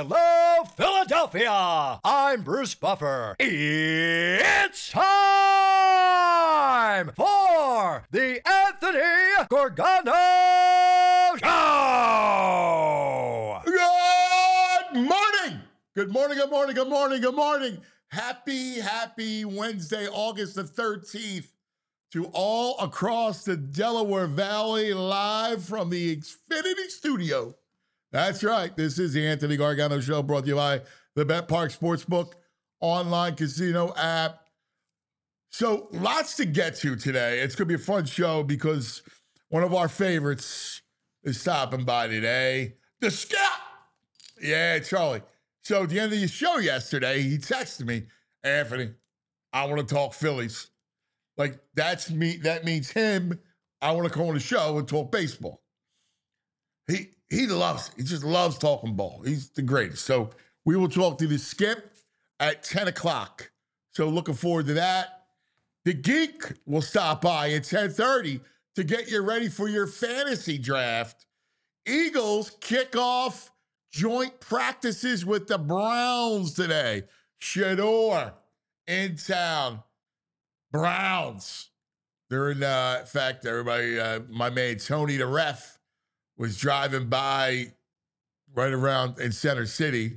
Hello, Philadelphia! I'm Bruce Buffer. It's time for the Anthony Gorgano Show! Good morning! Good morning, good morning, good morning, good morning. Happy Wednesday, August the 13th, to all across the Delaware Valley, live from the Xfinity Studio. That's right. This is the Anthony Gargano Show, brought to you by the BetParx Sportsbook online casino app. So lots to get to today. It's going to be a fun show because one of our favorites is stopping by today. The Scout! Yeah, Charlie. So at the end of the show yesterday, he texted me, Anthony, I want to talk Phillies. Like, that's me. That means him. I want to come on the show and talk baseball. He loves it. He just loves talking ball. He's the greatest. So we will talk to the Skip at 10 o'clock. So looking forward to that. The Geek will stop by at 10:30 to get you ready for your fantasy draft. Eagles kick off joint practices with the Browns today. Shador in town. Browns. They're in fact, everybody, my man Tony the ref was driving by right around in Center City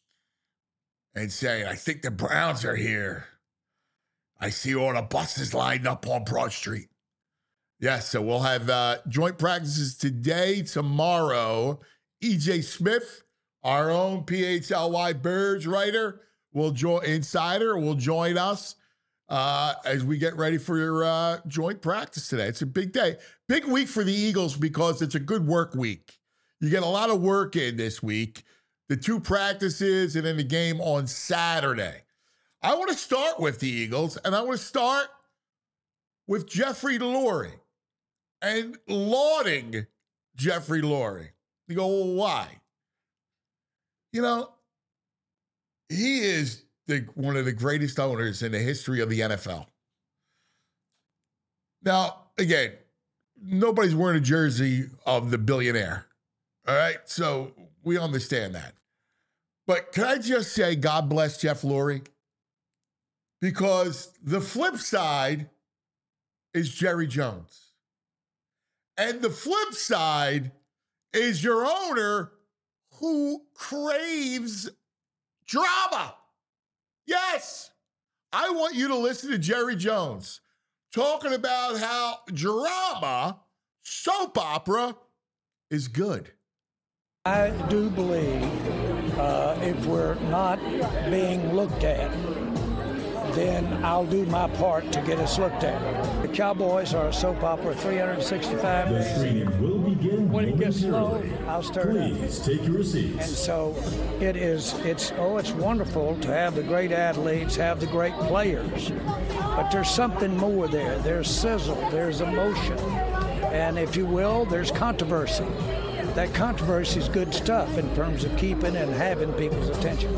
and saying, I think the Browns are here. I see all the buses lined up on Broad Street. Yes, so we'll have joint practices today, tomorrow. EJ Smith, our own PHLY Birds writer, will insider will join us as we get ready for your joint practice today. It's a big day. Big week for the Eagles because it's a good work week. You get a lot of work in this week. The two practices and then the game on Saturday. I want to start with the Eagles, and I want to start with Jeffrey Lurie and lauding Jeffrey Lurie. You go, well, why? You know, he is one of the greatest owners in the history of the NFL. Now, again, nobody's wearing a jersey of the billionaire. All right? So we understand that. But can I just say God bless Jeff Lurie? Because the flip side is Jerry Jones. And the flip side is your owner who craves drama. Yes, I want you to listen to Jerry Jones talking about how drama, soap opera, is good. I do believe if we're not being looked at, then I'll do my part to get us looked at. The Cowboys are a soap opera, 365 days. The screening will begin when it gets low, momentarily. I'll stir it up. Please take your And seats. so it's wonderful to have the great athletes, have the great players, but there's something more there. There's sizzle, there's emotion, and if you will, there's controversy. That controversy is good stuff in terms of keeping and having people's attention.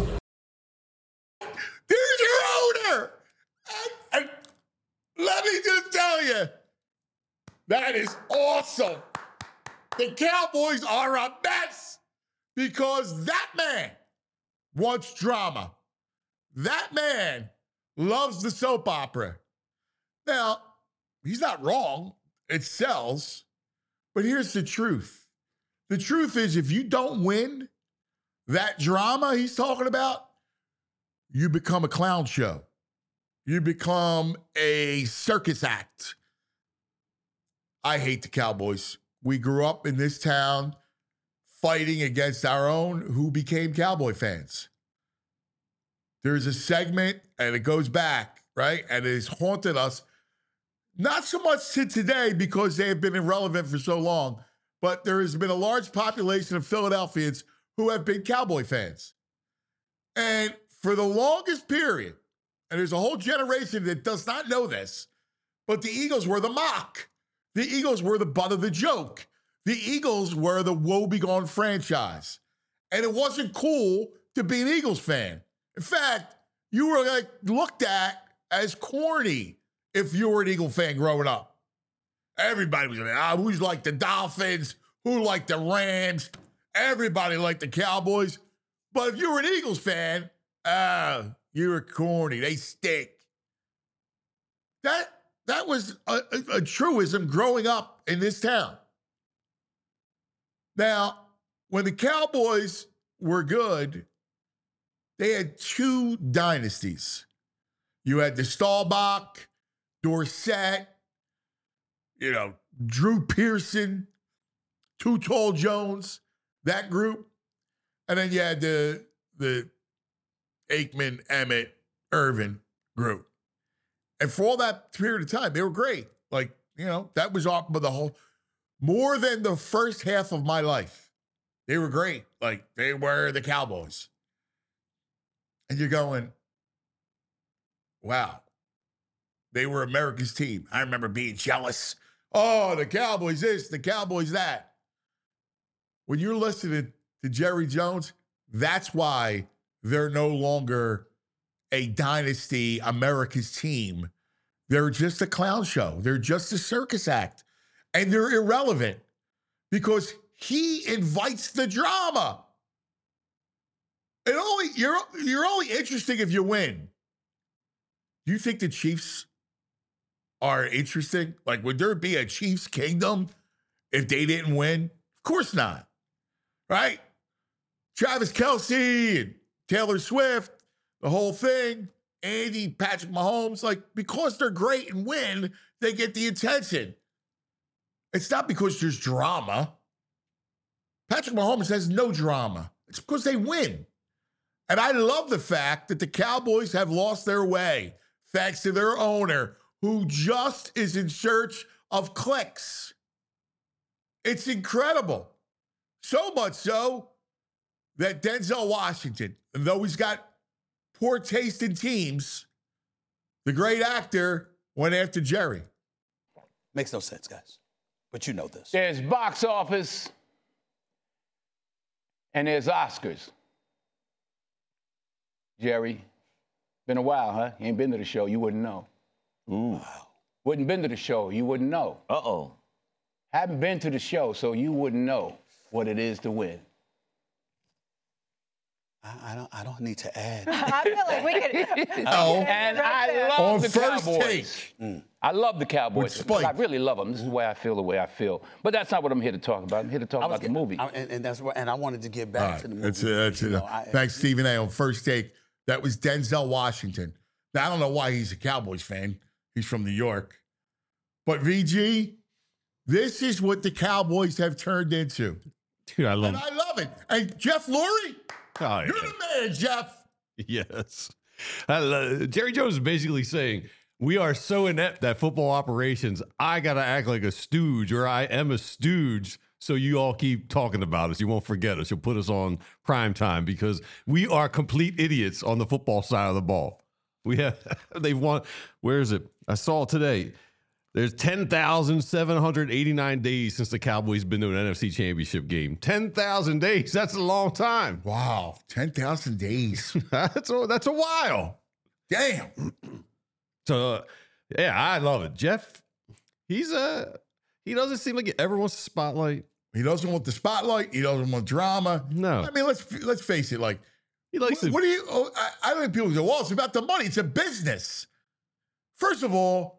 There's your owner. And let me just tell you, that is awesome. The Cowboys are a mess because that man wants drama. That man loves the soap opera. Now, he's not wrong. It sells. But here's the truth. The truth is, if you don't win that drama he's talking about, you become a clown show. You become a circus act. I hate the Cowboys. We grew up in this town fighting against our own who became Cowboy fans. There's a segment, and it goes back, right? And it has haunted us, not so much to today because they have been irrelevant for so long, but there has been a large population of Philadelphians who have been Cowboy fans. And for the longest period, and there's a whole generation that does not know this, but the Eagles were the mock. The Eagles were the butt of the joke. The Eagles were the woebegone franchise. And it wasn't cool to be an Eagles fan. In fact, you were like looked at as corny if you were an Eagle fan growing up. Everybody was like, who's like the Dolphins? Who liked the Rams? Everybody liked the Cowboys. But if you were an Eagles fan, you were corny. They stink. That was a truism growing up in this town. Now, when the Cowboys were good, they had two dynasties. You had the Staubach, Dorsett, Drew Pearson, Too Tall Jones, that group. And then you had the Aikman, Emmett, Irvin group. And for all that period of time, they were great. That was off of the whole, more than the first half of my life. They were great. They were the Cowboys. And you're going, wow, they were America's team. I remember being jealous. Oh, the Cowboys this, the Cowboys that. When you're listening to Jerry Jones, that's why they're no longer a dynasty, America's team. They're just a clown show. They're just a circus act. And they're irrelevant because he invites the drama. You're only interesting if you win. Do you think the Chiefs are interesting? Would there be a Chiefs kingdom if they didn't win? Of course not. Right? Travis Kelce and Taylor Swift, the whole thing, Andy, Patrick Mahomes, because they're great and win, they get the attention. It's not because there's drama. Patrick Mahomes has no drama. It's because they win. And I love the fact that the Cowboys have lost their way thanks to their owner, who just is in search of clicks. It's incredible. So much so that Denzel Washington, though he's got poor taste in teams, the great actor went after Jerry. Makes no sense, guys. But you know this. There's box office and there's Oscars. Jerry, been a while, huh? You ain't been to the show, you wouldn't know. Ooh. Wow. Wouldn't been to the show, you wouldn't know. Uh-oh. Haven't been to the show, so you wouldn't know what it is to win. I don't need to add. I feel like we could. And I love the Cowboys. Take. I love the Cowboys. Spike. I really love them. This is the way I feel. But that's not what I'm here to talk about. I'm here to talk about the movie. And I wanted to get back to the movie. That's it. Thanks, Stephen A. On First Take, that was Denzel Washington. Now, I don't know why he's a Cowboys fan. He's from New York. But VG, this is what the Cowboys have turned into. Dude, I love it. And Jeff Lurie, Oh, you're the man, Jeff. Yes. Jerry Jones is basically saying, we are so inept at football operations, I got to act like a stooge, or I am a stooge, so you all keep talking about us. You won't forget us. You'll put us on prime time because we are complete idiots on the football side of the ball. They've won. Where is it? I saw today. There's 10,789 days since the Cowboys been to an NFC Championship game. 10,000 days. That's a long time. Wow. 10,000 days. That's a while. Damn. So, yeah, I love it. Jeff, he doesn't seem like he ever wants the spotlight. He doesn't want the spotlight. He doesn't want drama. No. I mean, let's face it. He likes what do you? I don't think people go, well, it's about the money. It's a business. First of all,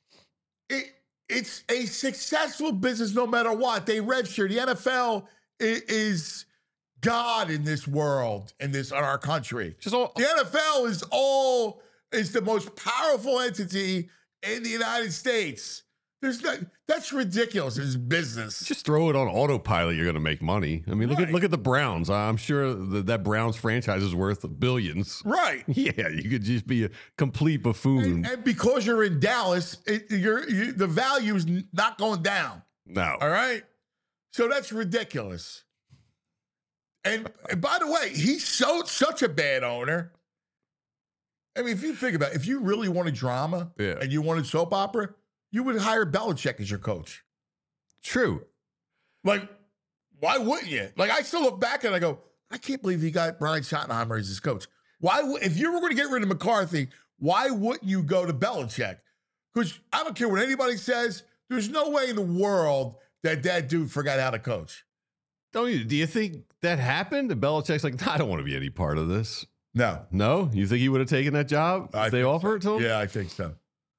it's a successful business no matter what. They register. The NFL is God in this world, in our country. The NFL is the most powerful entity in the United States. That's ridiculous. It's business. Just throw it on autopilot. You're going to make money. I mean, look at the Browns. I'm sure that Browns franchise is worth billions. Right. Yeah, you could just be a complete buffoon. And because you're in Dallas, the value is not going down. No. All right. So that's ridiculous. And by the way, he's such a bad owner. I mean, if you think about it, if you really wanted drama and you wanted soap opera, you would hire Belichick as your coach. True. Why wouldn't you? I still look back and I go, I can't believe he got Brian Schottenheimer as his coach. If you were going to get rid of McCarthy, why wouldn't you go to Belichick? Because I don't care what anybody says, there's no way in the world that dude forgot how to coach. Do you think that happened? And Belichick's like, I don't want to be any part of this. No. No? You think he would have taken that job if they offer it to him? Yeah, I think so.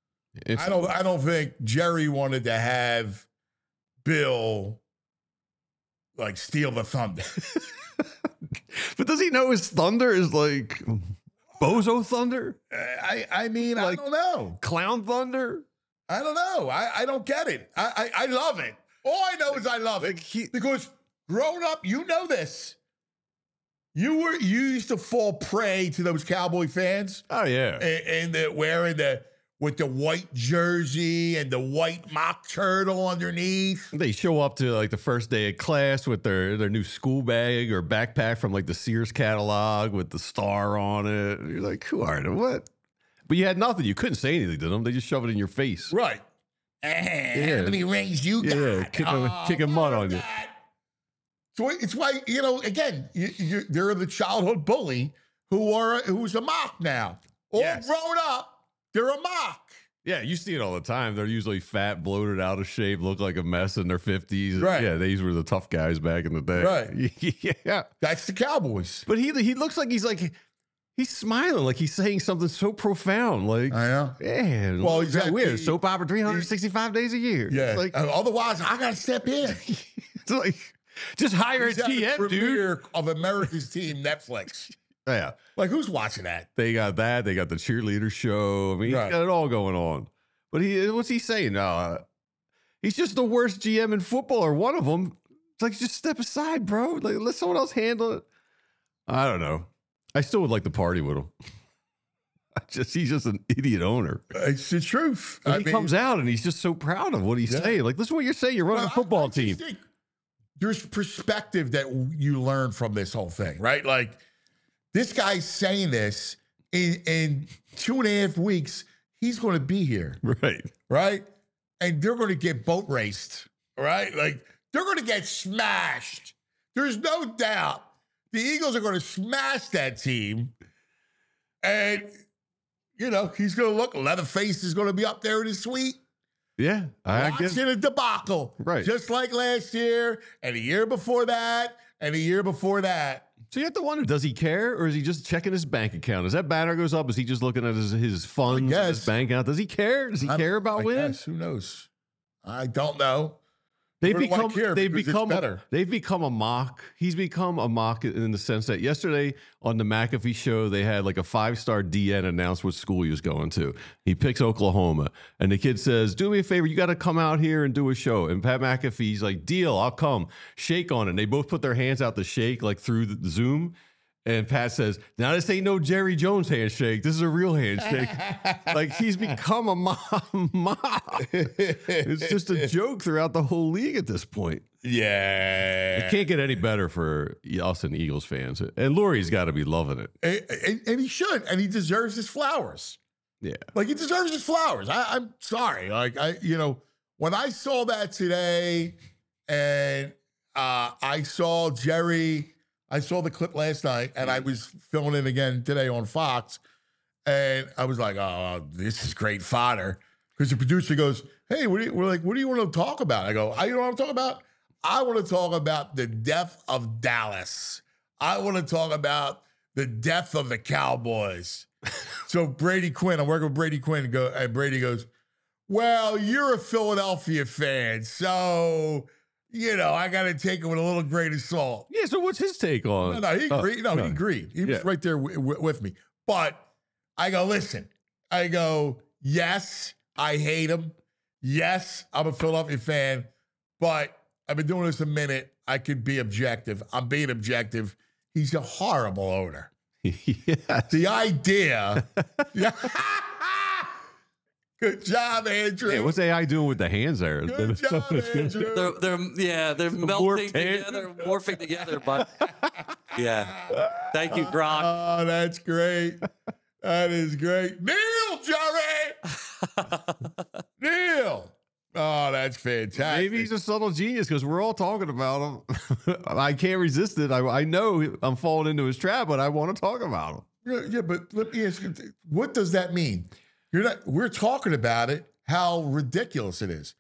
I don't think Jerry wanted to have Bill like steal the thunder. But does he know his thunder is like bozo thunder? I mean, like, I don't know. Clown thunder? I don't know. I don't get it. I love it. All I know is I love it. Because growing up, you know this. You used to fall prey to those Cowboy fans. Oh, yeah. And wearing with the white jersey and the white mock turtle underneath. They show up to like the first day of class with their new school bag or backpack from like the Sears catalog with the star on it. And you're like, who are they? What? But you had nothing. You couldn't say anything to them. They just shove it in your face. Right. How many rings you got? Yeah, kicking mud on you. So it's why, again, they're the childhood bully who's a mock now. All grown up. They're a mock. Yeah, you see it all the time. They're usually fat, bloated, out of shape, look like a mess in their 50s. Right. Yeah, these were the tough guys back in the day. Right. Yeah. That's the Cowboys. But he looks like he's smiling, like he's saying something so profound. Like, I know. Man, well, exactly. We're soap opera 365 days a year. Yeah. Like, otherwise, I got to step in. It's like, just hire a GM, dude. Of America's Team Netflix. Yeah. Like, who's watching that? They got that. They got the cheerleader show. I mean, right. He's got it all going on. But what's he saying? He's just the worst GM in football, or one of them. It's like, just step aside, bro. Like, let someone else handle it. I don't know. I still would like to party with him. He's just an idiot owner. It's the truth. He comes out and he's just so proud of what he's saying. Like, listen to what you're saying. You're running a football team. There's perspective that you learn from this whole thing, right? Like, this guy's saying this in 2.5 weeks. He's going to be here. Right? And they're going to get boat raced, right? Like, they're going to get smashed. There's no doubt. The Eagles are going to smash that team. And, he's going to look, Leatherface is going to be up there in his suite. Yeah. Watching a debacle. Right. Just like last year and the year before that and the year before that. So you have to wonder, does he care, or is he just checking his bank account? As that banner goes up, is he just looking at his funds, his bank account? Does he care? Does he care about winning? Who knows? I don't know. They've become a mock. He's become a mock in the sense that yesterday on the McAfee show, they had like a 5-star DN announce what school he was going to. He picks Oklahoma, and the kid says, do me a favor, you got to come out here and do a show. And Pat McAfee's like, deal, I'll come. Shake on it. And they both put their hands out to shake like through the Zoom. And Pat says, now this ain't no Jerry Jones handshake. This is a real handshake. Like, he's become a mob. It's just a joke throughout the whole league at this point. Yeah. It can't get any better for us and Eagles fans. And Lurie's got to be loving it. And he should. And he deserves his flowers. Yeah. Like, he deserves his flowers. I'm sorry. Like, when I saw that today and I saw Jerry... I saw the clip last night, and I was filming it again today on Fox, and I was like, "Oh, this is great fodder." Because the producer goes, "Hey, what do you want to talk about?" I go, "You know what I'm talking about? I want to talk about the death of Dallas. I want to talk about the death of the Cowboys." So Brady Quinn, I'm working with Brady Quinn, and Brady goes, "Well, you're a Philadelphia fan, so." I got to take it with a little grain of salt. Yeah, so what's his take on? No, he agreed. He agreed. He was right there with me. But I go, listen. I go, yes, I hate him. Yes, I'm a Philadelphia fan. But I've been doing this a minute. I could be objective. I'm being objective. He's a horrible owner. Yes. The idea. Good job, Andrew. Yeah, what's AI doing with the hands there? Good job, Andrew. They're morphing together, but yeah. Thank you, Gronk. Oh, that's great. That is great. Neil, Jerry. Neil. Oh, that's fantastic. Maybe he's a subtle genius because we're all talking about him. I can't resist it. I know I'm falling into his trap, but I want to talk about him. Yeah, but let me ask you, what does that mean? We're talking about it, how ridiculous it is.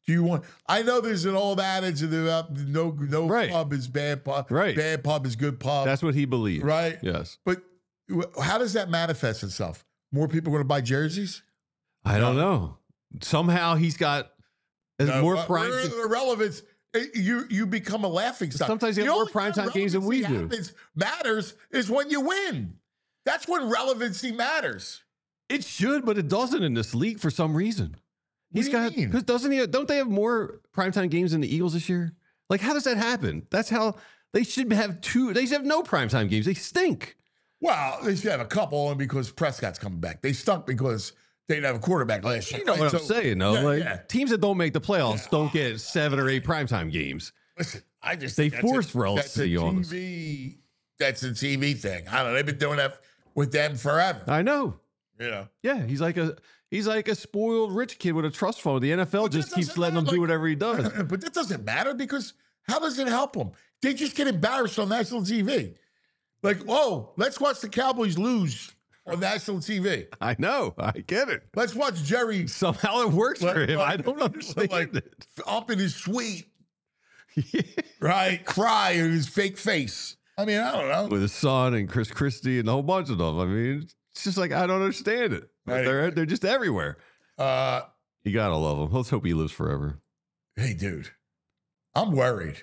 Do you want? I know there's an old adage about no Right. pub is bad pub. Right. Bad pub is good pub. That's what he believes. Right. Yes. But how does that manifest itself? More people going to buy jerseys? I don't know. Somehow he's got more prime. Relevance. You become a laughing stock. Sometimes you have more primetime games than we do. Matters is when you win. That's when relevancy matters. It should, but it doesn't in this league for some reason. What do you mean? Because don't they have more primetime games than the Eagles this year? Like, how does that happen? That's how they should have two. They should have no primetime games. They stink. Well, they should have a couple only because Prescott's coming back. They stunk because they didn't have a quarterback last year. You know what I'm saying, though? Yeah, teams that don't make the playoffs don't get 7 or 8 primetime games. Listen, I just They think that's force relevancy on us. That's a TV thing. I don't know. They've been doing that with them forever. I know. You know. Yeah, he's like a spoiled rich kid with a trust fund. The NFL just keeps letting him do whatever he does. But that doesn't matter because how does it help them? They just get embarrassed on national TV. Like, whoa, let's watch the Cowboys lose on national TV. I know. I get it. Let's watch Jerry. Somehow it works for him. I don't understand it. Up in his suite, right? Cry in his fake face. I mean, I don't know. With his son and Chris Christie and a whole bunch of them. I mean, it's just like, I don't understand it. Right. They're just everywhere. You got to love him. Let's hope he lives forever. Hey, dude, I'm worried.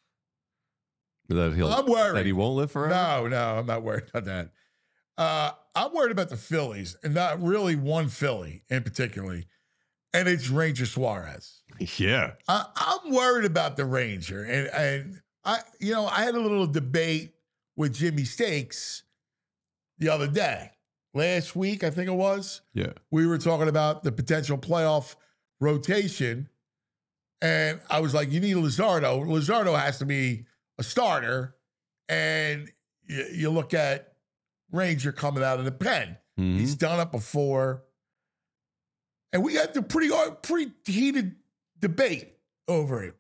I'm worried. That he won't live forever? No, I'm not worried about that. I'm worried about the Phillies, and not really one Philly in particular, and it's Ranger Suarez. Yeah. I'm worried about the Ranger, and I had a little debate with Jimmy Stakes the other day. Last week, I think it was. Yeah. We were talking about the potential playoff rotation, and I was like, you need Luzardo. Luzardo has to be a starter, and you look at Ranger coming out of the pen. Mm-hmm. He's done it before. And we had the pretty heated debate over it.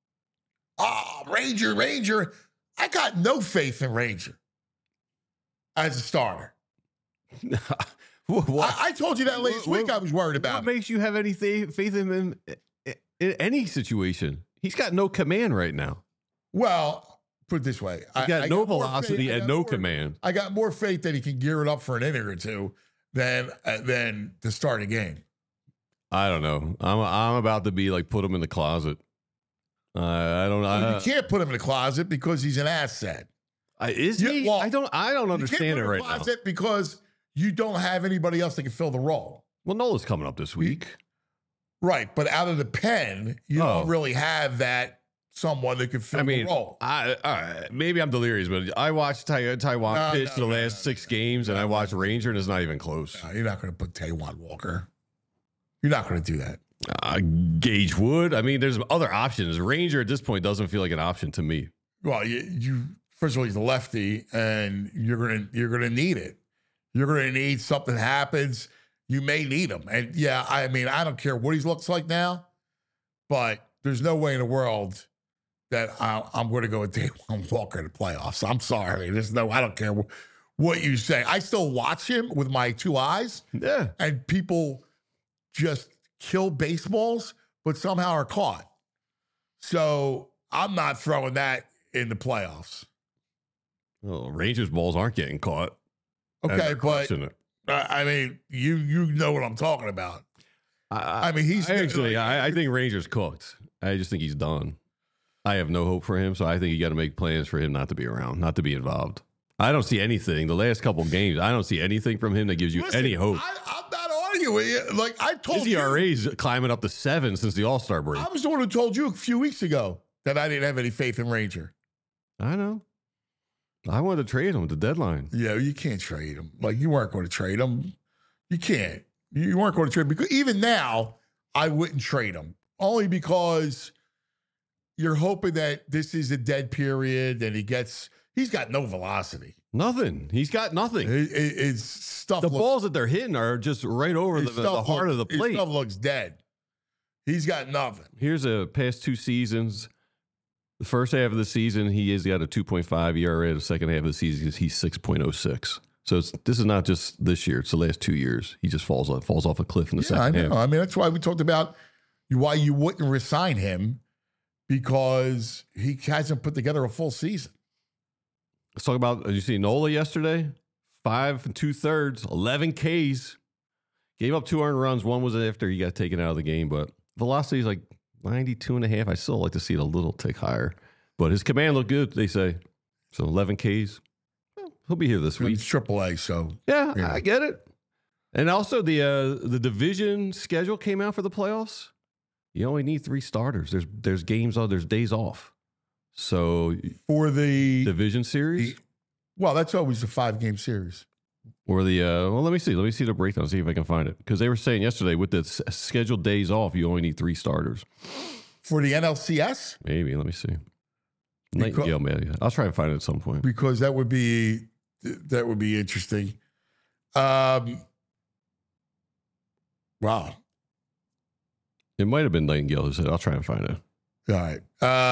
Ranger. I got no faith in Ranger as a starter. I told you that last week I was worried about. What makes you have any faith in him in any situation? He's got no command right now. Well, put it this way. He's got no velocity and no command. I got more faith that he can gear it up for an inning or two than to start a game. I don't know. I'm about to be like, put him in the closet. I don't know. You can't put him in the closet because he's an asset. Is he? Well, I don't understand it right now. Because you don't have anybody else that can fill the role. Well, Nola's coming up this week. Right, but out of the pen, you don't really have that someone that could fill the role. Maybe I'm delirious, but I watched Taiwan pitch the last 6 games, and I watched Ranger, and it's not even close. No, you're not going to put Taiwan Walker. You're not going to do that. Gage Wood. I mean, there's other options. Ranger at this point doesn't feel like an option to me. Well, you first of all, he's a lefty, and you're gonna need it. You're gonna need something happens. You may need him, and yeah, I mean, I don't care what he looks like now, but there's no way in the world that I'm going to go with Taiwan Walker in the playoffs. I'm sorry. I don't care what you say. I still watch him with my 2 eyes. Yeah, and people just kill baseballs, but somehow are caught. So I'm not throwing that in the playoffs. Well, Rangers balls aren't getting caught. Okay, but I mean, you know what I'm talking about. I mean, I think Rangers cooked. I just think he's done. I have no hope for him, so I think you got to make plans for him not to be around, not to be involved. I don't see anything. The last couple of games, I don't see anything from him that gives you any hope. I'm not arguing. Like I told you, his ERA's climbing up to 7 since the All-Star break. I was the one who told you a few weeks ago that I didn't have any faith in Ranger. I know. I wanted to trade him at the deadline. Yeah, you can't trade him. Like, you weren't going to trade him. You can't. You weren't going to trade him. Because even now, I wouldn't trade him. Only because you're hoping that this is a dead period and he's got no velocity. Nothing. He's got nothing. His stuff. The balls that they're hitting are just right over the heart of the plate. His stuff looks dead. He's got nothing. Here's a past 2 seasons. The first half of the season, he has got a 2.5 ERA. The second half of the season, he's 6.06. So this is not just this year; it's the last 2 years. He just falls off a cliff in the second half. I mean, that's why we talked about, why you wouldn't resign him, because he hasn't put together a full season. Let's talk about, did you see Nola yesterday? 5 2/3, 11 Ks. Gave up 2 earned runs. One was after he got taken out of the game, but velocity is like 92.5. I still like to see it a little tick higher, but his command looked good, they say. So 11 Ks. Well, he'll be here this week. It's AAA, so. Yeah, Yeah. I get it. And also the division schedule came out for the playoffs. You only need 3 starters. There's games on, there's days off. So For the division series well, that's always a 5-game series. or the well, let me see the breakdown, see if I can find it, because they were saying yesterday with the scheduled days off, you only need 3 starters. For the NLCS? Maybe, let me see. Nightingale, man, I'll try to find it at some point. Because that would be interesting. Wow. It might have been Nightingale who said, I'll try and find it. All right.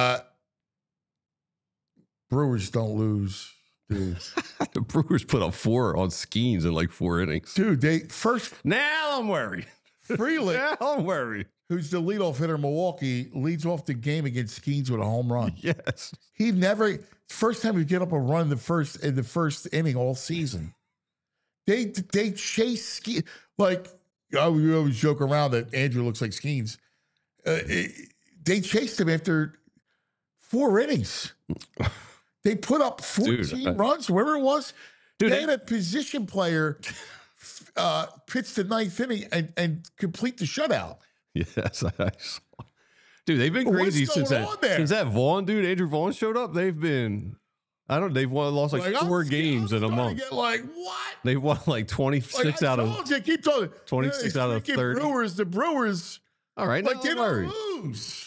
Brewers don't lose, dude. The Brewers put up 4 on Skeens in like 4 innings. Dude, they first Now I'm worried. Freeland, Now I'm worried. who's the leadoff hitter in Milwaukee, leads off the game against Skeens with a home run. Yes. He never first time he get up a run in the first inning all season. They chase Skeens like we always joke around that Andrew looks like Skeens. They chased him after 4 innings. They put up 14 runs, wherever it was. Dude, They had a position player pitch the 9th inning and complete the shutout. Yes, I saw. Dude, they've been What's crazy going since on there? that Vaughn dude, Andrew Vaughn showed up. They've been, they've lost like 4 games in a month. Get like what? They won like 26 out of. Keep talking. 26 out of 30. The Brewers. All right, Like they no don't worries. lose.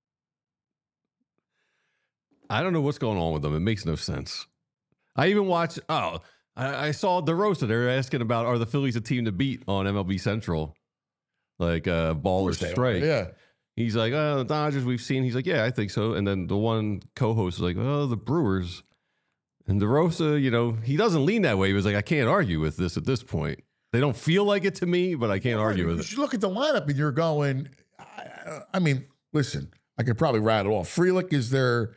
I don't know what's going on with them. It makes no sense. I even watched. I saw DeRosa. They're asking about, are the Phillies a team to beat on MLB Central, like ball or strike? Yeah. He's like, the Dodgers we've seen. He's like, yeah, I think so. And then the one co-host is like, oh, the Brewers. And DeRosa, he doesn't lean that way. He was like, I can't argue with this at this point. They don't feel like it to me, but I can't argue with it. You look at the lineup and you're going, I mean, listen, I could probably rattle off. Frelick is their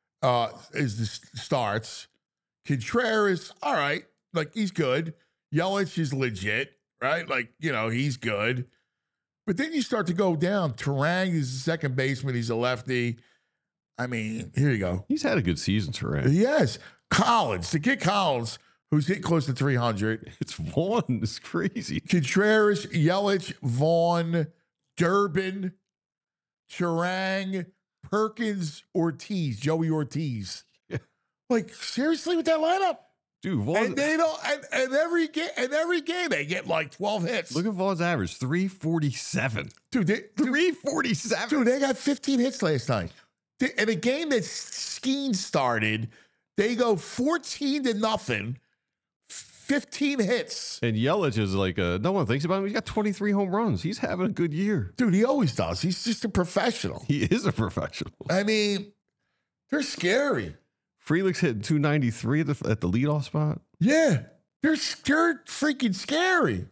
starts. Contreras, all right, like he's good. Yelich is legit, right? Like, he's good. But then you start to go down. Turang is the second baseman. He's a lefty. I mean, here you go. He's had a good season, Turang. Yes. Collins, the kid Collins, who's hitting close to 300. It's Vaughn. It's crazy. Contreras, Yelich, Vaughn, Durbin, Turang, Perkins, Ortiz, Joey Ortiz. Yeah. Like, seriously with that lineup? Dude, Vaughn. And they don't and every game they get like 12 hits. Look at Vaughn's average, 347. Dude, 347. Dude, they got 15 hits last night. In a game that Skeens started, they go 14-0, 15 hits. And Yelich is like, no one thinks about him. He's got 23 home runs. He's having a good year. Dude, he always does. He's just a professional. He is a professional. I mean, they're scary. Frelick's hitting 293 at the leadoff spot. Yeah, they're freaking scary.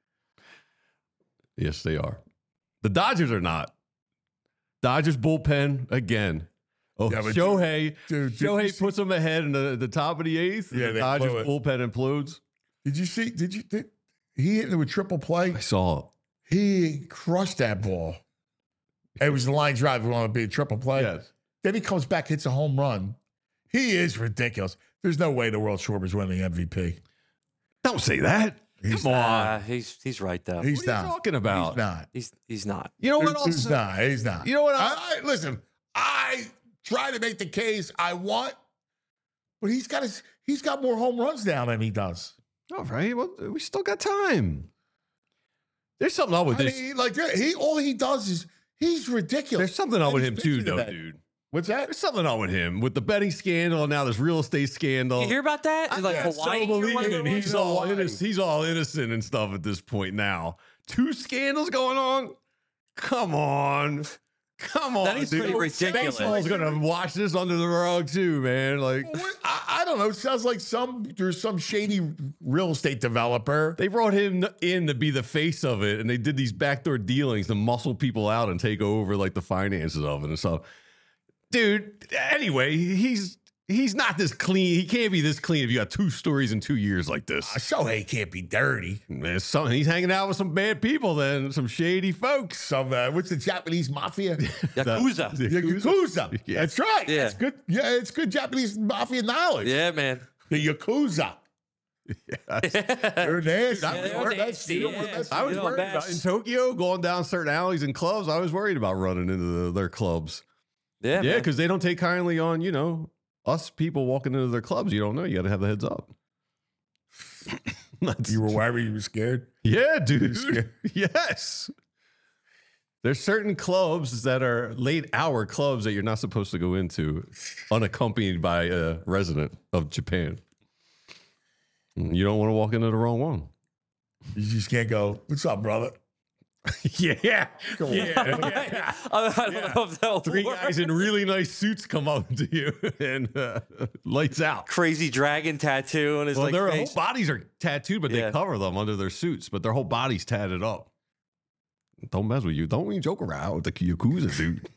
Yes, they are. The Dodgers are not. Dodgers bullpen again. Oh, Yeah, but Shohei. dude, Shohei puts them ahead in the top of the 8th. Yeah, the they Dodgers blew it. bullpen implodes. Did you see? He hit it with triple play? I saw. He crushed that ball. It was the line drive. We want to be a triple play. Yes. Then he comes back, hits a home run. He is ridiculous. There's no way the World Schwarber's winning MVP. Don't say that. Come on. He's right though. He's What are not. you talking about? He's not. He's not. You know what else? He's not. He's not. You know what Listen, I try to make the case I want, but he's got more home runs now than he does. All right. Well, we still got time. There's something up with I this. mean, like all he does is he's ridiculous. There's something up with him He's too, pitching though, today. dude. What's that? There's something up with him with the betting scandal. And now this real estate scandal. You hear about that? It's like Yeah, Hawaii. So or whatever believing it was? he's all innocent and stuff at this point now. 2 scandals going on. Come on. Come on, That is dude. pretty ridiculous. Baseball's gonna wash this under the rug too, man. Like I don't know. It sounds like there's some shady real estate developer. they brought him in to be the face of it, and they did these backdoor dealings to muscle people out and take over like the finances of it and stuff. Dude, anyway, he's not this clean. He can't be this clean if you got 2 stories in 2 years like this. Shohei can't be dirty. Man, he's hanging out with some bad people, then some shady folks. Some what's the Japanese mafia? Yakuza. Yakuza. Yeah. That's right. Yeah. It's good. Yeah, it's good Japanese mafia knowledge. Yeah, man. The Yakuza. They're nasty. they're nasty, yeah. I was You know, worried about in Tokyo going down certain alleys and clubs. I was worried about running into their clubs. Yeah, Yeah, man. because they don't take kindly on, us people walking into their clubs. You don't know. You got to have the heads up. You were worried? You were scared? Yeah, dude. Yes. There's certain clubs that are late hour clubs that you're not supposed to go into unaccompanied by a resident of Japan. You don't want to walk into the wrong one. You just can't go, what's up, brother? Yeah. Come on. Yeah. I don't know if that'll 3 work. guys in really nice suits come up to you and lights out. Crazy dragon tattoo on his Well, their whole face. bodies are tattooed, but they Yeah. cover them under their suits, but their whole body's tatted up. Don't mess with you. Don't even joke around with the Yakuza, dude.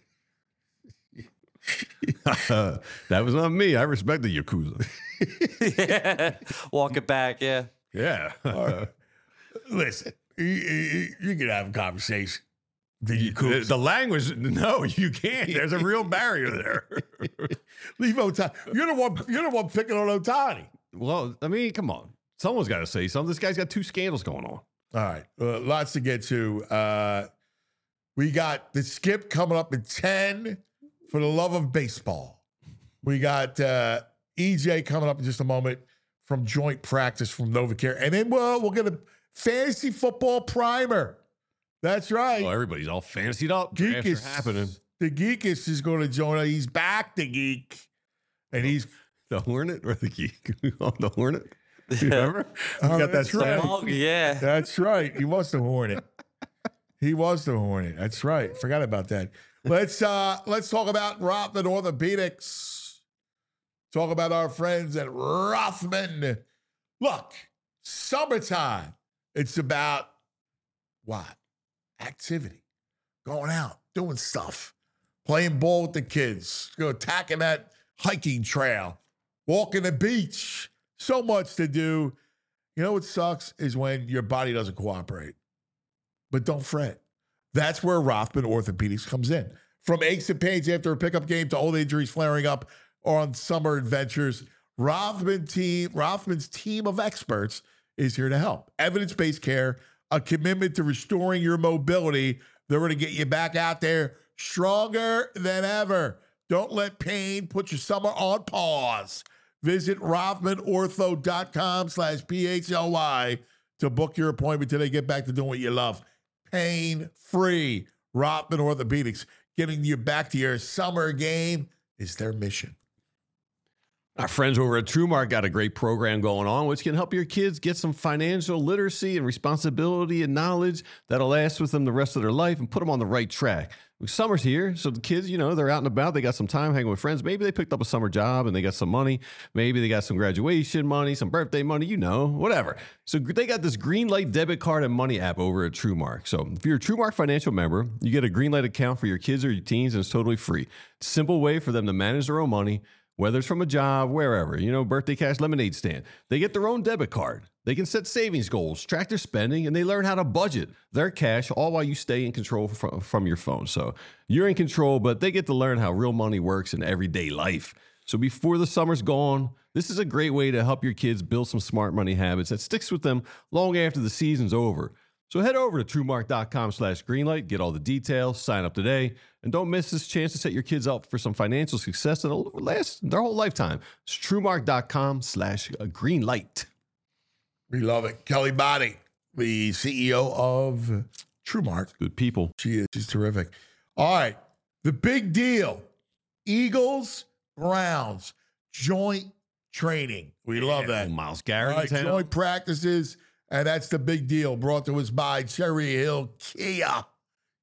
That was not me. I respect the Yakuza. Yeah. Walk it back, yeah. Yeah. Listen, you can have a conversation. The Yakuza. The language, no, you can't. There's a real barrier there. Leave Otani. You're the one picking on Otani. Well, I mean, come on. Someone's got to say something. This guy's got 2 scandals going on. All right, lots to get to. We got the skip coming up at 10 for the love of baseball. We got EJ coming up in just a moment from joint practice from NovaCare. And then we'll get a fantasy football primer. That's right. Oh, everybody's all fancied up. Drafts Geekus, are happening. the Geekus is going to join us. He's back, the Geek. And he's The Hornet or the Geek? The Hornet? You remember? Oh, We got that's that right. song. Oh, yeah. That's right. He was the Hornet. He was the Hornet. That's right. Forgot about that. Let's talk about Rothman Orthopedics. Talk about our friends at Rothman. Look, summertime. It's about what? Activity. Going out, doing stuff, playing ball with the kids, attacking that hiking trail, walking the beach. So much to do. You know what sucks is when your body doesn't cooperate. But don't fret. That's where Rothman Orthopedics comes in. From aches and pains after a pickup game to old injuries flaring up or on summer adventures, Rothman's team of experts is here to help. Evidence-based care, a commitment to restoring your mobility. They're going to get you back out there stronger than ever. Don't let pain put your summer on pause. Visit RothmanOrtho.com/PHLY to book your appointment today. Get back to doing what you love. Pain-free. Rothman Orthopedics. Getting you back to your summer game is their mission. Our friends over at TrueMark got a great program going on, which can help your kids get some financial literacy and responsibility and knowledge that'll last with them the rest of their life and put them on the right track. Summer's here, so the kids, they're out and about. They got some time hanging with friends. Maybe they picked up a summer job and they got some money. Maybe they got some graduation money, some birthday money, whatever. So they got this Greenlight debit card and money app over at TrueMark. So if you're a TrueMark financial member, you get a Greenlight account for your kids or your teens, and it's totally free. Simple way for them to manage their own money, whether it's from a job, wherever, birthday cash, lemonade stand. They get their own debit card. They can set savings goals, track their spending, and they learn how to budget their cash, all while you stay in control from your phone. So you're in control, but they get to learn how real money works in everyday life. So before the summer's gone, this is a great way to help your kids build some smart money habits that sticks with them long after the season's over. So head over to TrueMark.com/Greenlight, get all the details, sign up today, and don't miss this chance to set your kids up for some financial success that'll last their whole lifetime. It's TrueMark.com/Greenlight. We love it. Kelly Body, the CEO of TrueMark. Good people. She's terrific. All right. The big deal. Eagles, Browns, joint training. We love that. Myles All Garrett. right, joint practices, and that's the big deal. Brought to us by Cherry Hill Kia.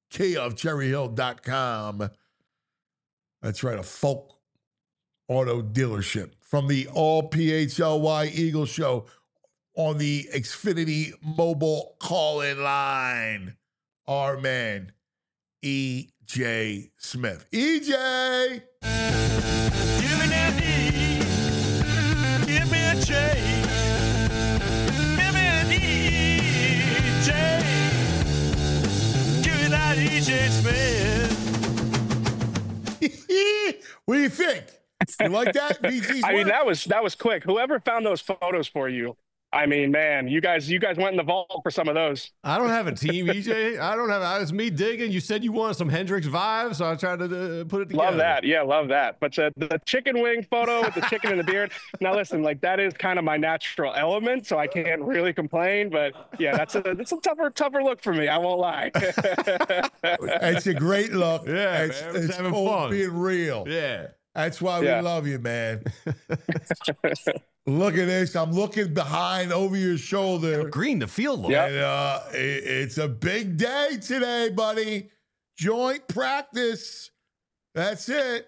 Kia of CherryHill.com. That's right, a Folk Auto dealership. From the All PHLY Eagle Show on the Xfinity mobile call-in line, our man, E.J. Smith. E.J.! Give me that E, give me a J, give me an E.J., give me that E.J. Smith. What do you think? You like that? VG's I mean, work? that was quick. Whoever found those photos for you, I mean, man, you guys went in the vault for some of those. I don't have a team, EJ. I don't have. It's me digging. You said you wanted some Hendrix vibes, so I tried to put it together. Love that. Yeah, love that. But the chicken wing photo with the chicken in the beard. Now, listen, like that is kind of my natural element, so I can't really complain. But yeah, that's a tougher look for me. I won't lie. It's a great look. Yeah, it's, man, it's having all fun. being real. Yeah. That's why we love you, man. Look at this. I'm looking behind over your shoulder. Green the field look. And it's a big day today, buddy. Joint practice. That's it.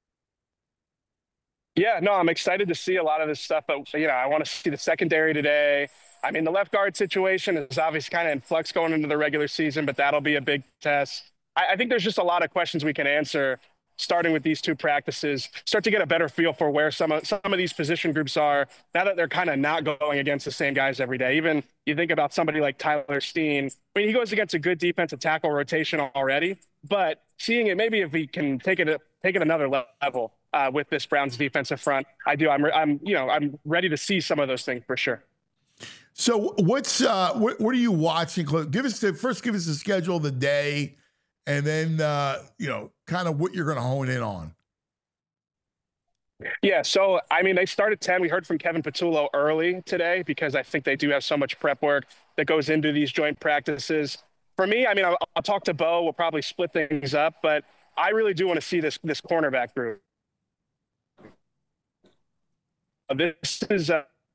Yeah, no, I'm excited to see a lot of this stuff. But, I want to see the secondary today. I mean, the left guard situation is obviously kind of in flux going into the regular season, but that'll be a big test. I think there's just a lot of questions we can answer starting with these two practices, start to get a better feel for where some of these position groups are now that they're kind of not going against the same guys every day. Even you think about somebody like Tyler Steen. I mean, he goes against a good defensive tackle rotation already, but seeing it, maybe if we can take it another level with this Browns defensive front, I'm ready to see some of those things for sure. So what are you watching? Give us the schedule of the day, and then kind of what you're going to hone in on. Yeah, so I mean, they start at 10. We heard from Kevin Patullo early today because I think they do have so much prep work that goes into these joint practices. For me, I mean, I'll talk to Bo. We'll probably split things up, but I really do want to see this cornerback group. This is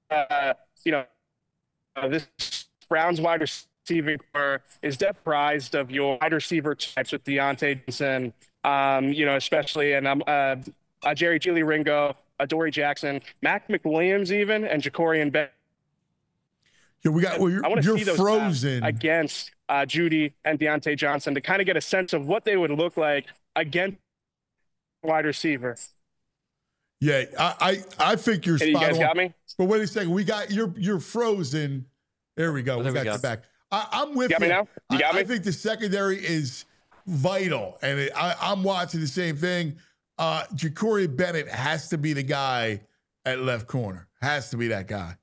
this Browns wide receiving core is comprised of your wide receiver types with Deontay Johnson, especially, and Jerry Julie Ringo, Adoree Jackson, Mac McWilliams even, and Jacorian Bennett. Yeah, I want to see those frozen against Judy and Deontay Johnson to kind of get a sense of what they would look like against wide receiver. Yeah, I think you're spot on. You guys got me? But wait a second, we got you're frozen. There we go. We got you back. I'm with you. Got me now? You got me? I think the secondary is vital, and I'm watching the same thing. Jacorian Bennett has to be the guy at left corner. Has to be that guy.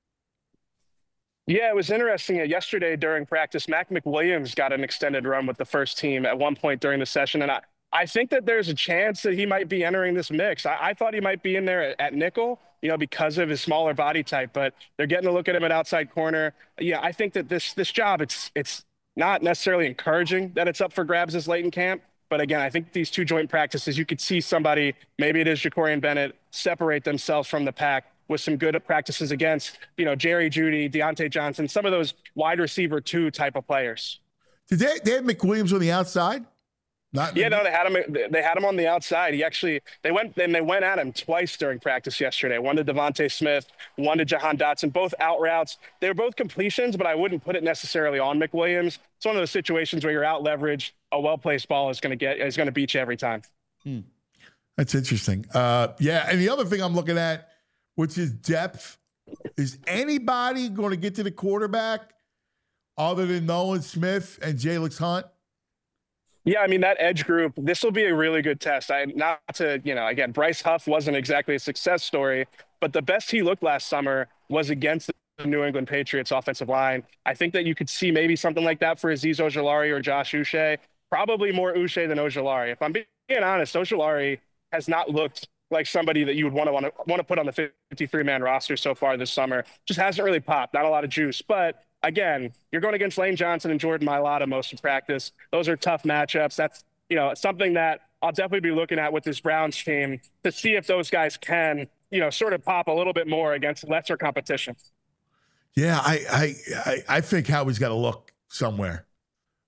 Yeah, it was interesting. Yesterday during practice, Mac McWilliams got an extended run with the first team at one point during the session, and I think that there's a chance that he might be entering this mix. I thought he might be in there at nickel, because of his smaller body type, but they're getting a look at him at outside corner. Yeah, I think that this job, it's not necessarily encouraging that it's up for grabs this late in camp. But again, I think these two joint practices, you could see somebody, maybe it is Jacorian Bennett, separate themselves from the pack with some good practices against, Jerry Judy, Deontay Johnson, some of those wide receiver 2 type of players. Did they have McWilliams on the outside? No, they had him on the outside. They went at him twice during practice yesterday. One to Devontae Smith, one to Jahan Dotson, both out routes. They were both completions, but I wouldn't put it necessarily on McWilliams. It's one of those situations where you're out leveraged. A well-placed ball is going to beat you every time. That's interesting. Yeah, and the other thing I'm looking at, which is depth, is anybody going to get to the quarterback other than Nolan Smith and Jalix Hunt? Yeah, I mean, that edge group, this will be a really good test. Again, Bryce Huff wasn't exactly a success story, but the best he looked last summer was against the New England Patriots offensive line. I think that you could see maybe something like that for Azeez Ojulari or Josh Uche, probably more Uche than Ojulari. If I'm being honest, Ojulari has not looked like somebody that you would want to put on the 53-man roster so far this summer. Just hasn't really popped, not a lot of juice, but again, you're going against Lane Johnson and Jordan Mailata most of practice. Those are tough matchups. That's, something that I'll definitely be looking at with this Browns team to see if those guys can, sort of pop a little bit more against lesser competition. Yeah, I think Howie's got to look somewhere.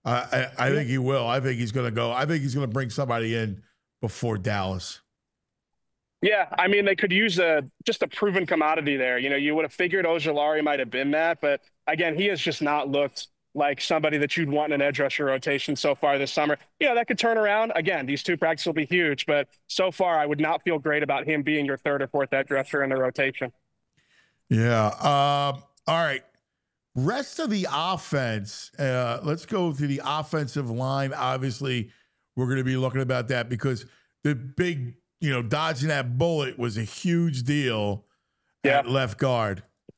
I think he will. I think he's going to go. I think he's going to bring somebody in before Dallas. Yeah, I mean, they could use just a proven commodity there. You know, you would have figured Ojulari might have been that, but again, he has just not looked like somebody that you'd want in an edge rusher rotation so far this summer. You know, that could turn around. Again, these 2 practices will be huge, but so far I would not feel great about him being your 3rd or 4th edge rusher in the rotation. Yeah. All right. Rest of the offense. Let's go to the offensive line. Obviously, we're going to be looking about that because the big, dodging that bullet was a huge deal at left guard.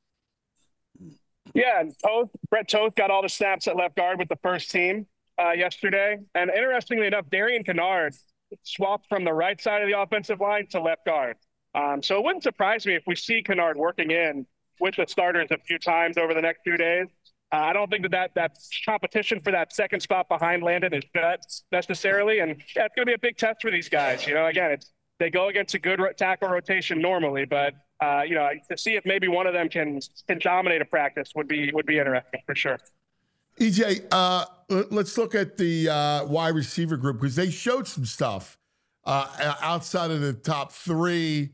Yeah, Brett Toth got all the snaps at left guard with the first team yesterday. And interestingly enough, Darian Kennard swapped from the right side of the offensive line to left guard. So it wouldn't surprise me if we see Kennard working in with the starters a few times over the next few days. I don't think that competition for that second spot behind Landon is nuts necessarily. And yeah, it's going to be a big test for these guys. Again, they go against a good tackle rotation normally, but to see if maybe one of them can dominate a practice would be interesting for sure. EJ, let's look at the wide receiver group because they showed some stuff outside of the top 3.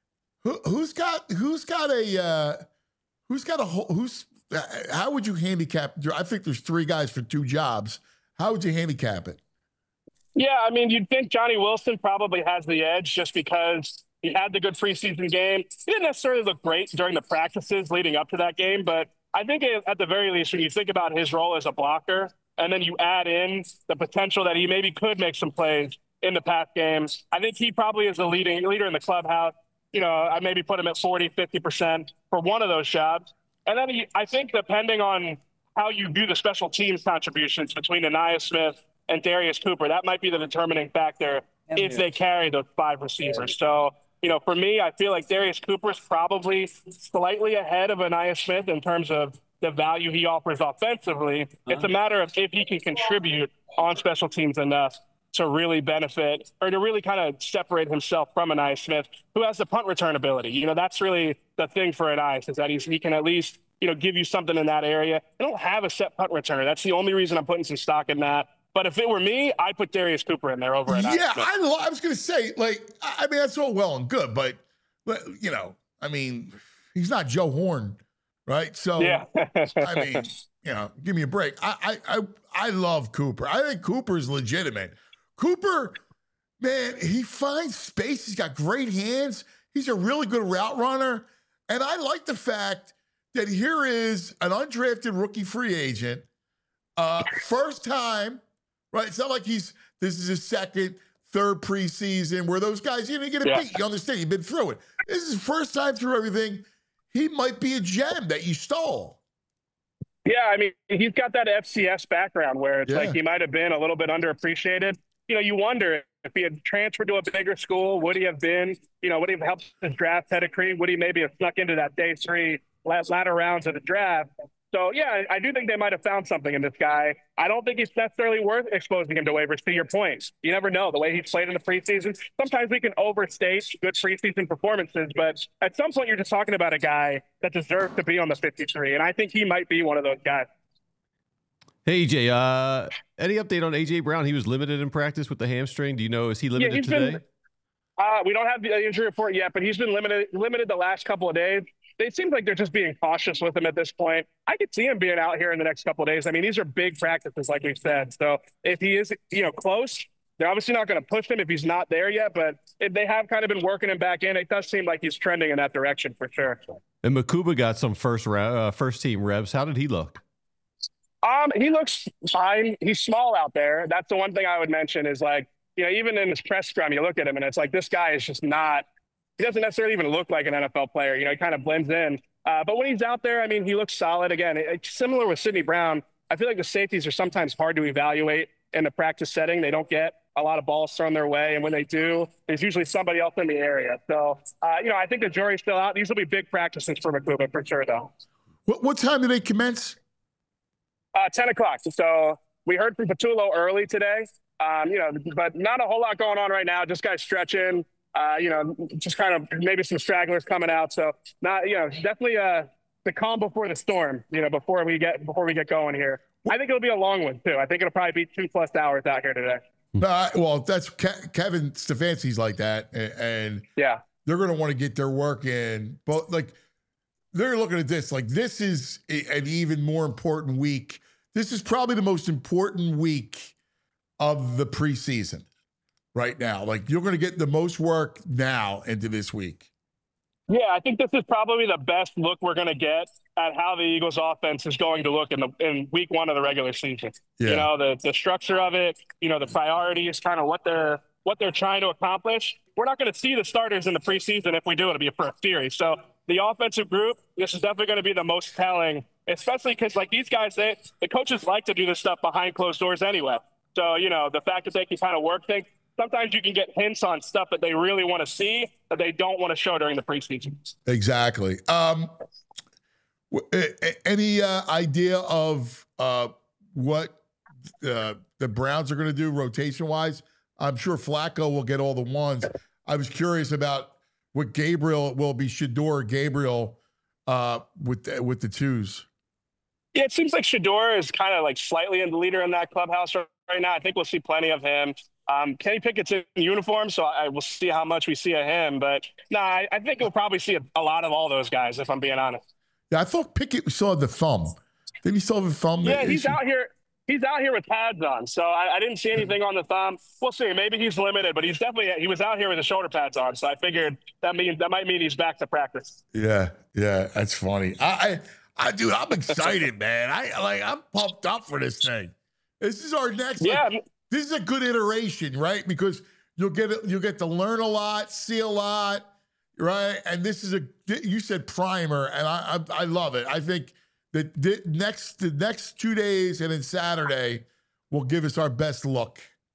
How would you handicap? I think there's 3 guys for 2 jobs. How would you handicap it? Yeah, I mean, you'd think Johnny Wilson probably has the edge just because he had the good preseason game. He didn't necessarily look great during the practices leading up to that game, but I think at the very least, when you think about his role as a blocker, and then you add in the potential that he maybe could make some plays in the past games, I think he probably is the leader in the clubhouse. I maybe put him at 40, 50% for one of those jobs. And then I think depending on how you view the special teams contributions between Ainias Smith and Darius Cooper, that might be the determining factor if they carry those 5 receivers. So, for me, I feel like Darius Cooper is probably slightly ahead of Ainias Smith in terms of the value he offers offensively. It's a matter of if he can contribute on special teams enough to really benefit or to really kind of separate himself from Ainias Smith, who has the punt return ability. That's really the thing for Ainias is that he can at least, give you something in that area. They don't have a set punt returner. That's the only reason I'm putting some stock in that. But if it were me, I'd put Darius Cooper in there over Ainias Yeah, Smith. I was going to say, that's all well and good, but he's not Joe Horn, right? So, yeah. give me a break. I love Cooper. I think Cooper's legitimate. Cooper, man, he finds space. He's got great hands. He's a really good route runner. And I like the fact that here is an undrafted rookie free agent, first time, right? It's not like this is his 2nd, 3rd preseason where those guys, you get a beat. You understand? You've been through it. This is his first time through everything. He might be a gem that you stole. Yeah, I mean, he's got that FCS background where it's like he might have been a little bit underappreciated. You wonder if he had transferred to a bigger school, would he have been, would he have helped his draft pedigree? Would he maybe have snuck into that day 3 latter rounds of the draft? So, yeah, I do think they might have found something in this guy. I don't think it's necessarily worth exposing him to waivers, to your point. You never know. The way he's played in the preseason, sometimes we can overstate good preseason performances, but at some point you're just talking about a guy that deserves to be on the 53, and I think he might be one of those guys. Hey, EJ, any update on A.J. Brown? He was limited in practice with the hamstring. Do you know, is he limited today? We don't have the injury report yet, but he's been limited the last couple of days. It seems like they're just being cautious with him at this point. I could see him being out here in the next couple of days. I mean, these are big practices, like we've said. So if he is, close, they're obviously not going to push him if he's not there yet. But if they have kind of been working him back in, it does seem like he's trending in that direction for sure. And Makuba got some first team reps. How did he look? He looks fine. He's small out there. That's the one thing I would mention is even in his press scrum, you look at him and it's like, this guy is just not. He doesn't necessarily even look like an NFL player. He kind of blends in. But when he's out there, I mean, he looks solid. Again, it's similar with Sidney Brown. I feel like the safeties are sometimes hard to evaluate in the practice setting. They don't get a lot of balls thrown their way. And when they do, there's usually somebody else in the area. So, I think the jury's still out. These will be big practices for Makuba for sure, though. What time do they commence? 10 o'clock. So we heard from Patullo early today, but not a whole lot going on right now. Just guys stretching. Just kind of maybe some stragglers coming out. So definitely the calm before the storm, before we get going here. I think it'll be a long one too. I think it'll probably be 2+ hours out here today. Well, that's Kevin Stefanski's like that, and Yeah. they're going to want to get their work in. But like, they're looking at this like this is an even more important week. This is probably the most important week of the preseason right now. Like, you're going to get the most work now into this week. Yeah, I think this is probably the best look we're going to get at how the Eagles offense is going to look in week 1 of the regular season. Yeah. You know, the structure of it, you know, the priorities, kind of what they're trying to accomplish. We're not going to see the starters in the preseason. If we do, it'll be for a series. So the offensive group, this is definitely going to be the most telling, especially because like these guys, the coaches like to do this stuff behind closed doors anyway. So, you know, the fact that they can kind of work things, sometimes you can get hints on stuff that they really want to see that they don't want to show during the preseason. Exactly. Any idea of what the Browns are going to do rotation-wise? I'm sure Flacco will get all the ones. I was curious about what Gabriel will be, Shedeur or Gabriel with the twos. Yeah, it seems like Shedeur is kind of like slightly in the leader in that clubhouse right now. I think we'll see plenty of him. Kenny Pickett's in uniform, so I will see how much we see of him. But no, I think we'll probably see a lot of all those guys, if I'm being honest. Yeah, I thought Pickett still had the thumb. Did he still have the thumb? Yeah, he's out here. He's out here with pads on, so I didn't see anything on the thumb. We'll see. Maybe he's limited, but he was out here with the shoulder pads on, so I figured that might mean he's back to practice. Yeah, that's funny. Dude, I'm excited, man. I'm pumped up for this thing. This is our next. Yeah. This is a good iteration, right? Because you'll get to learn a lot, see a lot, right? And this is you said primer, and I love it. I think that the next 2 days and then Saturday will give us our best look.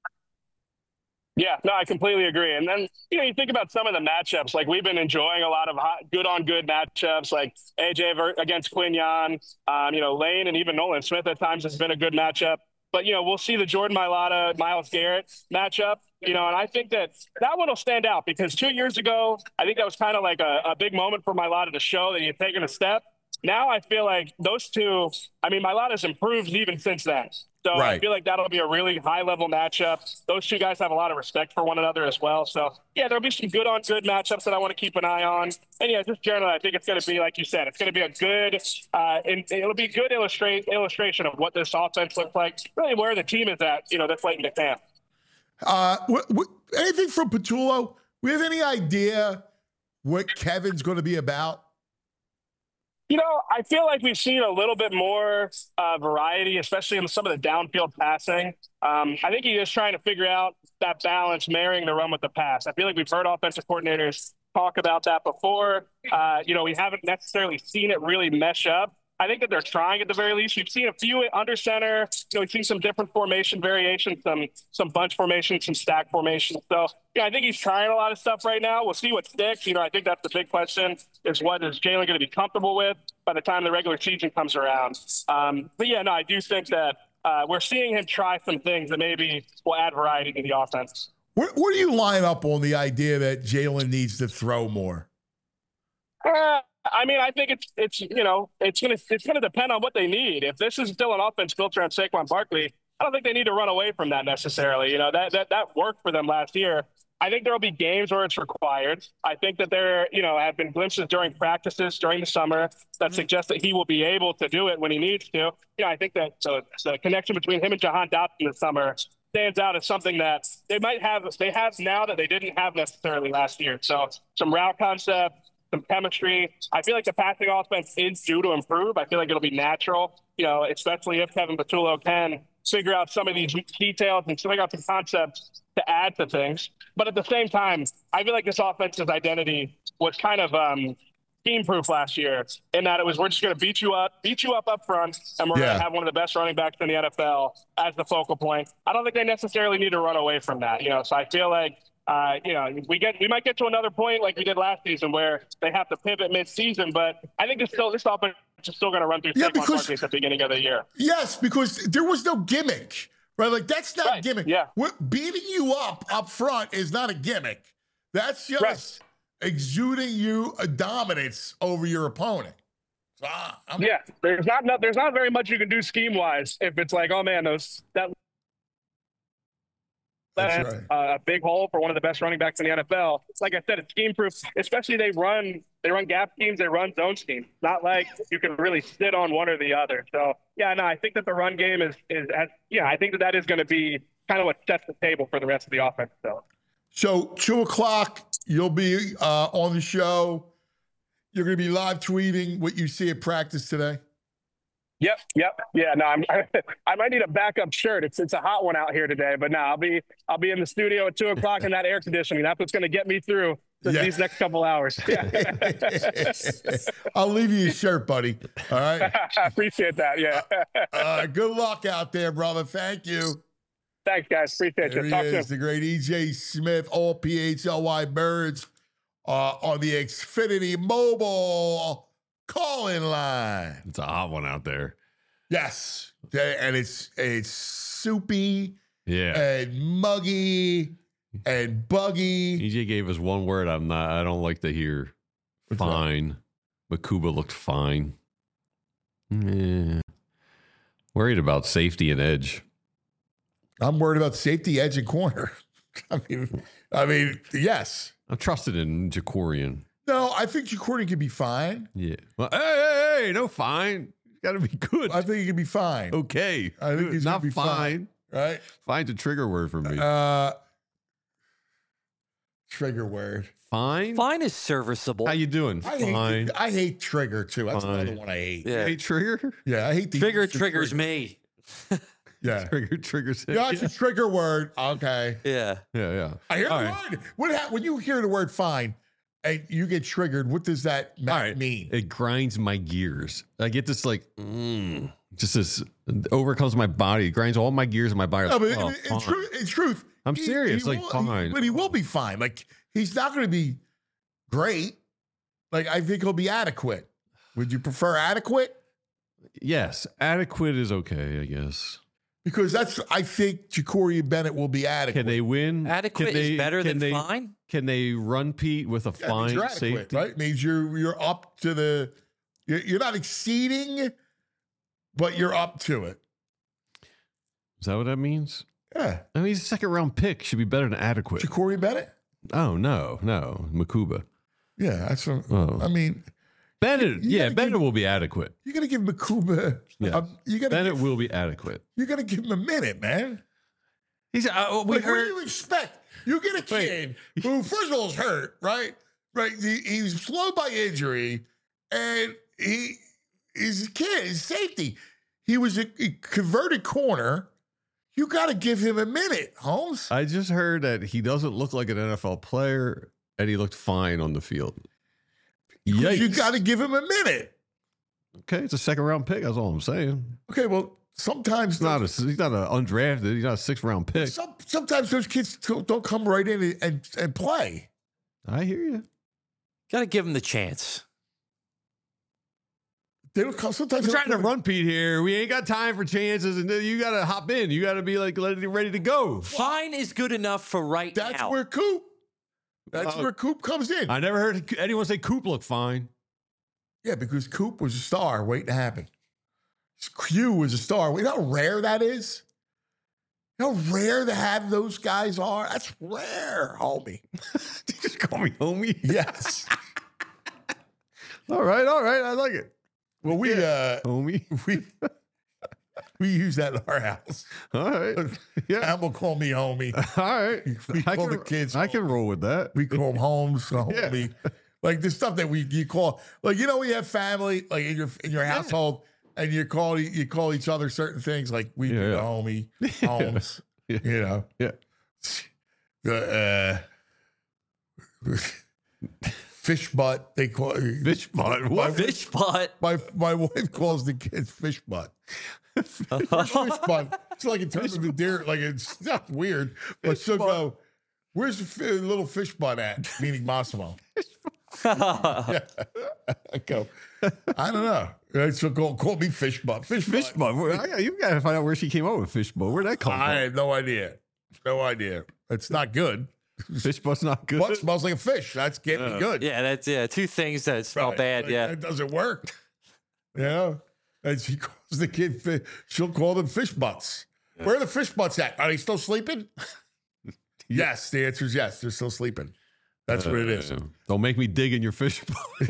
Yeah, no, I completely agree. And then, you know, you think about some of the matchups, like we've been enjoying a lot of good matchups, like AJ against Quinyon, you know, Lane and even Nolan Smith at times has been a good matchup. But, you know, we'll see the Jordan Mailata, Myles Garrett matchup, you know, and I think that one will stand out because 2 years ago, I think that was kind of like a big moment for Mailata to show that he had taken a step. Now I feel like those two, I mean, Mailata's improved even since then. So I feel like that'll be a really high-level matchup. Those two guys have a lot of respect for one another as well. So, yeah, there'll be some good-on-good matchups that I want to keep an eye on. And, yeah, just generally, I think it's going to be, like you said, it's going to be a good it'll be a good illustration of what this offense looks like, really where the team is at, you know, this late in the camp. Anything from Patullo? We have any idea what Kevin's going to be about? You know, I feel like we've seen a little bit more variety, especially in some of the downfield passing. I think he is trying to figure out that balance, marrying the run with the pass. I feel like we've heard offensive coordinators talk about that before. You know, we haven't necessarily seen it really mesh up. I think that they're trying at the very least. We've seen a few under center. You know, we've seen some different formation variations, some bunch formations, some stack formations. So, yeah, I think he's trying a lot of stuff right now. We'll see what sticks. You know, I think that's the big question is what is Jalen going to be comfortable with by the time the regular season comes around. But, yeah, no, I do think that we're seeing him try some things that maybe will add variety to the offense. Where do you line up on the idea that Jalen needs to throw more? I mean, I think it's you know, it's gonna depend on what they need. If this is still an offense built around Saquon Barkley, I don't think they need to run away from that necessarily. You know, that worked for them last year. I think there'll be games where it's required. I think that there, you know, have been glimpses during practices during the summer that suggest that he will be able to do it when he needs to. Yeah, I think that the connection between him and Jahan Dotson this summer stands out as something that they have now that they didn't have necessarily last year. So some route concept, some chemistry. I feel like the passing offense is due to improve. I feel like it'll be natural, you know, especially if Kevin Patullo can figure out some of these details and figure out some concepts to add to things. But at the same time, I feel like this offense's identity was kind of team-proof last year in that it was we're just going to beat you up front, and we're going to have one of the best running backs in the NFL as the focal point. I don't think they necessarily need to run away from that, you know. So I feel like you know, we might get to another point like we did last season where they have to pivot mid-season, but I think this offense is still going to run through Saquon Barkley at the beginning of the year. Yes, because there was no gimmick, right? Like that's not gimmick. Yeah, beating you up front is not a gimmick. That's just exuding you a dominance over your opponent. So Yeah, there's not very much you can do scheme wise if it's like, oh man, that's right. a big hole for one of the best running backs in the NFL. Like I said, it's scheme proof. Especially they run gap schemes, they run zone schemes. It's not like you can really sit on one or the other. So yeah, no, I think that the run game I think that is going to be kind of what sets the table for the rest of the offense. So 2:00, you'll be on the show. You're going to be live tweeting what you see at practice today. Yep. Yeah, no, I might need a backup shirt. It's a hot one out here today, but no, I'll be in the studio at 2:00 in that air conditioning. That's what's going to get me through these next couple hours. I'll leave you your shirt, buddy. All right. I appreciate that. Yeah. Good luck out there, brother. Thank you. Thanks, guys. Appreciate There you. he Talk is, soon. the great EJ Smith, all PHLY Birds on the Xfinity Mobile call-in line. It's a hot one out there. Yes, and it's soupy, and muggy, and buggy. EJ gave us one word I don't like to hear. What's fine. Makuba looked fine. Yeah. Worried about safety and edge. I'm worried about safety, edge, and corner. I mean, yes. I'm trusted in Jacorian. No, I think Jacorian can be fine. Yeah. Well, hey, no fine. Got to be good. I think he can be fine. Okay. I think he's not gonna be fine. Right? Fine's a trigger word for me. Trigger word. Fine? Fine is serviceable. How you doing? Fine. I hate trigger, too. That's Fine. another one I hate. You hate trigger? Yeah, I hate the Trigger triggers me. Yeah. Trigger triggers him. Yeah, it's a trigger word. Okay. Yeah. Yeah. I hear All the right. word. When you hear the word fine and you get triggered, what does that mean? It grinds my gears. I get this just this overcomes my body. It grinds all my gears in my body. No, but Fine. in truth, I'm serious. Fine. But he will be fine. Like, he's not going to be great. Like, I think he'll be adequate. Would you prefer adequate? Yes. Adequate is okay, I guess. Because I think Jacorian Bennett will be adequate. Can they win? Adequate is better than fine? Can they run Pete with a fine you're adequate, safety? right? It means you're up to the, you're not exceeding, but you're up to it. Is that what that means? Yeah. I mean, he's a second round pick. Should be better than adequate. Jacorian Bennett? Oh, no. Makuba. Yeah, that's what, Oh. I mean. Bennett, Bennett will be adequate. You're going to give Makuba. Yeah. Bennett will be adequate. You're going to give him a minute, man. He's What do you expect? You get a kid who, first of all, is hurt, right? Right. He's slowed by injury, and he's a kid. He's safety. He was a converted corner. You got to give him a minute, Holmes. I just heard that he doesn't look like an NFL player, and he looked fine on the field. Yikes. You got to give him a minute. Okay, it's a second round pick. That's all I'm saying. Okay, well, sometimes he's not an undrafted. He's not a 6th round pick. Sometimes those kids don't come right in and play. I hear you. Got to give him the chance. They don't come. Sometimes I'm trying to run Pete here. We ain't got time for chances, and you got to hop in. You got to be like ready to go. Fine is good enough for now. That's where Coop. That's where Coop comes in. I never heard anyone say Coop looked fine. Yeah, because Coop was a star waiting to happen. Q was a star. You know how rare that is? You know how rare to have those guys are? That's rare, homie. Did you just call me homie? Yes. All right. I like it. Well, homie. We use that in our house. All right. Yeah. Am will call me homie. All right. We call the kids. I can roll with that. We call them Holmes, homie. Yeah. Like the stuff that you call, like, you know, we have family, like in your household, and you call each other certain things, like we do the homie, Holmes. Yeah. You know. Yeah. Fish butt. They call it fish butt. What? Fish butt. My wife calls the kids fish butt. Fish butt. It's like in terms of the deer, like it's not weird, but she'll go, "Where's the little fish butt at?" Meaning Massimo. I go, I don't know. She'll call me fish butt. Fish butt. You got to find out where she came up with fish butt. Where'd that come from? I have no idea. No idea. It's not good. Fish butt's not good. Butt smells like a fish. That's getting good. Yeah, that's two things that smell bad. Like, yeah, that doesn't work. Yeah. And she calls the kid, she'll call them fish butts. Yeah. Where are the fish butts at? Are they still sleeping? Yes. The answer is yes. They're still sleeping. That's what it is. Don't make me dig in your fish bowl.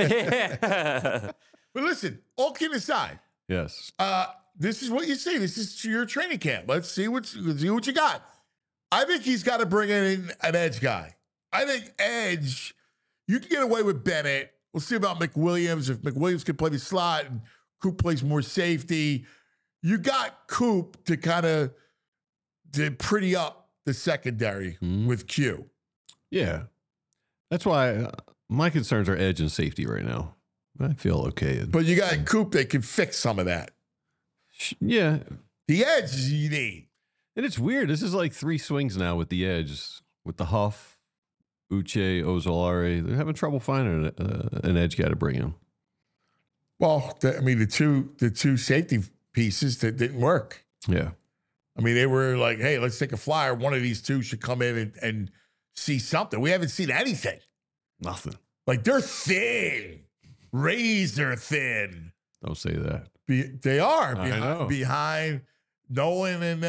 But listen, all kidding aside. Yes. This is what you see. This is your training camp. Let's see what you got. I think he's got to bring in an edge guy. I think edge, you can get away with Bennett. We'll see about McWilliams. If McWilliams can play the slot and Coop plays more safety, you got Coop to kind of pretty up the secondary with Q. Yeah. That's why my concerns are edge and safety right now. I feel okay. But you got Coop that can fix some of that. Yeah. The edge you need. And it's weird. This is like 3 swings now with the edge, with the Huff, Uche, Ozolari. They're having trouble finding an edge guy to bring in. Well, the two safety pieces that didn't work. Yeah. I mean, they were like, hey, let's take a flyer. One of these two should come in and see something. We haven't seen anything. Nothing. Like, they're thin. Razor thin. Don't say that. They are behind Nolan and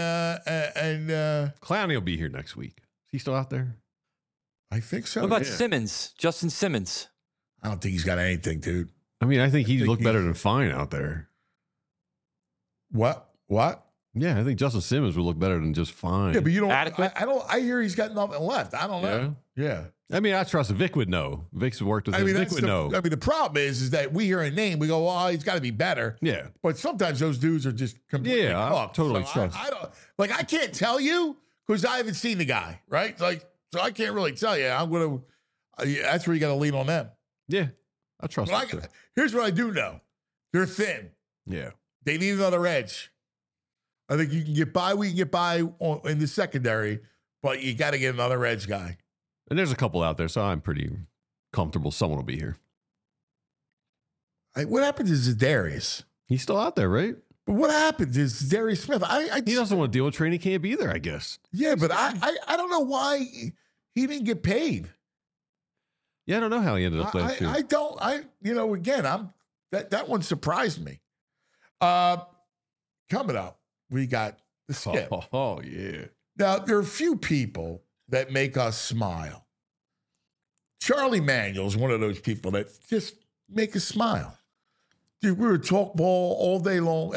Clowney will be here next week. Is he still out there? I think so. What about Simmons? Justin Simmons? I don't think he's got anything, dude. I mean, I think he looked better than fine out there. What? Yeah, I think Justin Simmons would look better than just fine. Yeah, but you don't. Adequate? I hear he's got nothing left. I don't know. Yeah. I mean, I trust Vic would know. Vic's worked with him. Vic would know. I mean, the problem is that we hear a name, we go, "Oh, he's got to be better." Yeah. But sometimes those dudes are just completely I totally trust. I don't I can't tell you because I haven't seen the guy, right? Like, so I can't really tell you. I'm gonna. That's where you got to lean on them. Yeah, I trust. Here's what I do know: they're thin. Yeah. They need another edge. I think you can get by. We can get by in the secondary, but you got to get another edge guy. And there's a couple out there, so I'm pretty comfortable someone will be here. What happens is Darius. He's still out there, right? But what happens is Darius Smith. He doesn't want to deal with training camp either, I guess. Yeah, but I don't know why he didn't get paid. Yeah, I don't know how he ended up last year. Again, that one surprised me. Coming up, we got the skip. Oh, yeah. Now, there are a few people that make us smile. Charlie Manuel's one of those people that just make us smile. Dude, we were talk ball all day long.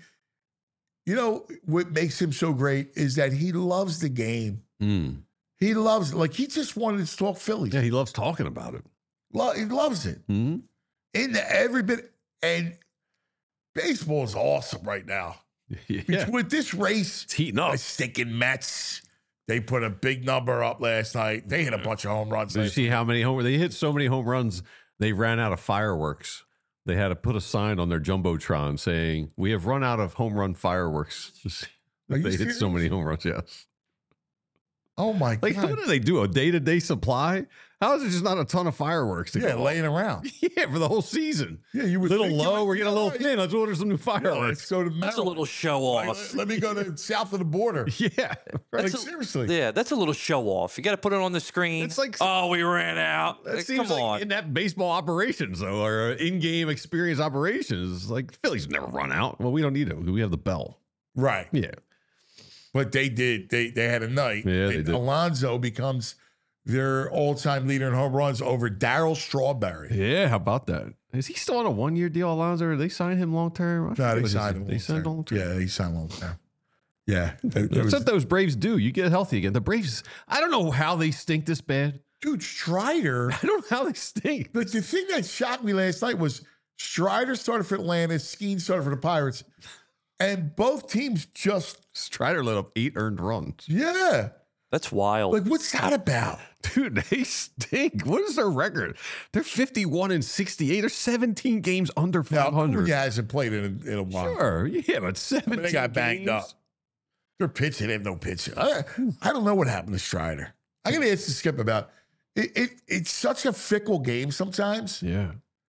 What makes him so great is that he loves the game. He loves it. Like, he just wanted to talk Phillies. Yeah, he loves talking about it. He loves it. Into every bit. And baseball is awesome right now. Yeah. With this race, it's heating up. The stinking Mets, they put a big number up last night. They hit a bunch of home runs. Did you see how many they hit so many home runs, they ran out of fireworks. They had to put a sign on their Jumbotron saying, "We have run out of home run fireworks." They hit so many home runs, yes. Oh, my God. Like, what do they do? A day-to-day supply? How is it just not a ton of fireworks to go laying around? Yeah, for the whole season. Yeah, you were a little low. We're getting a little thin. Let's order some new fireworks. Let's go to That's a little show off. Let me go to south of the border. Yeah. Right. Seriously. Yeah, that's a little show off. You got to put it on the screen. It's like, we ran out. That seems Come like on. in that baseball operations, though, or in-game experience operations, like Phillies never run out. Well, we don't need it. We have the bell. Right. Yeah. But they did. They had a night. Yeah, they did. Alonso becomes their all-time leader in home runs over Darryl Strawberry. Yeah, how about that? Is he still on a one-year deal, Alonso? Or they signed him long-term? No, they signed him. They signed long-term. Yeah, he signed long-term. Yeah. That's what those Braves do. You get healthy again. The Braves, I don't know how they stink this bad. Dude, Strider. I don't know how they stink. But the thing that shocked me last night was Strider started for Atlanta, Skeen started for the Pirates. And both teams just... Strider let up 8 earned runs. Yeah. That's wild. Like, what's that about? Dude, they stink. What is their record? They're 51-68. They're 17 games under 500. Yeah, hasn't played in a while. Sure. Yeah, but 17 they got banged up. They're pitching. They have no pitching. I don't know what happened to Strider. I got to ask Skip about it. It's such a fickle game sometimes. Yeah.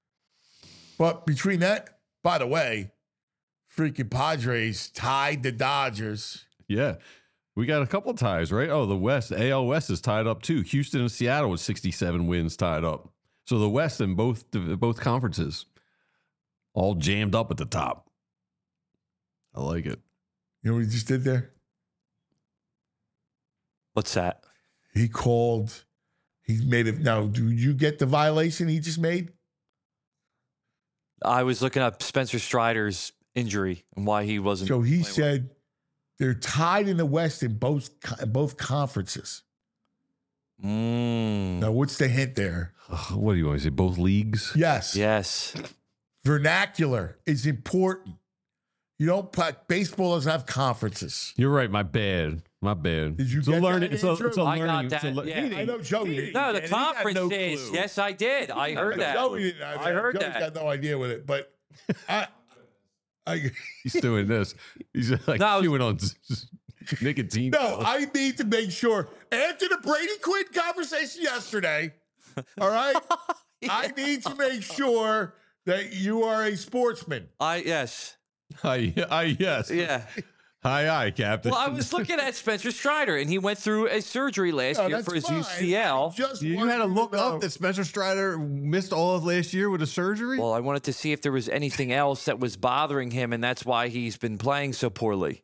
But between that, by the way, freaking Padres tied the Dodgers. Yeah. We got a couple ties, right? Oh, the West, the AL West is tied up too. Houston and Seattle with 67 wins tied up. So the West in both conferences, all jammed up at the top. I like it. You know what he just did there? What's that? He made it. Now, do you get the violation he just made? I was looking up Spencer Strider's injury and why he wasn't. So he playing said they're tied in the West in both conferences. Now, what's the hint there? What do you want to say? Both leagues? Yes. Yes. Vernacular is important. You don't play, baseball doesn't have conferences. You're right. My bad. Did you It's a get learning. that, It's a Andrew? I learning. got that. Yeah. I know Joey didn't. No, the And he got conference no is. clue. Yes, I did. I heard that. Joey didn't. I heard Joey's that. got no idea with it, but He's doing this. He's like No, I was- chewing on nicotine. No, I need to make sure. After the Brady Quinn conversation yesterday, all right, I need to make sure that you are a sportsman. Yes. Yes. Yeah. Aye, Captain. Well, I was looking at Spencer Strider, and he went through a surgery last year that's for his fine. UCL. Just You wanted had to look know. up that Spencer Strider missed all of last year with a surgery? Well, I wanted to see if there was anything else that was bothering him, and that's why he's been playing so poorly.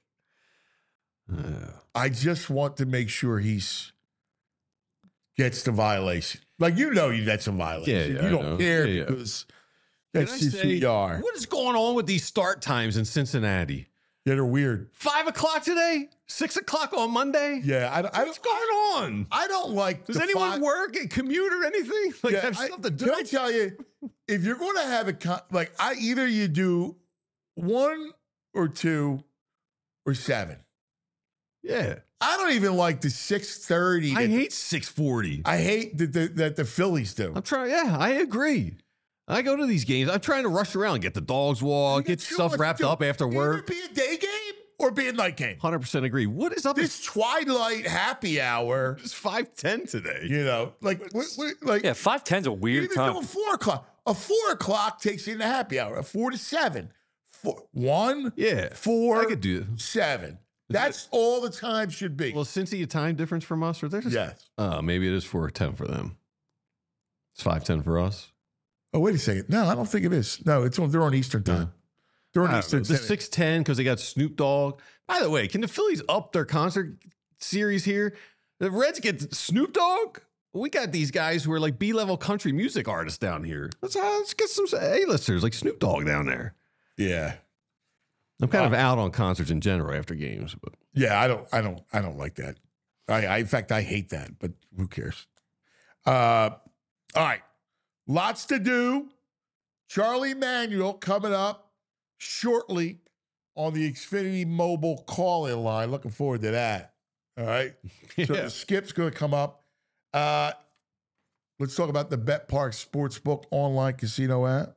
I just want to make sure gets the violation. Like, that's a violation. Yeah, you I don't know. care Yeah. because Can that's I just who say, you are. what is going on with these start times in Cincinnati? Yeah, they're weird. 5 o'clock today? 6 o'clock on Monday? Yeah, What's going on? I don't like. Does the anyone work and commute or anything? Like, have stuff to do? Can I tell you, if you're going to have either you do 1 or 2 or 7. Yeah. I don't even like the 6:30. I hate 6:40. I hate that the Phillies do. I'm trying. Yeah, I agree. I go to these games. I'm trying to rush around, get the dogs walk, get stuff wrapped up after work. Either be a day game or be a night game. 100% agree. What is up? This twilight happy hour. It's 5:10 today. Like 5:10's a weird even time. doing 4 o'clock. A 4 o'clock takes you into happy hour. A 4 to 7. 1, Yeah, 4, I could do it. 7. That's all the time should be. Well, since a time difference from us, or there's Yes. Maybe it is 4:10 for them. It's 5:10 for us. Oh, wait a second. No, I don't think it is. No, they're on Eastern time. They're on Eastern The time. 6:10 because they got Snoop Dogg. By the way, can the Phillies up their concert series here? The Reds get Snoop Dogg. We got these guys who are like B-level country music artists down here. Let's get some A-listers like Snoop Dogg down there. Yeah. I'm kind of out on concerts in general after games, but Yeah, I don't like that. In fact, I hate that, but who cares? All right. Lots to do. Charlie Manuel coming up shortly on the Xfinity Mobile call-in line. Looking forward to that. All right. So Yeah. the skip's going to come up. Let's talk about the Bet Park Sportsbook online casino app.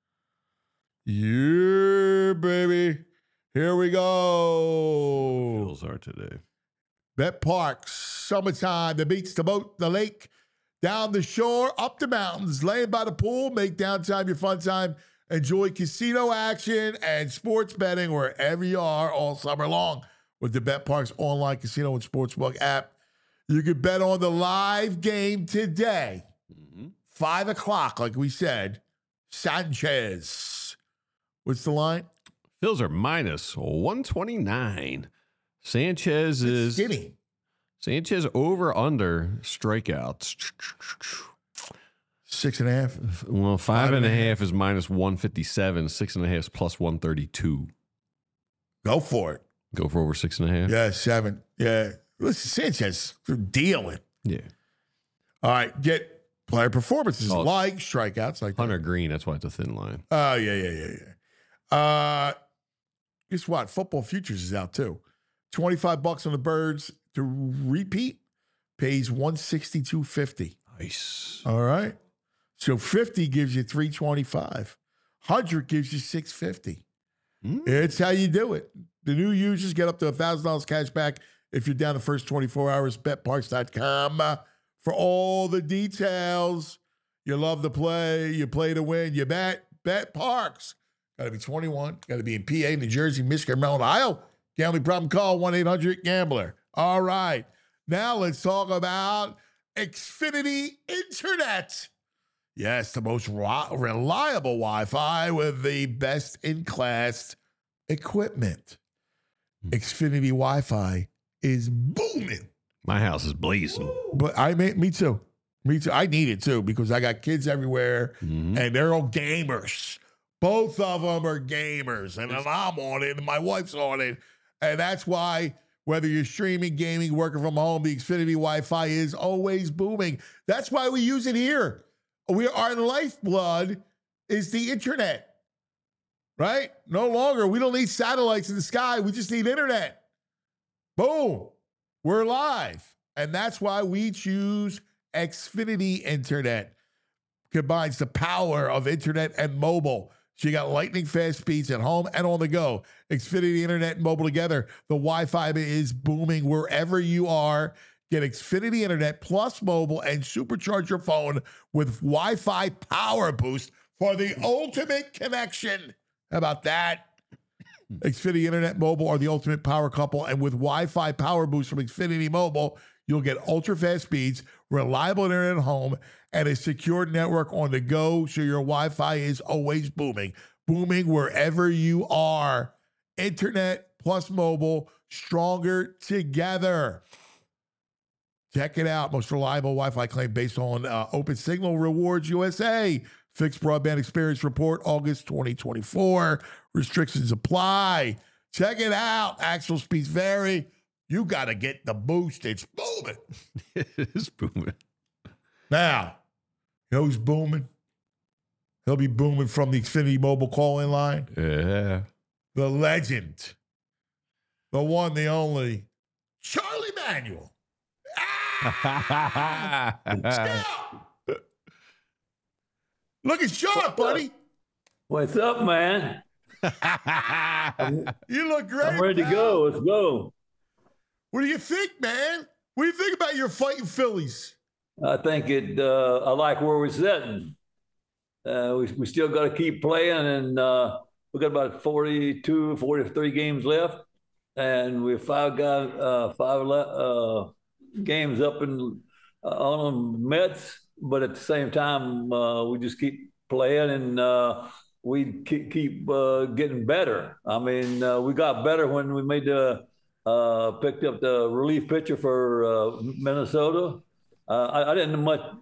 Yeah, baby. Here we go. Bills are today. Bet Park, summertime, the beach, the boat, the lake, down the shore, up the mountains, laying by the pool, make downtime your fun time. Enjoy casino action and sports betting wherever you are all summer long with the Bet Parks online casino and sportsbook app. You can bet on the live game today, 5 o'clock, like we said. Sanchez. What's the line? Bills are minus 129. Sanchez is skinny. Sanchez over under strikeouts. 6.5. Well, 5.5 is minus 157. 6.5 is plus 132. Go for it. Go for over 6.5. Yeah, 7. Yeah. Listen, Sanchez, they're dealing. Yeah. All right, get player performances like strikeouts, like Hunter Green. That's why it's a thin line. Oh, yeah. Guess what? Football Futures is out too. $25 on the Birds to repeat pays $162.50. Nice. All right. So 50 gives you $325. 100 gives you $650. It's how you do it. The new users get up to $1,000 cash back if you're down the first 24 hours. BetParks.com for all the details. You love to play. You play to win. You bet. Bet Parks. Got to be 21. Got to be in PA, New Jersey, Michigan, Maryland, Ohio. Gambling problem, call 1-800-GAMBLER. All right. Now let's talk about Xfinity Internet. Yes, the most reliable Wi-Fi with the best-in-class equipment. Xfinity Wi-Fi is booming. My house is blazing. But me too. Me too. I need it too because I got kids everywhere and they're all gamers. Both of them are gamers. And I'm on it and my wife's on it. And that's why whether you're streaming, gaming, working from home, the Xfinity Wi-Fi is always booming. That's why we use it here. Our lifeblood is the internet, right? No longer. We don't need satellites in the sky. We just need internet. Boom. We're live. And that's why we choose Xfinity Internet. Combines the power of internet and mobile. So you got lightning fast speeds at home and on the go. Xfinity Internet and mobile together. The Wi-Fi is booming wherever you are. Get Xfinity Internet plus mobile and supercharge your phone with Wi-Fi Power Boost for the ultimate connection. How about that? Xfinity Internet Mobile are the ultimate power couple, and with Wi-Fi Power Boost from Xfinity Mobile, you'll get ultra-fast speeds, reliable internet at home, and a secure network on the go, so your Wi-Fi is always booming. Booming wherever you are. Internet plus mobile, stronger together. Check it out. Most reliable Wi-Fi claim based on Open Signal Rewards USA. Fixed Broadband Experience Report, August 2024. Restrictions apply. Check it out. Actual speeds vary. You got to get the boost. It's booming. It is booming. Now, you know who's booming? He'll be booming from the Xfinity mobile call-in line. Yeah. The legend. The one, the only. Charlie Manuel. Looking sharp, buddy. What's up, man? You look great. I'm ready to go. Let's go. What do you think, man? What do you think about your fighting Phillies? I think I like where we're sitting. We still got to keep playing, and we got about 42, 43 games left, and we're five games up on the Mets. But at the same time, we just keep playing, and we keep getting better. I mean, we got better when we made picked up the relief pitcher for Minnesota. I didn't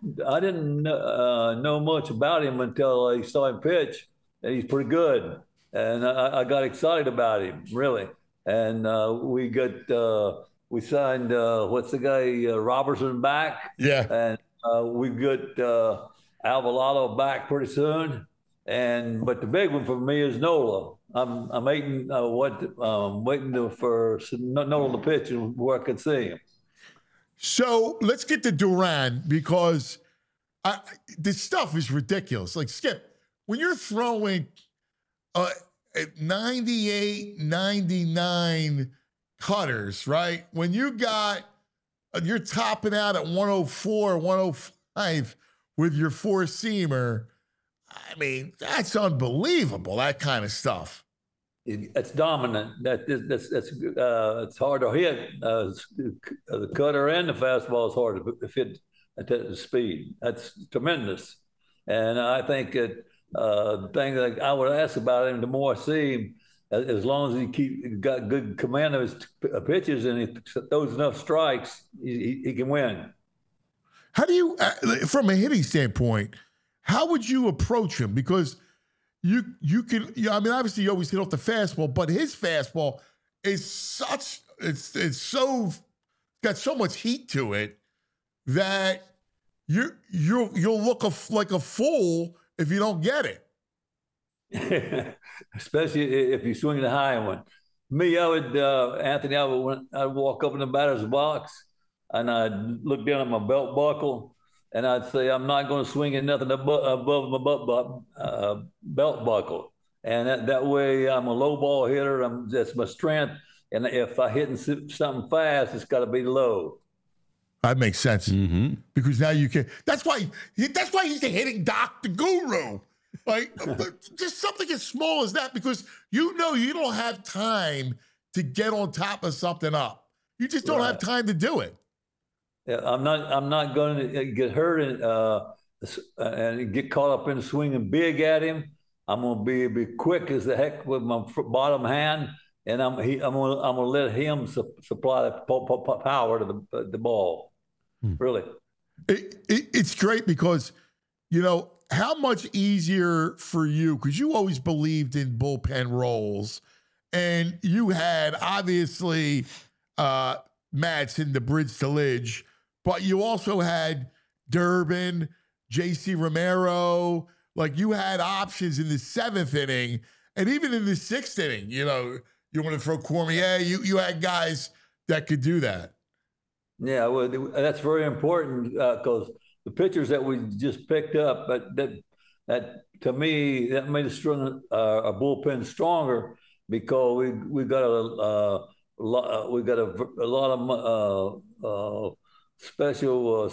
know much about him until I saw him pitch, and he's pretty good. And I got excited about him, really. And we signed what's the guy Robertson back? Yeah. And we got Alvarado back pretty soon. But the big one for me is Nola. I'm waiting for Nola to pitch and where I can see him. So let's get to Duran because this stuff is ridiculous. Like, Skip, when you're throwing 98, 99 cutters, right? When you're topping out at 104, 105 with your four-seamer, I mean, that's unbelievable, that kind of stuff. It's dominant. It's hard to hit. The cutter and the fastball is hard to hit at the speed. That's tremendous. And I think the thing that I would ask about him, the more I see him, as long as he got good command of his pitches and he throws enough strikes, he can win. How do you, from a hitting standpoint, how would you approach him? Because you can, I mean, obviously you always hit off the fastball, but his fastball is it's got so much heat to it that you'll look like a fool if you don't get it. Especially if you swing the high one. Me, I'd walk up in the batter's box and I'd look down at my belt buckle and I'd say, I'm not going to swing at nothing above my belt buckle. And that way I'm a low ball hitter. That's my strength. And if I hit something fast, it's got to be low. That makes sense. Mm-hmm. Because now you can. That's why he's the hitting doc, the guru. Like, just something as small as that, because you don't have time to get on top of something up. You just don't have time to do it. Yeah, I'm not going to get hurt and get caught up in the swinging big at him. I'm gonna be quick as the heck with my bottom hand, and I'm gonna let him supply the power to the ball. Really, it's great because how much easier for you, because you always believed in bullpen roles, and you had obviously Madsen, the bridge to Lidge, but you also had Durbin, JC Romero. Like, you had options in the 7th inning, and even in the 6th inning. You want to throw Cormier. You had guys that could do that. Yeah, well, that's very important because the pitchers that we just picked up, that to me, that made us a bullpen stronger, because we got a lot of special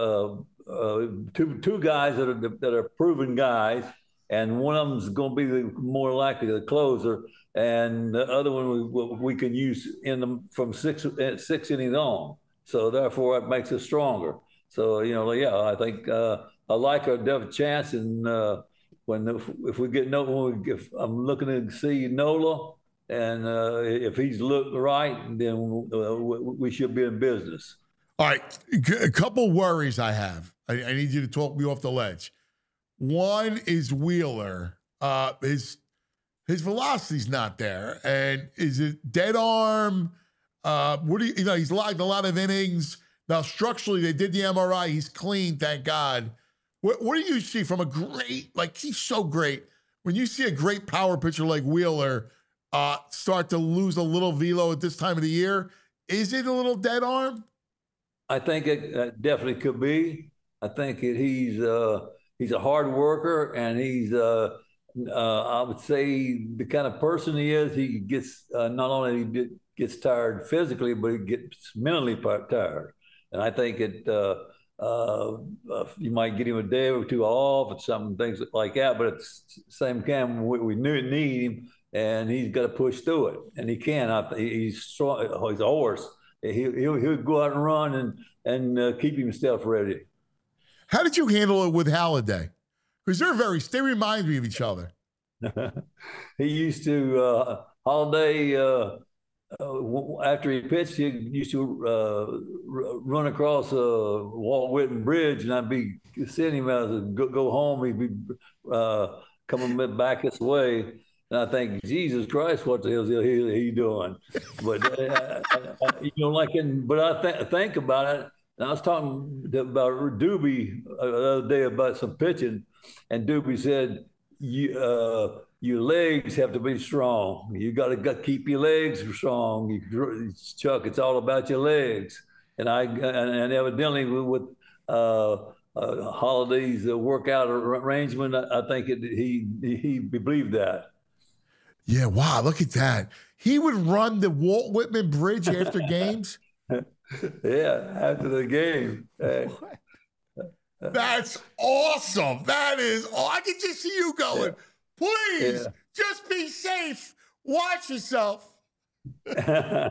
two guys that are proven guys, and one of them's going to be more likely the closer, and the other one we can use from six innings on. So therefore, it makes us stronger. So I think I like our definite chance, and if we get if I'm looking to see Nola, and if he's looked right, then we should be in business. All right, a couple worries I have. I need you to talk me off the ledge. One is Wheeler. His velocity's not there, and is it dead arm? He's logged a lot of innings. Now, structurally, they did the MRI. He's clean, thank God. What do you see from a great, he's so great. When you see a great power pitcher like Wheeler start to lose a little velo at this time of the year, is it a little dead arm? I think it definitely could be. I think he's a hard worker, and he's I would say the kind of person he is. He gets not only gets tired physically, but he gets mentally tired. And I think you might get him a day or two off or something, things like that. But at the same time, we need him, and he's got to push through it, and he can. He's strong. He's a horse. He'll go out and run and keep himself ready. How did you handle it with Halladay? Because they remind me of each other. He used to Halladay after he pitched, he used to run across Walt Whitman Bridge, and I'd be sending him as go home. He'd be coming back this way. And I think, Jesus Christ, what the hell is he doing? But but I think about it. And I was talking about Doobie the other day about some pitching, and Doobie said, "Your legs have to be strong. You got to keep your legs strong, Chuck. It's all about your legs." And evidently with Holladay's workout arrangement, I think he believed that. Yeah, wow, look at that. He would run the Walt Whitman Bridge after games? Yeah, after the game. That's awesome. That is I can just see you going, please, just be safe. Watch yourself. Yeah.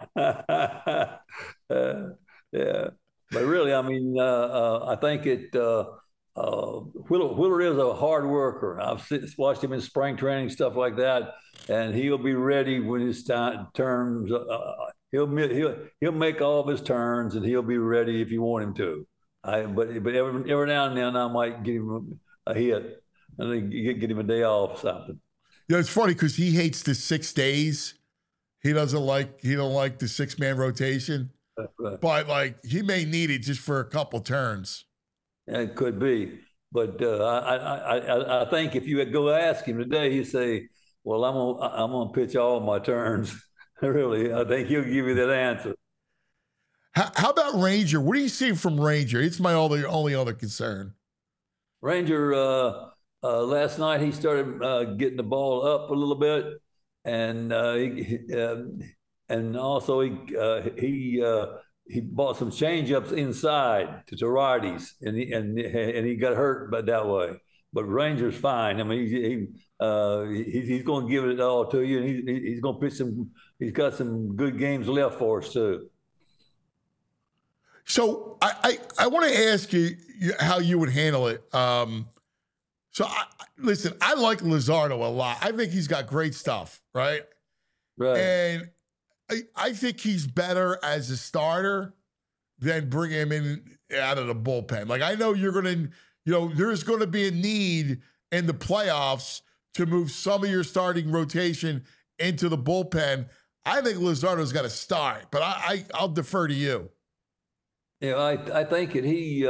But really, I mean, I think Wheeler is a hard worker. I've watched him in spring training, stuff like that, and he'll be ready when his turns. He'll make all of his turns, and he'll be ready if you want him to. But every now and then I might give him a hit, and then get him a day off or something. Yeah, it's funny because he hates the 6 days. He don't like the 6-man rotation. Right. But he may need it just for a couple turns. Yeah, it could be, but I think if you go ask him today, he'd say, "Well, I'm gonna pitch all my turns." Really, I think he'll give you that answer. How about Ranger? What do you see from Ranger? It's my only other concern. Ranger, last night he started getting the ball up a little bit, and also he bought some changeups inside to righties, and he got hurt by that way. But Ranger's fine. I mean, he's going to give it all to you, and he's going to pitch some. He's got some good games left for us too. So I want to ask you how you would handle it. Listen, I like Luzardo a lot. I think he's got great stuff, right? Right. And I think he's better as a starter than bring him in out of the bullpen. Like, I know you're going to, there's going to be a need in the playoffs to move some of your starting rotation into the bullpen. I think Luzardo's got to start, but I'll defer to you. Yeah, I think that he,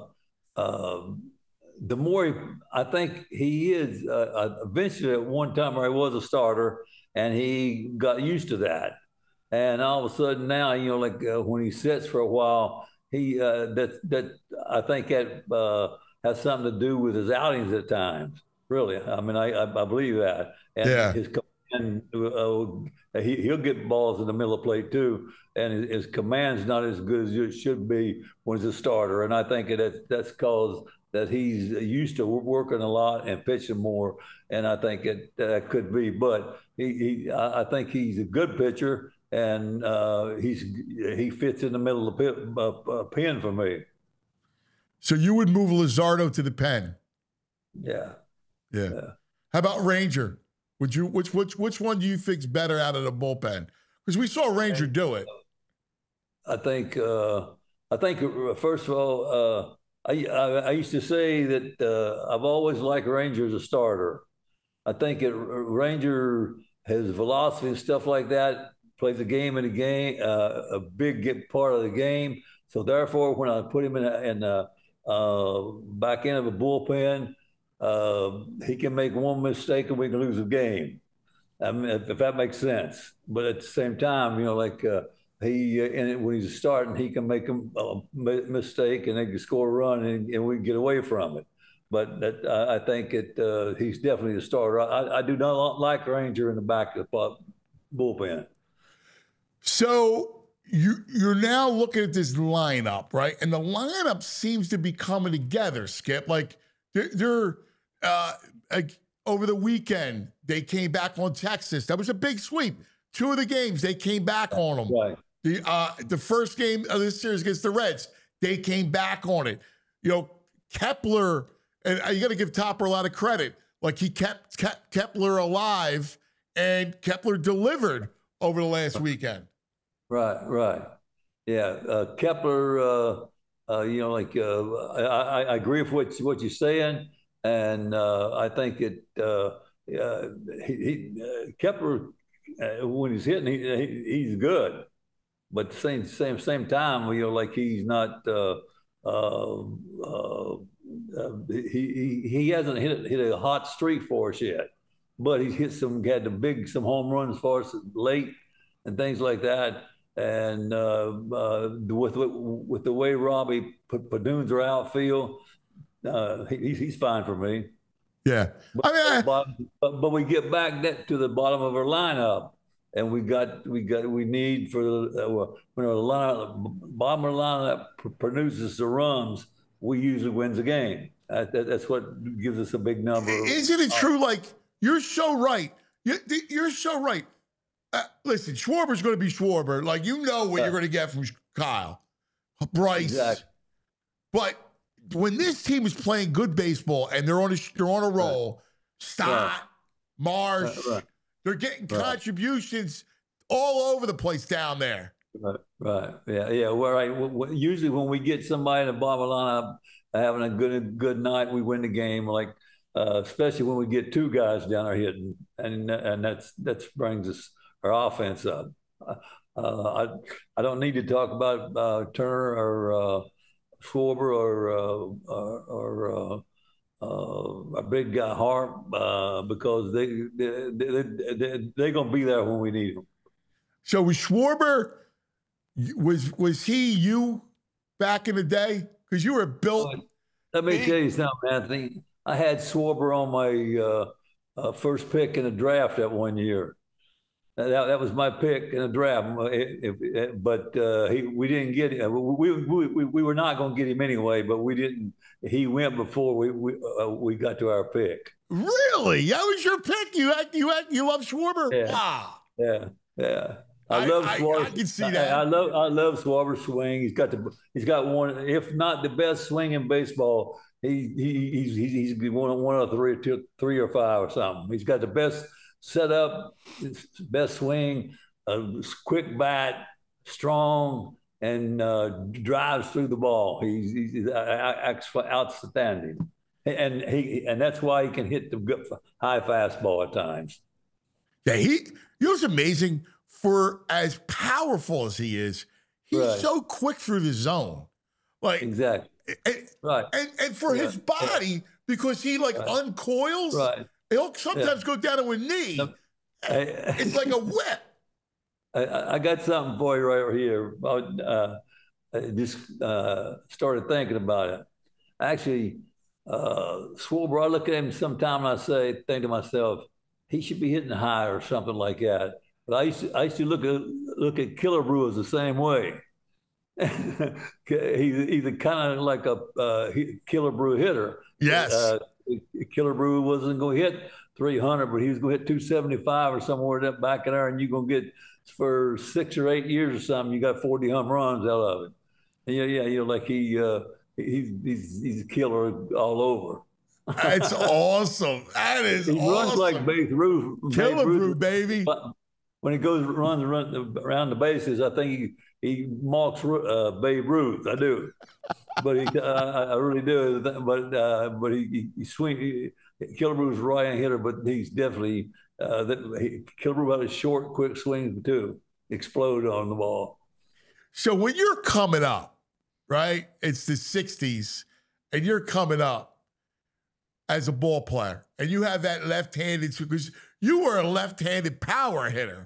the more I think he is, eventually at one time where he was a starter and he got used to that. And all of a sudden now, when he sits for a while, he that I think that has something to do with his outings at times. Really, I mean, I believe that. And his command, he'll get balls in the middle of the plate too, and his command's not as good as it should be when he's a starter. And I think that's because that he's used to working a lot and pitching more. And I think that could be, but I think he's a good pitcher. And he fits in the middle of the pen for me. So you would move Luzardo to the pen? Yeah. How about Ranger? Would you? Which one do you think's better out of the bullpen? Because we saw Ranger do it. I think first of all, I used to say that I've always liked Ranger as a starter. I think Ranger has velocity and stuff like that. Plays a game in a game, a big part of the game. So therefore, when I put him in back end of a bullpen, he can make one mistake and we can lose a game. I mean, if that makes sense. But at the same time, when he's starting, he can make a mistake and they can score a run and we can get away from it. But I think he's definitely the starter. I do not like Ranger in the back of the bullpen. So you're now looking at this lineup, right? And the lineup seems to be coming together, Skip. Like they're like over the weekend, they came back on Texas. That was a big sweep. 2 of the games, they came back on them. Right. The first game of this series against the Reds, they came back on it. Kepler, and you got to give Topper a lot of credit. Like he kept Kepler alive, and Kepler delivered over the last weekend. Right. Yeah, Kepler. I agree with what you're saying, and I think Kepler when he's hitting, he's good, but at the same time, he's not. He hasn't hit a hot streak for us yet, but he's had some home runs for us late and things like that. And with the way Robbie Padunes are outfield, he's fine for me. Yeah, but we get back to the bottom of our lineup, and we need for when our bottom of the lineup produces the runs, we usually wins the game. That's what gives us a big number. Isn't it true? Like you're so right. You're so right. Listen, Schwarber's going to be Schwarber. Like, what you're going to get from Kyle, Bryce. Exactly. But when this team is playing good baseball and they're on a roll, Stott, Marsh, they're getting contributions all over the place down there. Right. Yeah. Well, right. Usually when we get somebody in the bottom of the lineup having a good night, we win the game. Like, especially when we get 2 guys down there hitting, and that brings us our offense up. I don't need to talk about Turner or Schwarber or a big guy Harp because they're going to be there when we need them. So was Schwarber, was he you back in the day? Because you were built. Let me tell you something, Anthony. I had Schwarber on my first pick in the draft that one year. That was my pick in the draft, but we didn't get him. We were not going to get him anyway, but we didn't. He went before we got to our pick. Really? That was your pick? You love Schwarber? Yeah. Wow. Yeah. I love Schwarber. I can see that. I love Schwarber's swing. He's got one, if not the best swing in baseball. He's one of three or five or something. He's got the best setup, best swing, quick bat, strong, and drives through the ball. He's outstanding, and that's why he can hit the high fastball at times. Yeah, you know what's amazing? For as powerful as he is, he's so quick through the zone. Like exactly. And for his body, because he uncoils, he'll sometimes go down to a knee. It's like a whip. I got something for you right here. I just started thinking about it. Actually, Schwarber, I look at him sometime and think to myself, he should be hitting high or something like that. But I used to look at Killebrew the same way. He's kind of like a Killebrew hitter. Yes. Killebrew wasn't going to hit 300, but he was going to hit 275 or somewhere back in there, and you're going to get for 6 or 8 years or something, you got 40 home runs out of it. And like he's a killer all over. That's awesome. That is he awesome. Runs like Babe Ruth. Killebrew, baby. When he runs around the bases, I think he mocks Babe Ruth. I do, but I really do. But he swing. Killebrew's a right-hand hitter, but he's definitely Killebrew had a short, quick swing too. Explode on the ball. So when you're coming up, right? It's the '60s, and you're coming up as a ball player, and you have that left-handed, because you were a left-handed power hitter.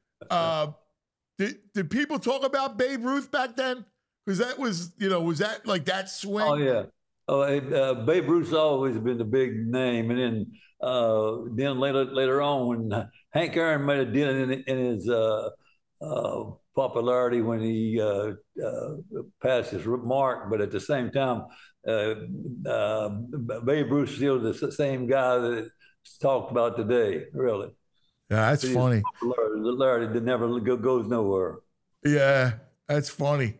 Did people talk about Babe Ruth back then? Because that was that like that swing? Oh yeah. Babe Ruth's always been the big name, and then later on when Hank Aaron made a dent in his popularity when he passed his mark, but at the same time, Babe Ruth still the same guy that's talked about today, really. Yeah, that's funny. Popularity that never goes nowhere. Yeah, that's funny.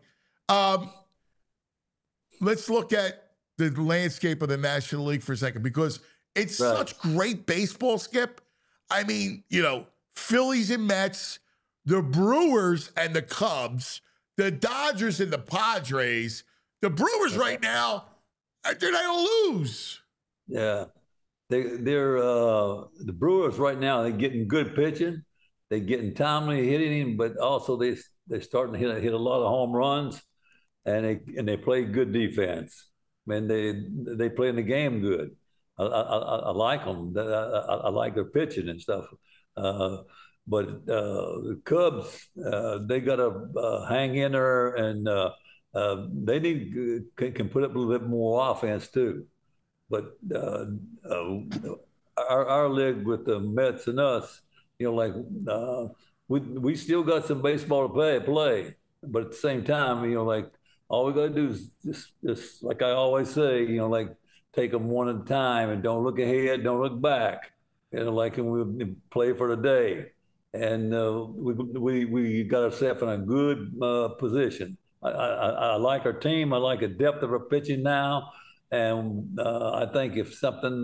Let's look at the landscape of the National League for a second, because it's such great baseball, Skip. I mean, Phillies and Mets, the Brewers and the Cubs, the Dodgers and the Padres. The Brewers right now, they're not going to lose. Yeah. They're the Brewers right now, they're getting good pitching. They're getting timely hitting, but also they're starting to hit a lot of home runs, and they play good defense. Man, they play in the game good. I like them. I like their pitching and stuff. But the Cubs, they got to hang in there, and they can put up a little bit more offense too. But our league with the Mets and us, we still got some baseball to play. But at the same time, all we got to do is just like I always say, take them one at a time and don't look ahead, don't look back. And we play for the day. And we got ourselves in a good position. I like our team. I like the depth of our pitching now. And I think if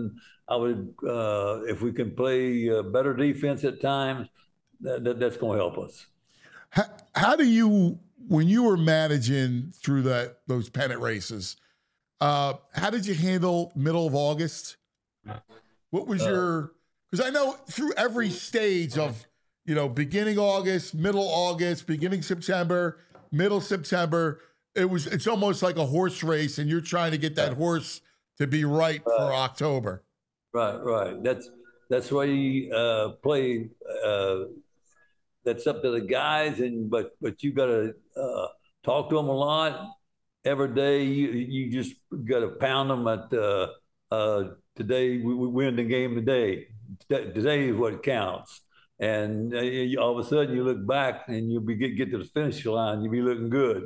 we can play better defense at times, that's going to help us. How do you, when you were managing through those pennant races, how did you handle middle of August? What was because I know through every stage of, beginning August, middle August, beginning September, middle September, it's almost like a horse race, and you're trying to get that horse to be right for October. Right. That's why you play. That's up to the guys, but you got to talk to them a lot every day. You just got to pound them at today. We win the game today. Today is what counts. And all of a sudden, you look back and you'll get to the finish line. You'll be looking good.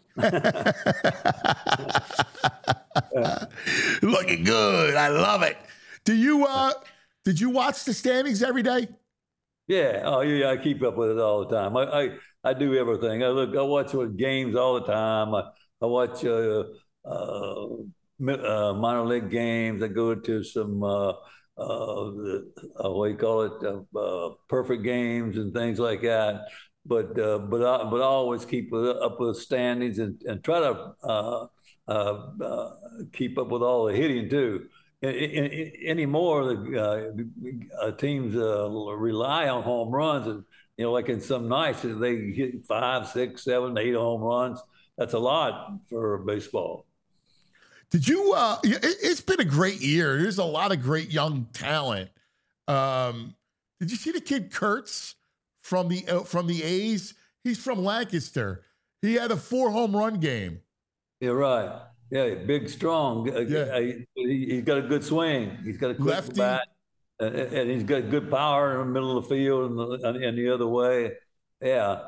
Looking good. I love it. Did you watch the standings every day? Yeah. Oh, yeah. I keep up with it all the time. I do everything. I watch games all the time. I watch minor league games. I go to some what do you call it? Perfect games and things like that. But I always keep up with the standings and try to keep up with all the hitting too. Anymore, the teams rely on home runs, and like in some nights they hit 5, 6, 7, 8 home runs. That's a lot for baseball. Did you? It's been a great year. There's a lot of great young talent. Did you see the kid Kurtz from the A's? He's from Lancaster. He had a 4 home run game. Yeah, right. Yeah, big, strong. He's got a good swing. He's got a quick Lefty. bat, and he's got good power in the middle of the field and the other way. Yeah,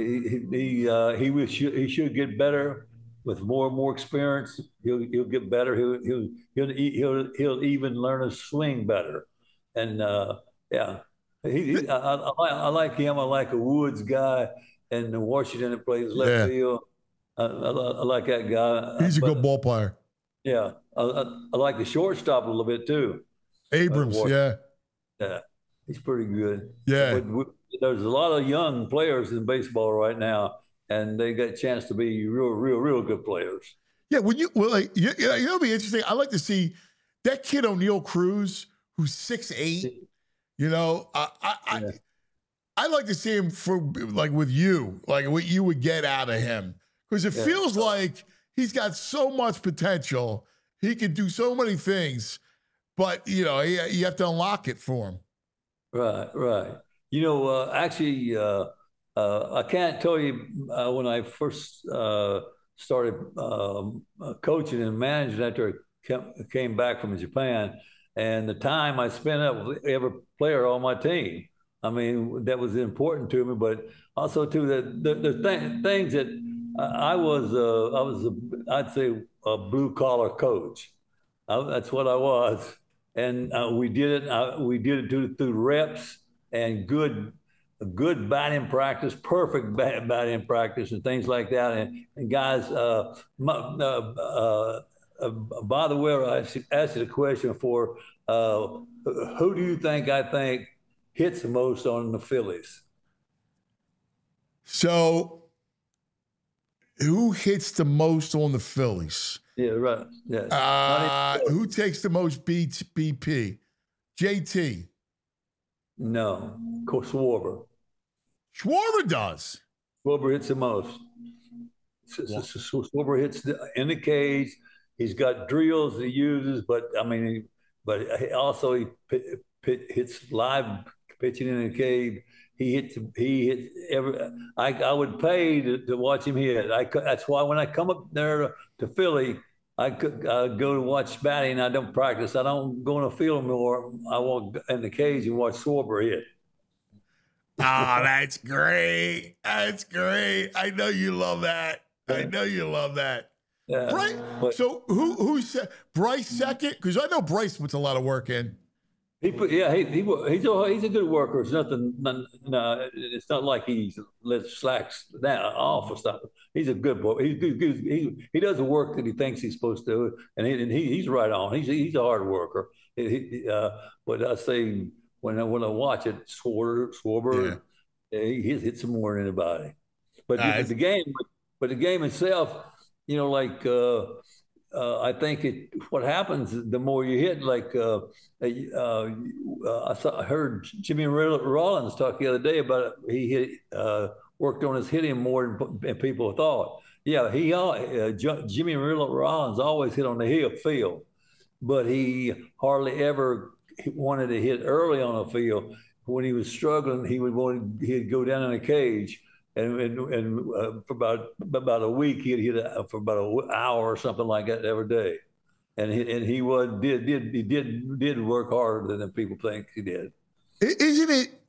he should get better with more and more experience. He'll get better. He'll even learn to swing better. And yeah, I like him. I like a Woods guy in Washington that plays left field. I like that guy. He's a good ball player. Yeah, I like the shortstop a little bit too. Abrams, yeah, he's pretty good. Yeah, there's a lot of young players in baseball right now, and they got a chance to be real good players. Yeah, it'll be interesting. I like to see that kid O'Neal Cruz, who's 6'8". I like to see him for with you, like what you would get out of him. Because it feels like he's got so much potential. He can do so many things, but, you have to unlock it for him. Right. Actually, I can't tell you when I first started coaching and managing after I came back from Japan, and the time I spent up with every player on my team. I mean, that was important to me, but also too the things that I'd say a blue collar coach. That's what I was, and we did it. We did it through reps and good batting practice, perfect batting practice, and things like that. And guys, by the way, I asked you the question for who do you think hits the most on the Phillies? So. Who hits the most on the Phillies? Yeah, right. Yes. Who takes the most BP? JT. No, Schwarber. Schwarber does. Schwarber hits the most. Schwarber hits in the cage. He's got drills that he uses, but also he hits live pitching in the cage. He hits every. I would pay to watch him hit. That's why when I come up there to Philly, I go to watch batting. I don't practice. I don't go in the field more. I walk in the cage and watch Schwarber hit. Oh, that's great. That's great. I know you love that. Yeah. Right. So who's Bryce second? Because I know Bryce puts a lot of work in. He's a good worker. It's nothing. No, it's not like he slacks down off or stuff. He's a good boy. He does the work that he thinks he's supposed to, and he's right on. He's a hard worker. But I say when I watch it, Schwarber, he hits some more than anybody. But the game itself, I think what happens the more you hit, I heard Jimmy Rollins talk the other day about it. He worked on his hitting more than people thought. Yeah, Jimmy Rollins always hit on the field, but he hardly ever wanted to hit early on the field. When he was struggling, he'd go down in a cage. And for about a week, he'd hit for about an hour or something like that every day, and he did work harder than people think he did. Isn't it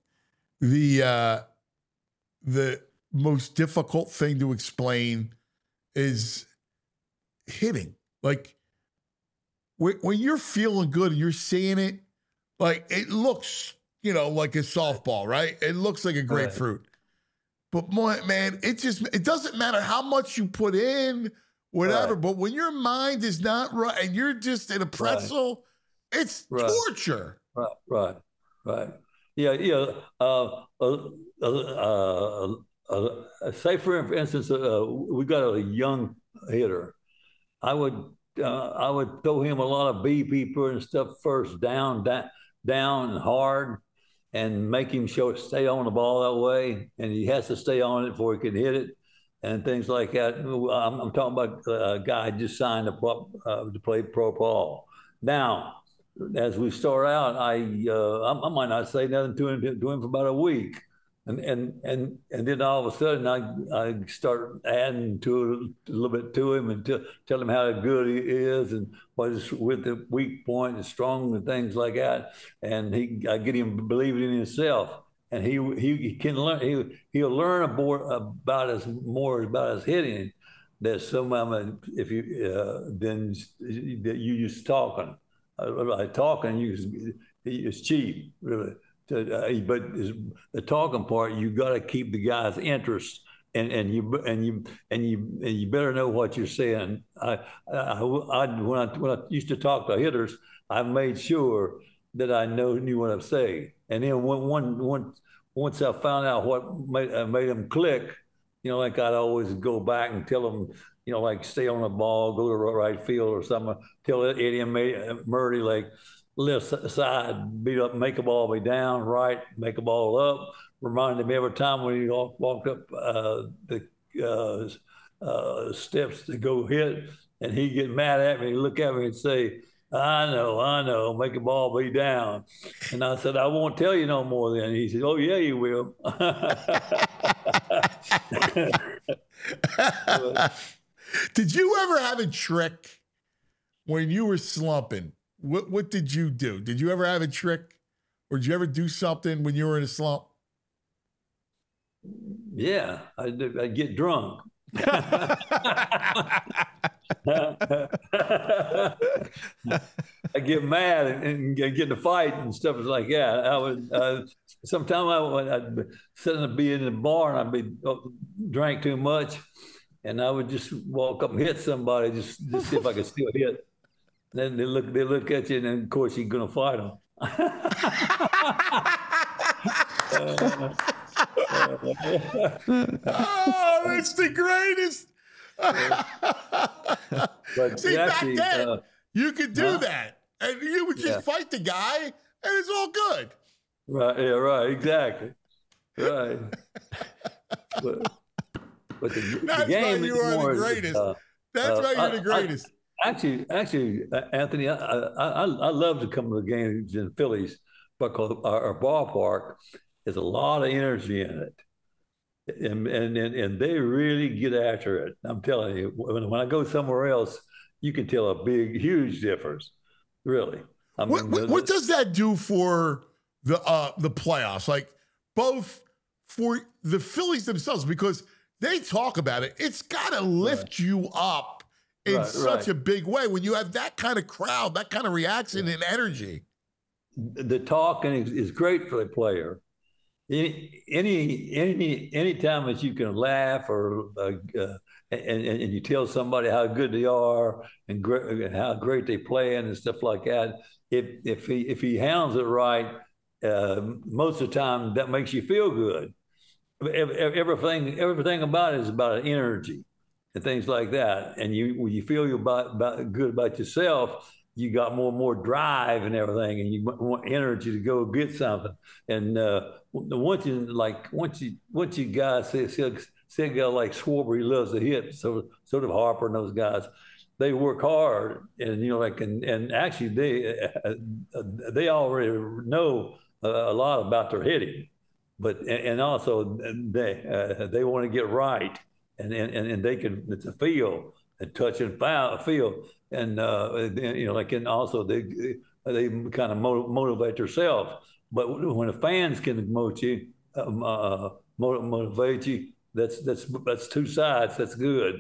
the most difficult thing to explain is hitting? Like when you're feeling good and you're seeing it, like it looks like a softball, right? It looks like a grapefruit. But man, it doesn't matter how much you put in, whatever. But when your mind is not right and you're just in a pretzel, it's torture. Right. Yeah. Say for instance, we got a young hitter. I would throw him a lot of BP and stuff first, down and hard, and make him stay on the ball that way, and he has to stay on it before he can hit it, and things like that. I'm talking about a guy just signed to play pro ball. Now, as we start out, I might not say nothing to him for about a week, and then all of a sudden I start adding to it a little bit to him and tell him how good he is and what is with the weak point and strong and things like that. And I get him believing in himself, and he can learn. He'll learn about his hitting. That somehow if you then you just talking, it's cheap really. But the talking part, you got to keep the guy's interest, and you better know what you're saying. When I used to talk to hitters, I made sure that I knew what I'm saying, and then once I found out what made them click, like I'd always go back and tell them, like stay on the ball, go to the right field or something. Tell Eddie Murray like, left side, beat up, make a ball be down, right, make a ball up. Reminded me every time when he walked up the steps to go hit, and he'd get mad at me, look at me and say, I know, make a ball be down. And I said, I won't tell you no more then. He said, oh, yeah, you will. Did you ever have a trick when you were slumping? What did you do? Did you ever have a trick, or did you ever do something when you were in a slump? Yeah, I'd get drunk. I get mad and get in a fight and stuff like that. I would sometimes I'd be in the bar and I'd be drank too much, and I would just walk up and hit somebody just see if I could still hit. Then they look at you, and then of course you're gonna fight them. Oh, it's the greatest. But see, actually, back then you could do that, and you would just fight the guy, and it's all good. Right? Yeah. Right. Exactly. Right. but the game you are the greatest. That's why you're the greatest. Actually, Anthony, I love to come to the games in Phillies because our ballpark has a lot of energy in it, and they really get after it. I'm telling you, when I go somewhere else, you can tell a huge difference. Really. I mean, what does that do for the playoffs? Like both for the Phillies themselves, because they talk about it. It's got to lift you up in such a big way when you have that kind of crowd, that kind of reaction and energy. The talking is great for the player. Any time that you can laugh or and you tell somebody how good they are and how great they play and stuff like that. If he handles it right, most of the time that makes you feel good. Everything about it is about an energy and things like that. And when you feel good about yourself, you got more and more drive and everything, and you want energy to go get something. And once you guys say a guy like Schwarber, he loves to hit, so did Harper and those guys. They work hard, and and actually they already know a lot about their hitting, and also they want to get right. And they can, it's a feel, a touch and feel, and and also they kind of motivate themselves. But when the fans can motivate you, that's two sides. That's good.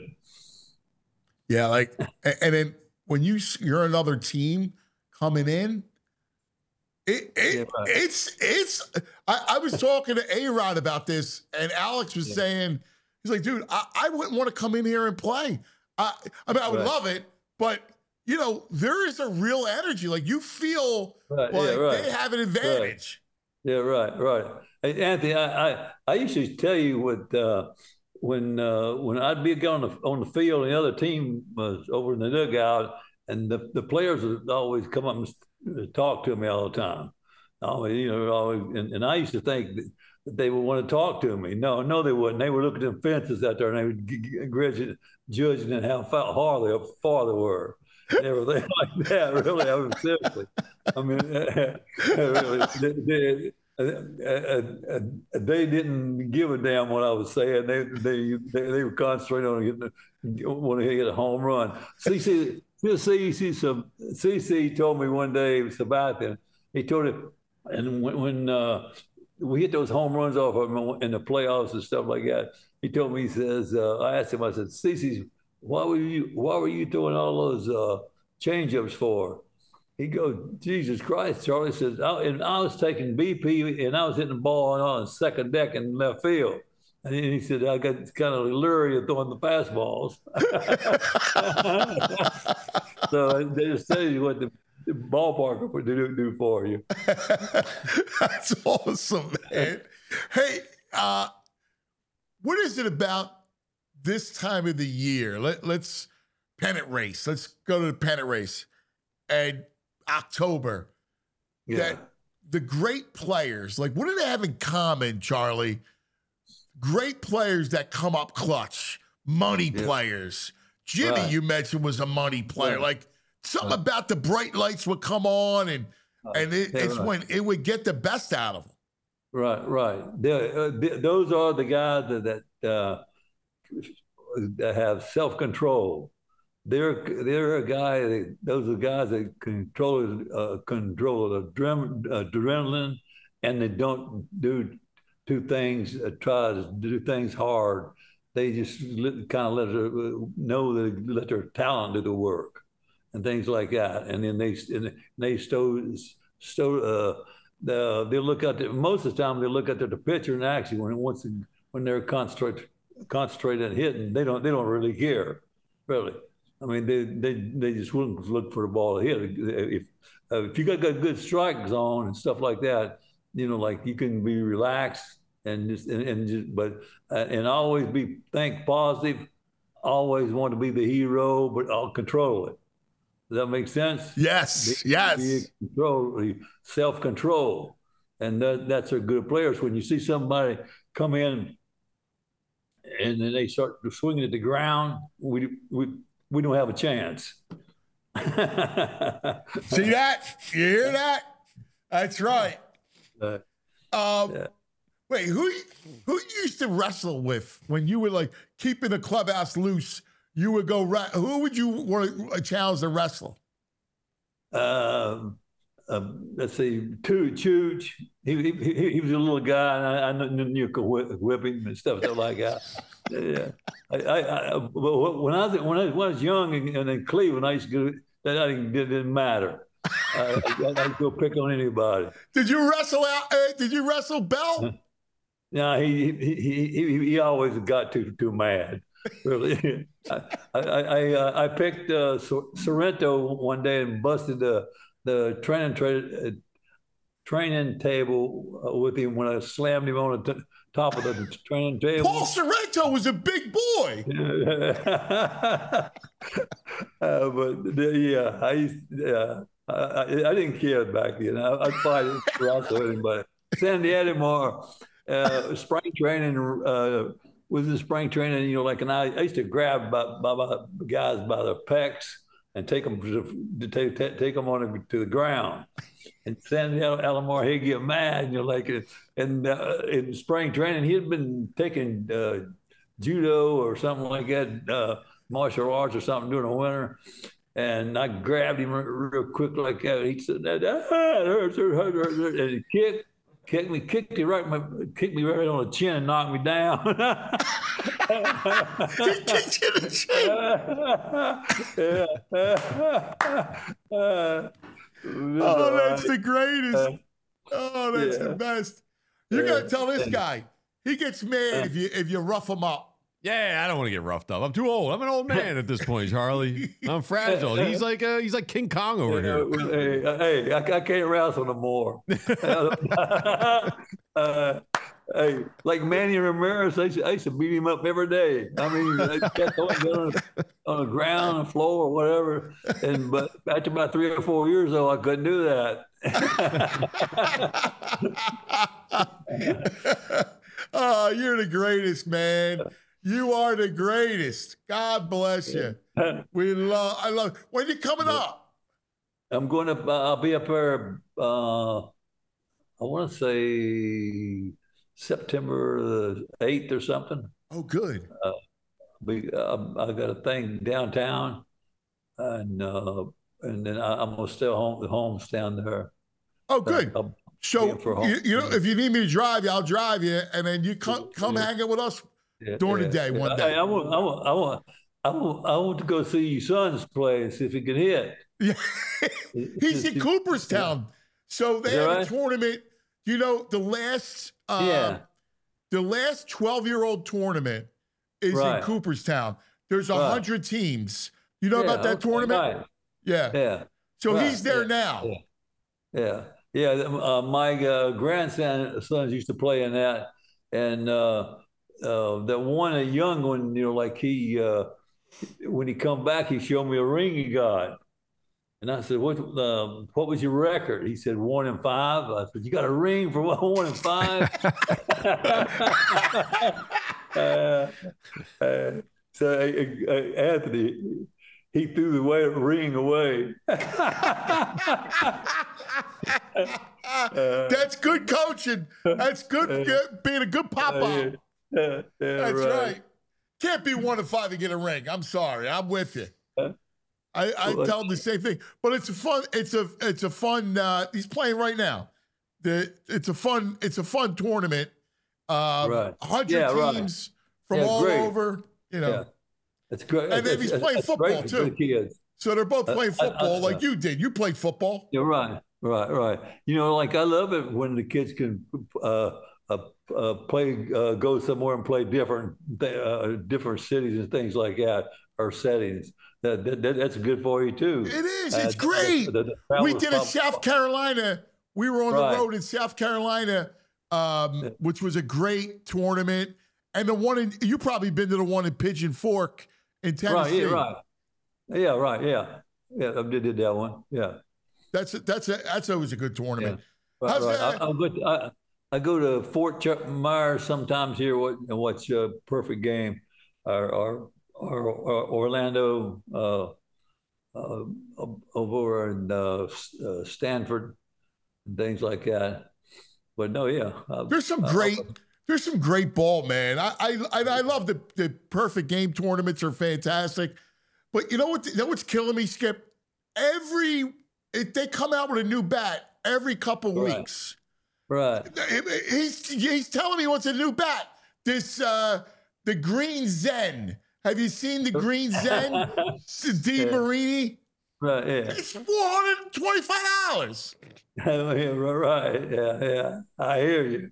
Yeah, and then when you're another team coming in, I was talking to A-Rod about this, and Alex was saying, he's like, dude, I wouldn't want to come in here and play. I mean, I would love it, but, you know, there is a real energy. Like, you feel like they have an advantage. Right. Hey, Anthony, I used to tell you when I'd be on the field and the other team was over in the dugout, and the players would always come up and talk to me all the time. And I used to think that they would want to talk to me. No, they wouldn't. They would look at them fences out there and they would judging and how far they were. And everything like that, really. I mean, seriously. I mean, they didn't give a damn what I was saying. They were concentrating on wanting to get a home run. CC told me one day, Sabathia, he told it, and when we hit those home runs off of him in the playoffs and stuff like that, he told me, he says, I asked him, I said, CC, why were you throwing all those change-ups for? He goes, Jesus Christ, Charlie says, and I was taking BP and I was hitting the ball on the second deck in left field. And he said, I got kind of leery of throwing the fastballs. So they just tell you what the ballpark would do for you. That's awesome, man. Hey, what is it about this time of the year? Let's pennant race. Let's go to the pennant race. And October, that the great players, like, what do they have in common, Charlie? Great players that come up clutch, money players. Jimmy, you mentioned, was a money player. Like, something about the bright lights would come on, and it's when it would get the best out of them. Right. Those are the guys that have self-control. They're a guy. Those are guys that control adrenaline, and they don't do things. Try to do things hard. They just kind of let their talent do the work, and things like that. And then they look at most of the time they look at the pitcher, and actually when they're concentrated on hitting, they don't really care, really. I mean, they just wouldn't look for the ball to hit. If you got good strike zone and stuff like that, you know, like, you can be relaxed and always think positive. Always want to be the hero, but I'll control it. Does that make sense? Yes. Self-control, and that's a good players. When you see somebody come in and then they start swinging at the ground, we don't have a chance. See that? You hear that? That's right. Wait, who you used to wrestle with when you were, like, keeping the clubhouse loose? You would go. Who would you want to challenge to wrestle? Let's see, Chooch. He was a little guy, and I knew you could whip him and stuff like that. Yeah, when I was young and in Cleveland, I used to go. It didn't matter. I'd go pick on anybody. Did you wrestle out? Did you wrestle Bell? No, he always got too mad. Really, I picked Sorrento one day and busted the training table with him when I slammed him on the top of the training table. Paul Sorrento was a big boy. I didn't care back then. I'd fight wrestle anybody. Sandy Edimore, spring training was in spring training, you know, like, and I used to grab guys by the pecs and take them to the ground. And Sandy Edimore, he'd get mad, you know, like, and in spring training, he had been taking judo or something like that, martial arts or something during the winter. And I grabbed him real quick like that. He said, "That hurts," and he kicked me right on the chin and knocked me down. He kicked you in the chin. Oh, that's the greatest. Oh, that's the best. You got to tell this guy. He gets mad if you rough him up. Yeah, I don't want to get roughed up. I'm too old. I'm an old man at this point, Charlie. I'm fragile. He's like King Kong over here. Hey, I can't wrestle no more. Hey, like Manny Ramirez, I used to beat him up every day. I mean, on the ground, on the floor, or whatever. But after about 3 or 4 years, though, I couldn't do that. Oh, you're the greatest, man. You are the greatest. God bless you. I love. When you coming up? I'm going to. I'll be up there. I want to say September the 8th or something. Oh, good. I got a thing downtown, and then I'm gonna stay home. The home's down there. Oh, good. So you know, if you need me to drive you, I'll drive you, and then you come hang out with us during the day one day. I want to go see your son's play and see if he can hit. Yeah, he's in Cooperstown, so they have a tournament. You know, the last 12-year-old tournament is in Cooperstown. There's 100 teams. You know about that tournament? Right. Yeah. So he's there now. Yeah. My grandsons used to play in that, and that one, a young one, you know, like he, when he come back, he showed me a ring he got, and I said, "What was your record?" He said 1 and 5. I said, "You got a ring for 1 and 5?" So Anthony, he threw the ring away. That's good coaching. That's good being a good pop-up. That's right. Can't be 1 and 5 and get a ring. I'm sorry. I'm with you. I tell him the same thing. But it's a fun. It's a fun. He's playing right now. It's a fun tournament. 100 teams from all over. You know. It's great. And then he's playing football too. So they're both playing football like you did. You played football. You're right. You know, like I love it when the kids can play, go somewhere and play different cities and things like that, or settings. That's good for you too. It is. It's great. We did a South Carolina. We were on the road in South Carolina, which was a great tournament. And the one you probably been to the one in Pigeon Fork in Tennessee. Yeah, I did that one. Yeah. That's always a good tournament. Yeah. Right. I go to Fort Myers sometimes here and watch a perfect game, or Orlando, over in Stanford, and things like that. But no, there's some great ball, man. I love the perfect game tournaments are fantastic. But you know what's killing me, Skip? They come out with a new bat every couple weeks. Right. He's telling me what's a new bat. This the Green Zen. Have you seen the Green Zen? DeMarini? Right, yeah. It's $425. Right, yeah. I hear you.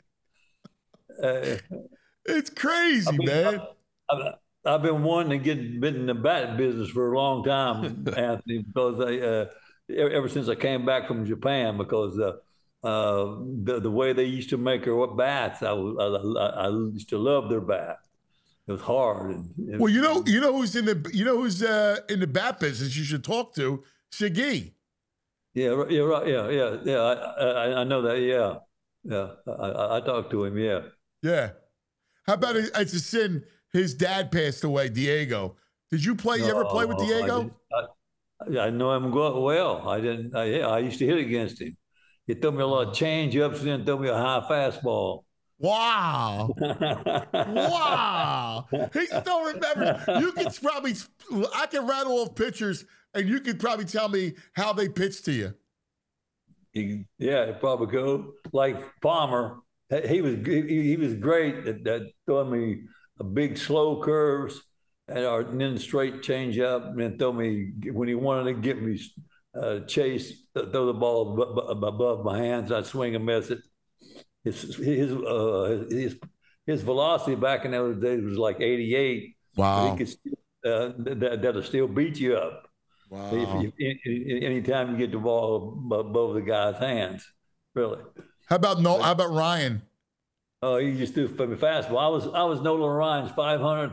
It's crazy, man. I've been wanting to been in the bat business for a long time, Anthony, because ever since I came back from Japan, because the way they used to make their bats, I used to love their bat. It was hard. Well, you know who's in the bat business you should talk to? Shaggy. Yeah, right. Yeah. I know that. Yeah. I talked to him. Yeah. Yeah. How about it's a sin? His dad passed away, Diego. Did you play? You ever play with Diego? I know him well. I didn't. I used to hit against him. He threw me a lot of change ups and then threw me a high fastball. Wow. Wow. He still remembers. You can probably, I can rattle off pictures and you could probably tell me how they pitched to you. Yeah, probably go. Like Palmer, he was great at throwing me a big slow curves and then straight change up, and then throw me when he wanted to get me chase, throw the ball above my hands. I'd swing and miss it. His velocity back in those days was like 88. Wow. He could that'll still beat you up. Wow. Anytime you get the ball above the guy's hands, really. How about Ryan? Oh, he just threw fastball. I was Nolan Ryan's 500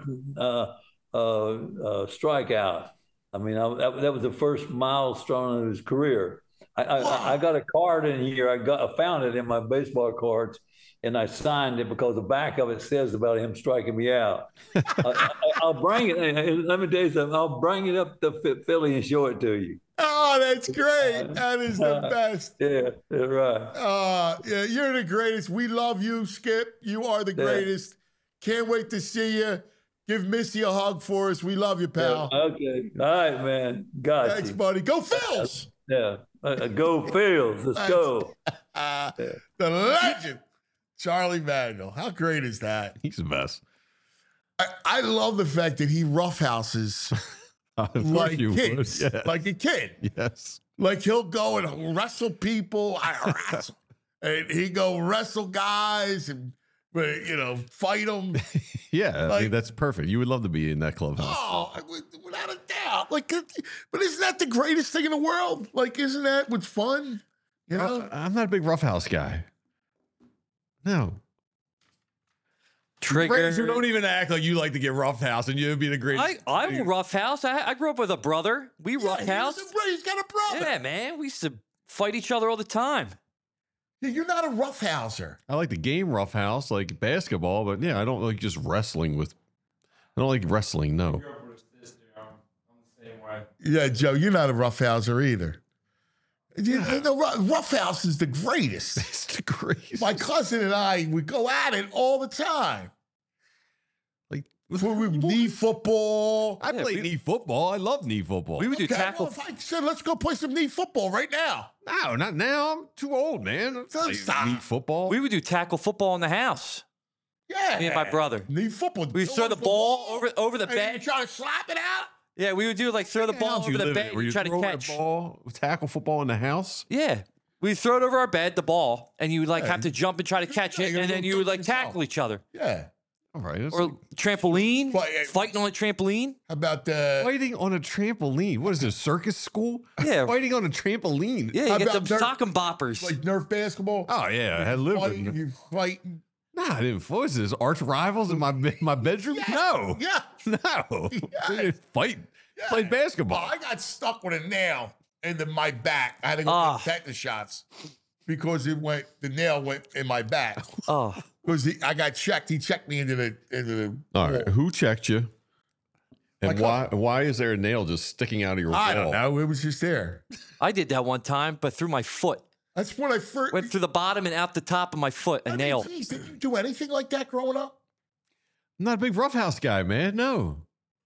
strikeout. I mean, that was the first milestone of his career. I got a card in here. I found it in my baseball cards, and I signed it because the back of it says about him striking me out. I'll bring it. Let me tell you something. I'll bring it up to Philly and show it to you. Oh, that's great. That is the best. Yeah, right. Yeah, you're the greatest. We love you, Skip. You are the greatest. Can't wait to see you. Give Missy a hug for us. We love you, pal. Yeah, okay. All right, man. Got Thanks, you. buddy. Go Phils. Yeah. Go Phils. Let's go. The legend, Charlie Manuel. How great is that? He's the best. I love the fact that he roughhouses like kids, yes. like a kid. Yes. Like he'll go and wrestle people. And he go wrestle guys and, fight them. Yeah, I mean, that's perfect. You would love to be in that clubhouse. Oh, without a doubt. Like, but isn't that the greatest thing in the world? Like, isn't that what's fun? You know? I'm not a big roughhouse guy. No. Trigger. You don't even act like you like to get roughhouse, and you'd be the greatest. I will roughhouse. I grew up with a brother. We roughhouse. He's got a brother. Yeah, man. We used to fight each other all the time. Yeah, you're not a roughhouser. I like the game roughhouse, like basketball, but yeah, I don't like just wrestling with. I don't like wrestling. No. Yeah, Joe, you're not a roughhouser either. Roughhouse is the greatest. It's the greatest. My cousin and I, we go at it all the time. Like knee football. I played knee football. I love knee football. We would do tackle. Well, if I said, let's go play some knee football right now. No, not now. I'm too old, man. Stop. Knee football. We would do tackle football in the house. Yeah. Me and my brother. Knee football. We throw the ball over the bed. You try to slap it out? Yeah, we would do throw the ball over the bed and try to catch. Tackle football in the house? Yeah. We throw it over our bed, the ball, and you would have to jump and try to catch it, and then you would tackle each other. Yeah. All right. Or trampoline, fighting on a trampoline. How about the fighting on a trampoline? What is this, circus school? Yeah. Fighting on a trampoline. Yeah, you get them sock and boppers. Like Nerf basketball? Oh, yeah. I had lived in You fighting. Nah, I didn't. What was this? Arch rivals in my bedroom? Yeah. No. Yeah. No. Yeah. We didn't fight. Yeah. Played basketball. I got stuck with a nail into my back. I had to go get tetanus shots because the nail went in my back. Oh. Because I got checked. He checked me into the All right. Who checked you? And why is there a nail just sticking out of your wall? I don't know. It was just there. I did that one time, but through my foot. That's when I first went through the bottom and out the top of my foot. A nail. Geez, did you do anything like that growing up? I'm not a big roughhouse guy, man. No.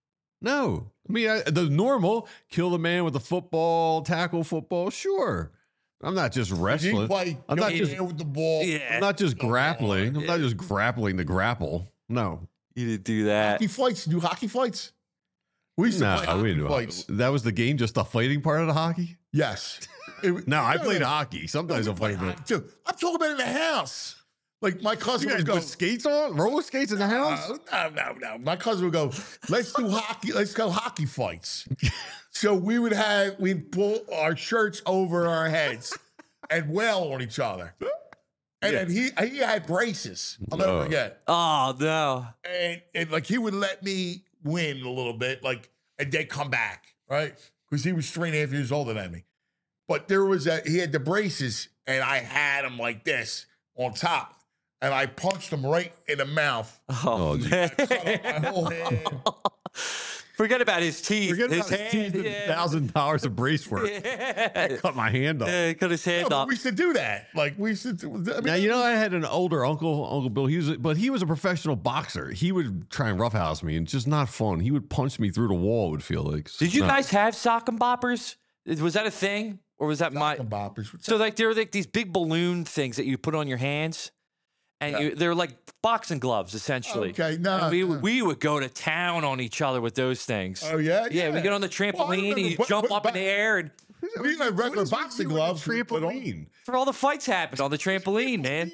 I mean, the normal kill the man with the football, tackle football. Sure. I'm not just wrestling. I'm not just with the ball. Yeah. I'm not just grappling. I'm not just grappling to grapple. No. You didn't do that. Hockey fights? Do hockey fights? We used to play hockey fights. That was the game, just the fighting part of the hockey? Yes. No, I played hockey. Sometimes I'll play hockey too. I'm talking about in the house. Like my cousin would go with skates on, roller skates in the house. No. My cousin would go, let's do hockey. Let's go hockey fights. So we'd pull our shirts over our heads and wail on each other. And then he had braces. I'll never forget. Oh no! And like he would let me win a little bit, like, and then come back, right? Because he was 3.5 years older than me. But he had the braces, and I had him like this on top. And I punched him right in the mouth. Oh, man. Cut off my whole head. Forget about his teeth. Forget about his teeth and $1,000 of brace work. Yeah. Cut my hand off. Yeah, he cut his hand off. We used to do that. Like, we used to. Now, I had an older Uncle Bill. He was a professional boxer. He would try and roughhouse me, and it's just not fun. He would punch me through the wall, it would feel like. Did you guys have sock and boppers? Was that a thing? Or was that sock and boppers? So, like, there were like these big balloon things that you put on your hands. And they're like boxing gloves, essentially. Okay, no. We would go to town on each other with those things. Oh, yeah? Yeah, we get on the trampoline and you jump up in the air. And You got regular boxing gloves. Trampoline. For all the fights happen on the trampoline, man.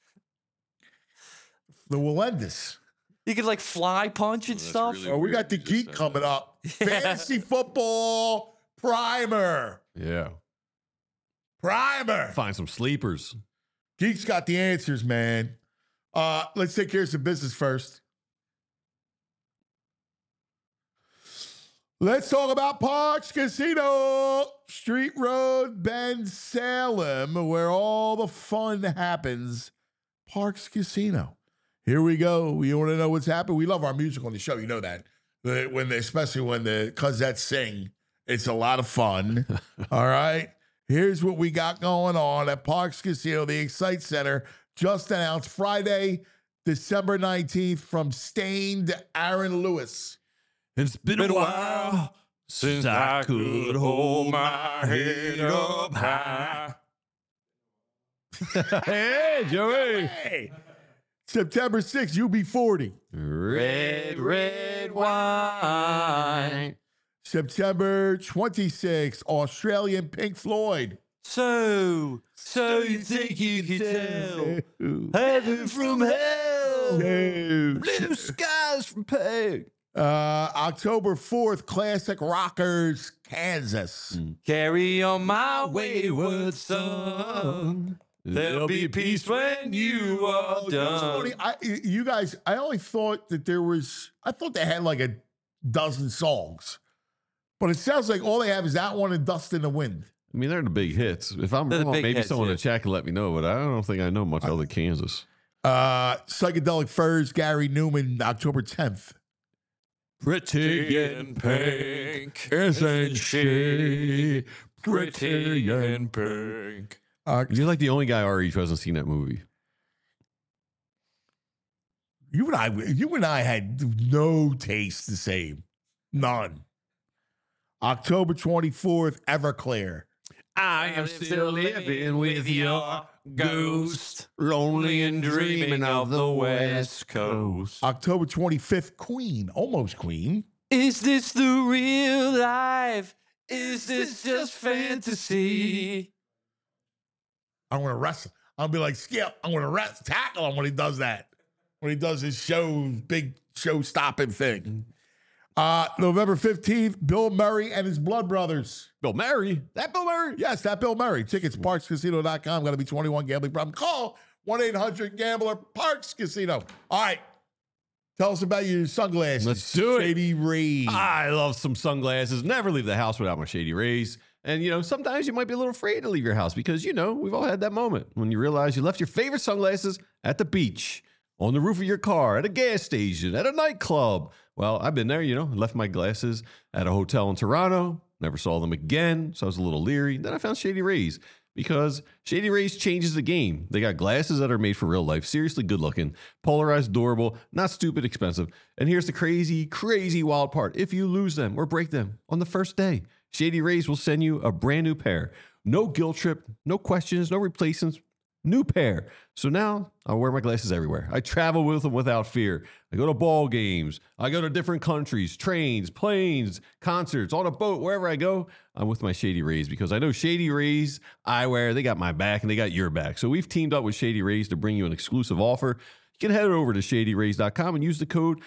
The Walendis. You could like fly punch and stuff. really Oh, we weird got the you just geek said coming up. Fantasy football primer. Yeah. Primer. Find some sleepers. Geek's got the answers, man. Let's take care of some business first. Let's talk about Parks Casino, Street Road, Ben Salem, where all the fun happens. Parks Casino. Here we go. You want to know what's happened? We love our music on the show. You know that. Especially when the Cosettes sing, it's a lot of fun. All right. Here's what we got going on at Parks Casino, the Excite Center. Just announced Friday, December 19th, from Stain to Aaron Lewis. It's been a while since I could hold my head up high. Hey, Joey. Hey. September 6th, UB40. Red wine. September 26th, Australian Pink Floyd. So you think you can tell heaven from hell? Blue skies from Peg. October 4th, Classic Rockers, Kansas. Carry on my wayward son. There'll be peace when you are done. You guys, I only thought that I thought they had like a dozen songs. But it sounds like all they have is that one and Dust in the Wind. I mean, they're the big hits. If I'm wrong, maybe someone in the chat can let me know, but I don't think I know much other Kansas. Psychedelic Furs, Gary Newman, October 10th. Pretty and pink, isn't she? Pretty and pink. You're like the only guy our age who hasn't seen that movie. You and I had no taste the same. None. October 24th, Everclear. I am still living with your ghost, lonely and dreaming of the West Coast. October 25th, Queen, almost Queen. Is this the real life? Is this just fantasy? I'm going to wrestle. I'll be like, Skip, I'm going to tackle him when he does that. When he does his big show-stopping thing. November 15th, Bill Murray and his Blood Brothers. Bill Murray? That Bill Murray? Yes, that Bill Murray. Tickets, parkscasino.com. Got to be 21, gambling problem. Call 1-800-GAMBLER, Parks Casino. All right. Tell us about your sunglasses. Let's do it. Shady Rays. I love some sunglasses. Never leave the house without my Shady Rays. And, sometimes you might be a little afraid to leave your house because, we've all had that moment when you realize you left your favorite sunglasses at the beach, on the roof of your car, at a gas station, at a nightclub. Well, I've been there, left my glasses at a hotel in Toronto, never saw them again, so I was a little leery. Then I found Shady Rays because Shady Rays changes the game. They got glasses that are made for real life, seriously good looking, polarized, durable, not stupid expensive. And here's the crazy, crazy wild part. If you lose them or break them on the first day, Shady Rays will send you a brand new pair. No guilt trip, no questions, no replacements. New pair. So now I wear my glasses everywhere. I travel with them without fear. I go to ball games. I go to different countries, trains, planes, concerts, on a boat, wherever I go. I'm with my Shady Rays because I know Shady Rays Eyewear, they got my back and they got your back. So we've teamed up with Shady Rays to bring you an exclusive offer. You can head over to shadyrays.com and use the code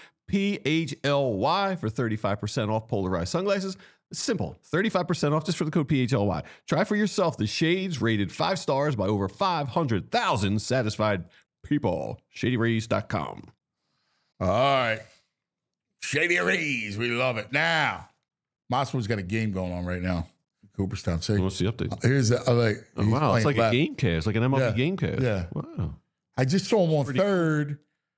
PHLY for 35% off polarized sunglasses. It's simple. 35% off just for the code PHLY. Try for yourself the shades rated 5 stars by over 500,000 satisfied people. ShadyRays.com. All right. Shady Rays. We love it. Now, Mossman's got a game going on right now. Cooperstown. See? What's the update? Here's the, wow. It's like a game cast, like an MLB game cast. Yeah. Wow. I just saw him on third,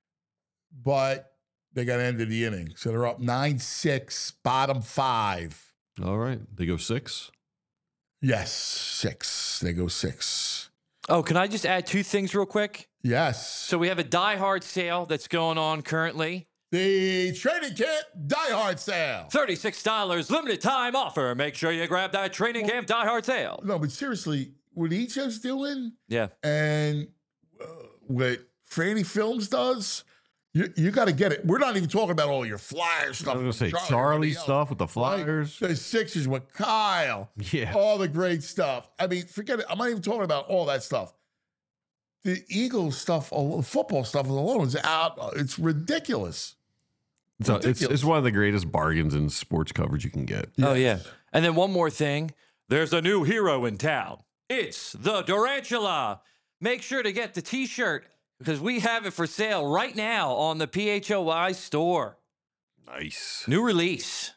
but they got ended the inning. So they're up 9-6, bottom 5. All right. They go 6? Yes, 6. They go 6. Oh, can I just add 2 things real quick? Yes. So we have a Die Hard sale that's going on currently. The Training Camp Die Hard sale. $36 limited time offer. Make sure you grab that Training Camp Die Hard sale. No, but seriously, what Icho's doing and what Franny Films does, You got to get it. We're not even talking about all your Flyer stuff. I was going to say Charlie Charlie stuff with the Flyers. Right? The Sixers with Kyle. Yeah. All the great stuff. I mean, forget it. I'm not even talking about all that stuff. The Eagles stuff, football stuff alone is out. It's ridiculous. So it's one of the greatest bargains in sports coverage you can get. Yeah. Oh, yeah. And then one more thing. There's a new hero in town. It's the Durantula. Make sure to get the T-shirt because we have it for sale right now on the PHOI store. Nice. New release.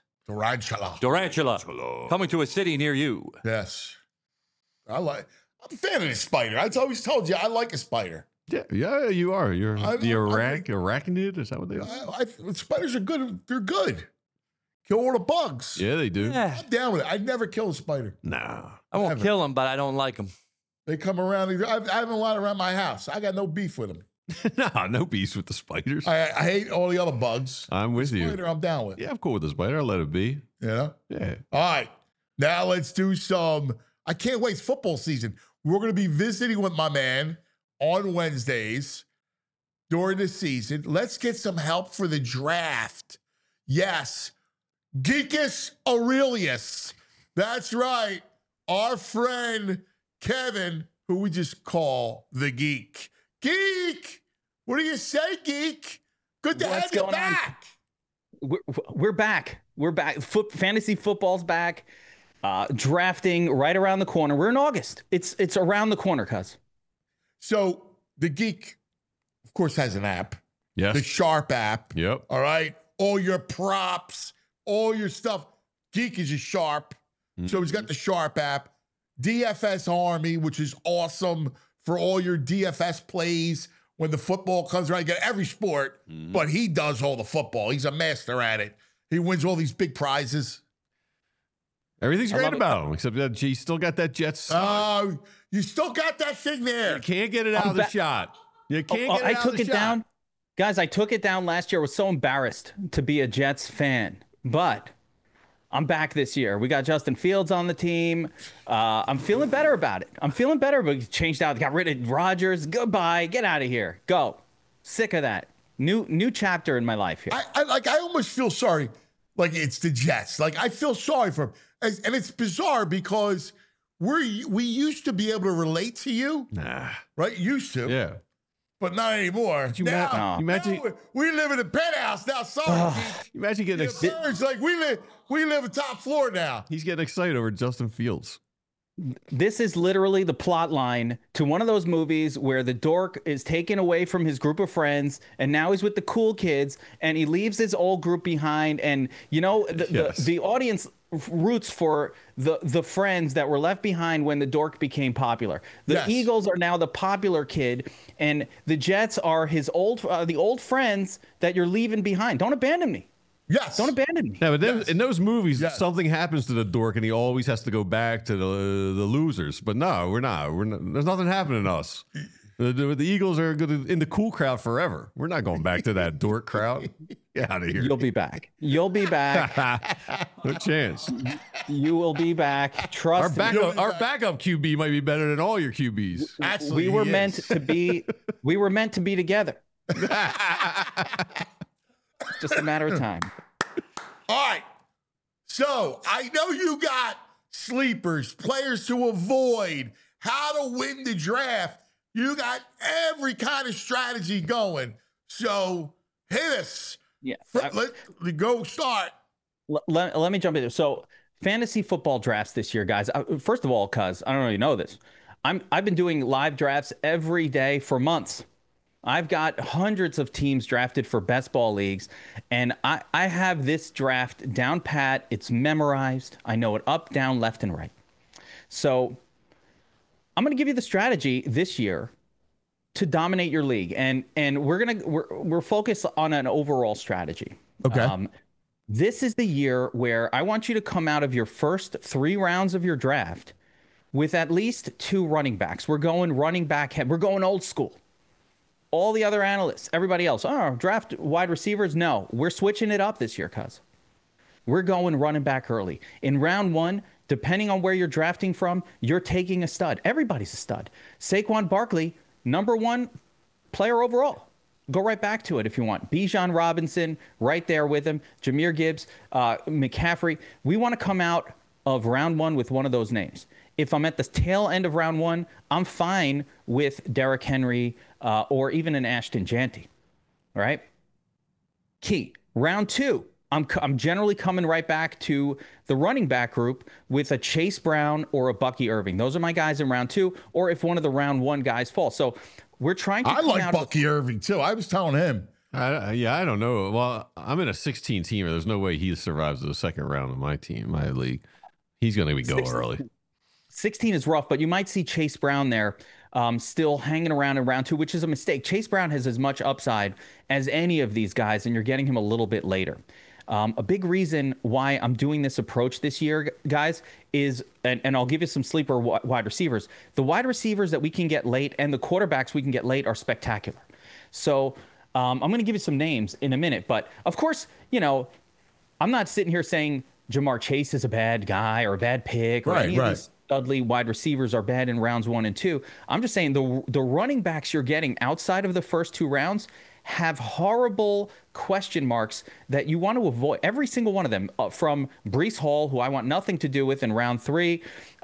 Durantula. Coming to a city near you. Yes. I'm a fan of the spider. I always told you I like a spider. Yeah, you are. You're the arachnid. Is that what they are? Spiders are good. They're good. Kill all the bugs. Yeah, they do. Yeah. I'm down with it. I'd never kill a spider. Nah. I won't kill them, but I don't like them. They come around. I have a lot around my house. I got no beef with them. Nah, no beef with the spiders. I hate all the other bugs. I'm with you. Spider, I'm down with. Yeah, I'm cool with the spider. I'll let it be. Yeah? Yeah. All right. Now let's do some. I can't wait. It's football season. We're going to be visiting with my man on Wednesdays during the season. Let's get some help for the draft. Yes. Geekus Aurelius. That's right. Our friend Kevin, who we just call the Geek. Geek! What do you say, Geek? Good to have you back. We're back. We're back. Fantasy football's back. Drafting right around the corner. We're in August. It's around the corner, cuz. So the Geek, of course, has an app. Yes. The Sharp app. Yep. All right. All your props, all your stuff. Geek is a Sharp. Mm-hmm. So he's got the Sharp app. DFS Army, which is awesome for all your DFS plays when the football comes around. You get every sport, but he does all the football. He's a master at it. He wins all these big prizes. Everything's great about him, except that you still got that Jets. You still got that thing there. You can't get it out of the shot. You can't get it out of the shot. I took it down. Guys, I took it down last year. I was so embarrassed to be a Jets fan, but I'm back this year. We got Justin Fields on the team. I'm feeling better about it. We changed out, got rid of Rodgers. Goodbye. Get out of here. Go. Sick of that. New chapter in my life here. I almost feel sorry. Like it's the Jets. Like I feel sorry for him. And it's bizarre because we used to be able to relate to you. Nah. Right? Used to. Yeah. But not anymore. Now we live in a penthouse now. Sorry. You imagine getting excited. Like we live a top floor now. He's getting excited over Justin Fields. This is literally the plot line to one of those movies where the dork is taken away from his group of friends and now he's with the cool kids and he leaves his old group behind. And, you know, the audience roots for the friends that were left behind when the dork became popular. The Eagles are now the popular kid and the Jets are his the old friends that you're leaving behind. Don't abandon me. Yes. Don't abandon me. Yeah, but then in those movies, something happens to the dork and he always has to go back to the losers. But no, we're not. There's nothing happening to us. The Eagles are good in the cool crowd forever. We're not going back to that dork crowd. Get out of here. You'll be back. You'll be back. No chance. You will be back. Trust me. Our backup QB might be better than all your QBs. Actually, we were meant to be. We were meant to be together. It's just a matter of time. All right. So I know you got sleepers, players to avoid, how to win the draft. You got every kind of strategy going. So hit us. Yeah. Let's go start. Let me jump in there. So fantasy football drafts this year, guys. First of all, cuz I don't know if you know this. I've been doing live drafts every day for months. I've got hundreds of teams drafted for best ball leagues, and I have this draft down pat. It's memorized. I know it up, down, left, and right. So I'm going to give you the strategy this year to dominate your league, and we're focused on an overall strategy. Okay. This is the year where I want you to come out of your first 3 rounds of your draft with at least 2 running backs. We're going running back head. We're going old school. All the other analysts, everybody else, draft wide receivers. No, we're switching it up this year, cuz. We're going running back early. In round 1, depending on where you're drafting from, you're taking a stud. Everybody's a stud. Saquon Barkley, #1 player overall. Go right back to it if you want. Bijan Robinson, right there with him. Jahmyr Gibbs, McCaffrey. We want to come out of round one with one of those names. If I'm at the tail end of round one, I'm fine with Derrick Henry or even an Ashton Jeanty. All right? Key. Round two, I'm generally coming right back to the running back group with a Chase Brown or a Bucky Irving. Those are my guys in round two, or if one of the round one guys falls. So we're trying to. I like Bucky Irving too. I was telling him. I don't know. Well, I'm in a 16 teamer. There's no way he survives the second round of my team, my league. He's going to go 16, early. 16 is rough, but you might see Chase Brown there still hanging around in round two, which is a mistake. Chase Brown has as much upside as any of these guys, and you're getting him a little bit later. A big reason why I'm doing this approach this year, guys, is, and I'll give you some sleeper wide receivers. The wide receivers that we can get late and the quarterbacks we can get late are spectacular. So I'm going to give you some names in a minute. But, of course, I'm not sitting here saying Jamar Chase is a bad guy or a bad pick or any of these Dudley wide receivers are bad in rounds 1 and 2. I'm just saying the running backs you're getting outside of the first 2 rounds have horrible question marks that you want to avoid. Every single one of them, from Breece Hall, who I want nothing to do with in round 3.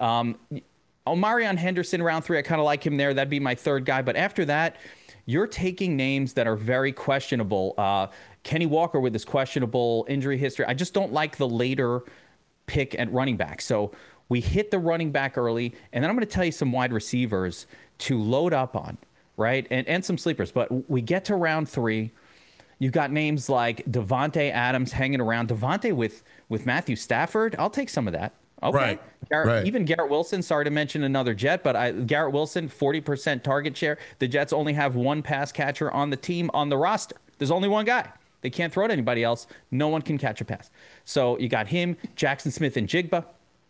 Omarion Henderson, round 3, I kind of like him there. That'd be my third guy. But after that, you're taking names that are very questionable. Kenny Walker with his questionable injury history. I just don't like the later pick at running back. So we hit the running back early, and then I'm going to tell you some wide receivers to load up on, right? And some sleepers. But we get to round 3. You've got names like Devontae Adams hanging around. Devontae with Matthew Stafford. I'll take some of that. Okay. Right. Even Garrett Wilson, sorry to mention another Jet, but Garrett Wilson, 40% target share. The Jets only have one pass catcher on the team on the roster. There's only one guy. They can't throw to anybody else. No one can catch a pass. So you got him, Jackson Smith, and Jigba.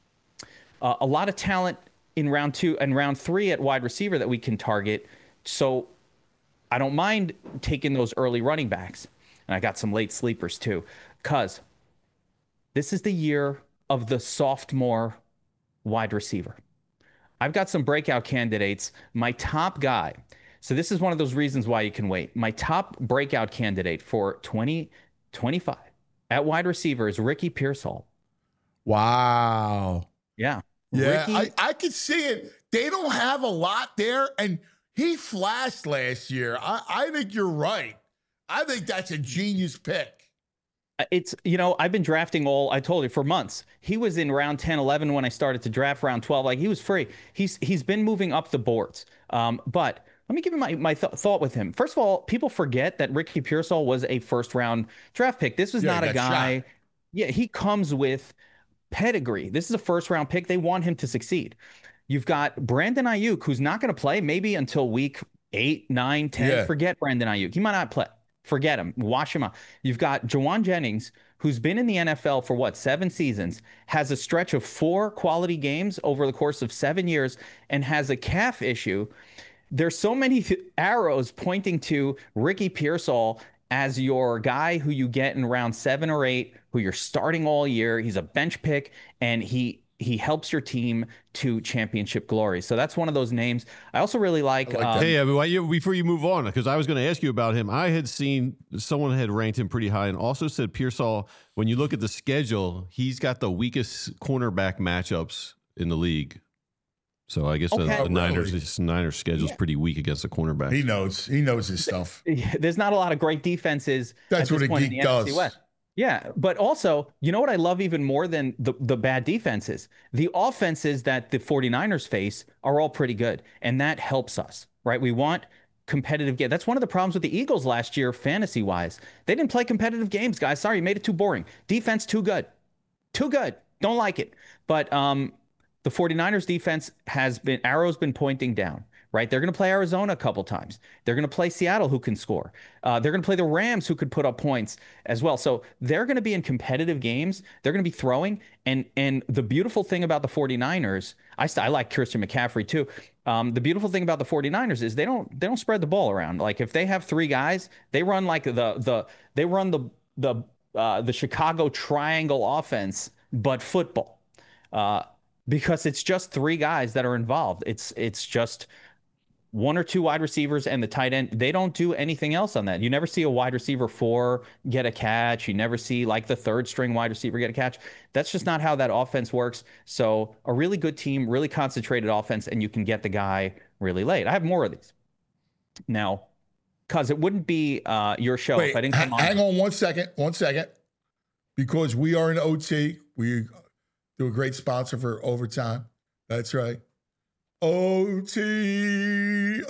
A lot of talent in round 2 and round 3 at wide receiver that we can target. So I don't mind taking those early running backs. And I got some late sleepers too, because this is the year of the sophomore wide receiver. I've got some breakout candidates. My top guy, so this is one of those reasons why you can wait. My top breakout candidate for 2025 at wide receiver is Ricky Pearsall. Wow. Yeah. Yeah, I could see it. They don't have a lot there, and he flashed last year. I think you're right. I think that's a genius pick. It's, I've been drafting I told you, for months. He was in round 10, 11 when I started to draft round 12. Like, he was free. He's been moving up the boards. But let me give you my thought with him. First of all, people forget that Ricky Pearsall was a first-round draft pick. This was not a guy. Shot. Yeah, he comes with pedigree. This is a first-round pick. They want him to succeed. You've got Brandon Ayuk, who's not going to play maybe until week 8, 9, 10. Yeah. Forget Brandon Ayuk. He might not play. Forget him. Wash him out. You've got Jawan Jennings, who's been in the NFL for 7 seasons, has a stretch of 4 quality games over the course of 7 years, and has a calf issue. There's so many arrows pointing to Ricky Pearsall as your guy who you get in round 7 or 8, who you're starting all year. He's a bench pick, and he helps your team to championship glory. So that's one of those names. I also really like hey, before you move on, because I was going to ask you about him. I had seen someone had ranked him pretty high and also said Pearsall, when you look at the schedule, he's got the weakest cornerback matchups in the league. So I guess the Niners schedule is pretty weak against the cornerback. He knows his stuff. There's not a lot of great defenses. That's what a geek does. West. Yeah, but also, you know what I love even more than the bad defenses? The offenses that the 49ers face are all pretty good, and that helps us, right? We want competitive games. That's one of the problems with the Eagles last year, fantasy-wise. They didn't play competitive games, guys. Sorry, you made it too boring. Defense, too good. Too good. Don't like it. But the 49ers defense arrow's been pointing down, right? They're going to play Arizona a couple times. They're going to play Seattle, who can score. They're going to play the Rams, who could put up points as well. So they're going to be in competitive games. They're going to be throwing. And the beautiful thing about the 49ers, I like Christian McCaffrey too. The beautiful thing about the 49ers is they don't spread the ball around. Like, if they have 3 guys, they run like the Chicago triangle offense, but football. Because it's just 3 guys that are involved. It's just one or two wide receivers and the tight end. They don't do anything else on that. You never see a wide receiver 4 get a catch. You never see like the third string wide receiver get a catch. That's just not how that offense works. So a really good team, really concentrated offense, and you can get the guy really late. I have more of these. Now, because it wouldn't be your show if I didn't come on. Hang on 1 second. Because we are in OT. We do a great sponsor for overtime. That's right. OT.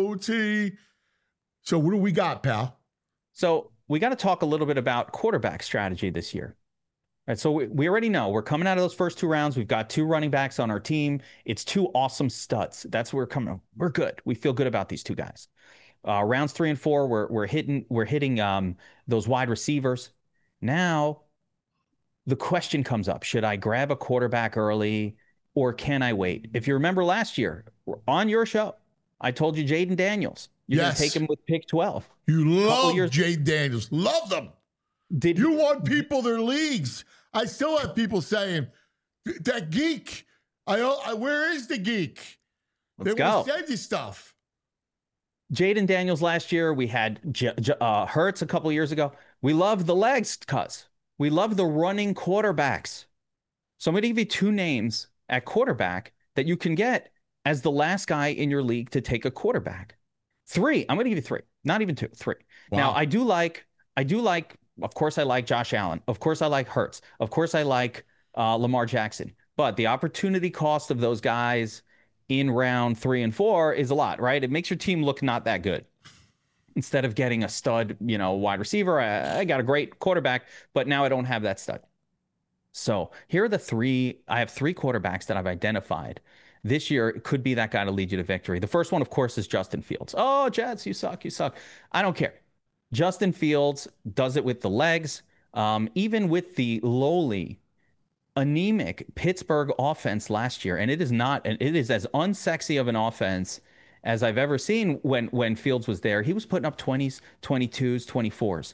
So what do we got, pal? So we got to talk a little bit about quarterback strategy this year. All right, so we already know we're coming out of those first 2 rounds. We've got 2 running backs on our team. It's 2 awesome studs. That's where we're coming. We're good. We feel good about these 2 guys. Rounds 3 and 4, we're hitting those wide receivers. Now the question comes up: should I grab a quarterback early? Or can I wait? If you remember last year on your show, I told you Jaden Daniels. You're going to take him with pick 12. You love Jaden Daniels. Love them. You want people their leagues. I still have people saying, that geek. Where is the geek? Let's go. They will send you stuff. Jaden Daniels last year. We had Hurts a couple years ago. We love the legs, cuz. We love the running quarterbacks. So I'm going to give you 2 names at quarterback that you can get as the last guy in your league to take a quarterback. 3. I'm going to give you 3, not even 2, 3. Wow. Now I do like, of course I like Josh Allen. Of course I like Hurts. Of course I like Lamar Jackson, but the opportunity cost of those guys in round 3 and 4 is a lot, right? It makes your team look not that good. Instead of getting a stud, wide receiver, I got a great quarterback, but now I don't have that stud. So here are the 3. I have 3 quarterbacks that I've identified this year. It could be that guy to lead you to victory. The first one, of course, is Justin Fields. Oh, Jets, you suck. I don't care. Justin Fields does it with the legs. Even with the lowly, anemic Pittsburgh offense last year, and it is as unsexy of an offense as I've ever seen when Fields was there. He was putting up 20s, 22s, 24s.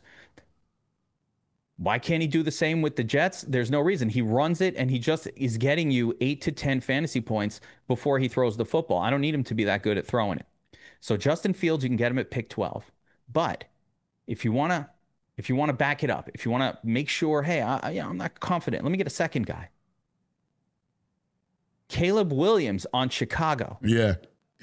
Why can't he do the same with the Jets? There's no reason. He runs it, and he just is getting you 8 to 10 fantasy points before he throws the football. I don't need him to be that good at throwing it. So Justin Fields, you can get him at pick 12. But if you want to back it up, if you want to make sure, hey, I'm not confident, let me get a second guy. Caleb Williams on Chicago. Yeah.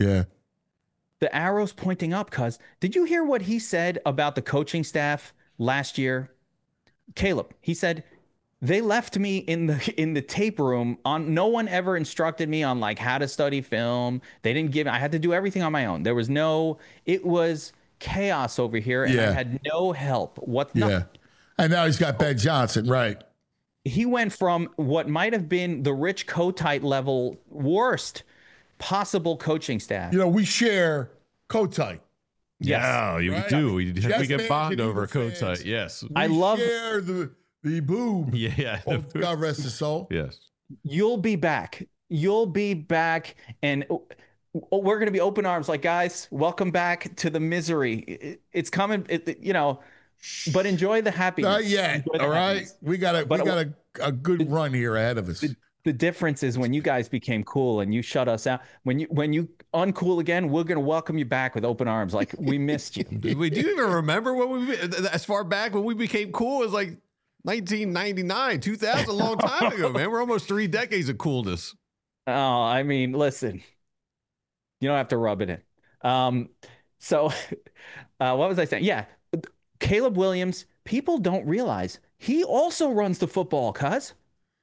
The arrow's pointing up, cuz. Did you hear what he said about the coaching staff last year? Caleb, he said, they left me in the tape room on, no one ever instructed me on like how to study film. They didn't give, I had to do everything on my own. It was chaos over here, and I had no help. And now he's got Ben Johnson, right? He went from what might have been the Rich Kotite level worst possible coaching staff. We share Kotite. Yes. Yeah, you do. We get bond over Kotite. Yes. I share the boob. Yeah. God rest his soul. Yes. You'll be back. And we're going to be open arms. Like, guys, welcome back to the misery. It's coming, but enjoy the happiness. Not yet. All right. We got a good run here ahead of us. The difference is when you guys became cool and you shut us out, when you uncool again, we're going to welcome you back with open arms. Like, we missed you. Do you even remember as far back when we became cool? It was like 1999, 2000, a long time ago, man. We're almost 3 decades of coolness. Oh, I mean, listen, you don't have to rub it in. So what was I saying? Yeah. Caleb Williams, people don't realize he also runs the football, cuz.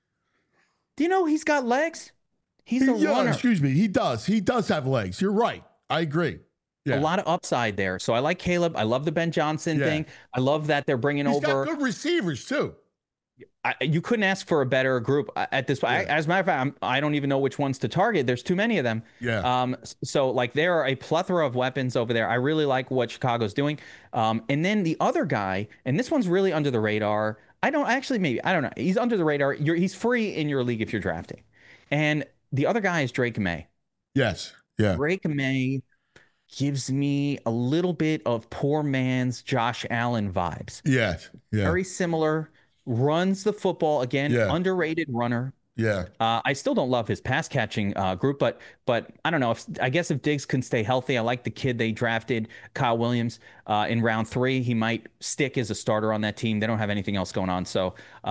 Do you know he's got legs? He's a runner. Excuse me. He does. He does have legs. You're right. I agree. Yeah. A lot of upside there. So I like Caleb. I love the Ben Johnson thing. I love that they're bringing He's over. got good receivers, too. You couldn't ask for a better group at this point. As a matter of fact, I don't even know which ones to target. There's too many of them. Yeah. So like there are a plethora of weapons over there. I really like what Chicago's doing. And then the other guy, and this one's really under the radar. I don't know. He's under the radar. He's free in your league if you're drafting. And the other guy is Drake May. Yes. Yeah. Drake May gives me a little bit of poor man's Josh Allen vibes. Yes. Yeah. Very similar. Runs the football again. Yeah. Underrated runner. Yeah. I still don't love his pass catching group, but I don't know. I guess if Diggs can stay healthy, I like the kid they drafted, Kyle Williams, in round 3. He might stick as a starter on that team. They don't have anything else going on. So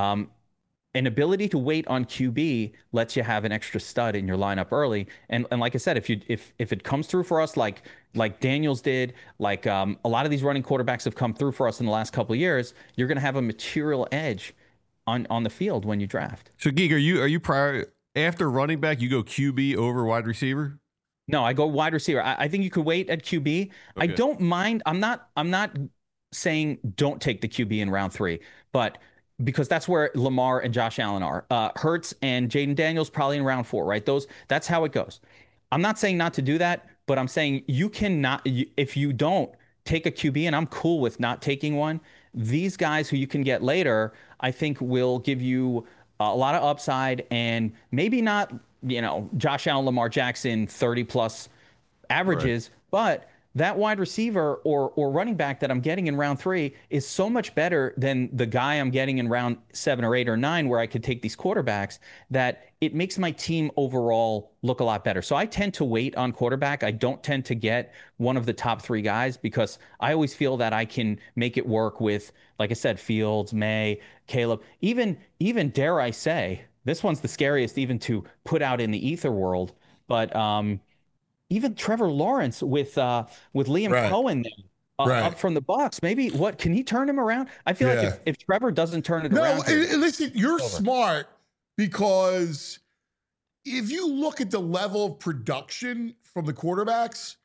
an ability to wait on QB lets you have an extra stud in your lineup early. And like I said, if it comes through for us like Daniels did, like a lot of these running quarterbacks have come through for us in the last couple of years, you're going to have a material edge on the field when you draft. So, Geek, are you prior after running back? You go QB over wide receiver? No, I go wide receiver. I think you could wait at QB. Okay. I don't mind. I'm not saying don't take the QB in round 3, but because that's where Lamar and Josh Allen are. Hurts and Jaden Daniels probably in round 4, right? That's how it goes. I'm not saying not to do that, but I'm saying you cannot, if you don't take a QB, and I'm cool with not taking one, these guys who you can get later, I think will give you a lot of upside, and maybe not, Josh Allen, Lamar Jackson, 30 plus averages, right. But that wide receiver or running back that I'm getting in round 3 is so much better than the guy I'm getting in round 7 or 8 or 9, where I could take these quarterbacks, that it makes my team overall look a lot better. So I tend to wait on quarterback. I don't tend to get one of the top 3 guys, because I always feel that I can make it work with, like I said, Fields, May, Caleb, even dare I say, this one's the scariest even to put out in the ether world, but even Trevor Lawrence with Liam right. Cohen there, right. up from the Bucs. Maybe can he turn him around? I feel like if Trevor doesn't turn it around. No, listen, you're smart, because if you look at the level of production from the quarterbacks,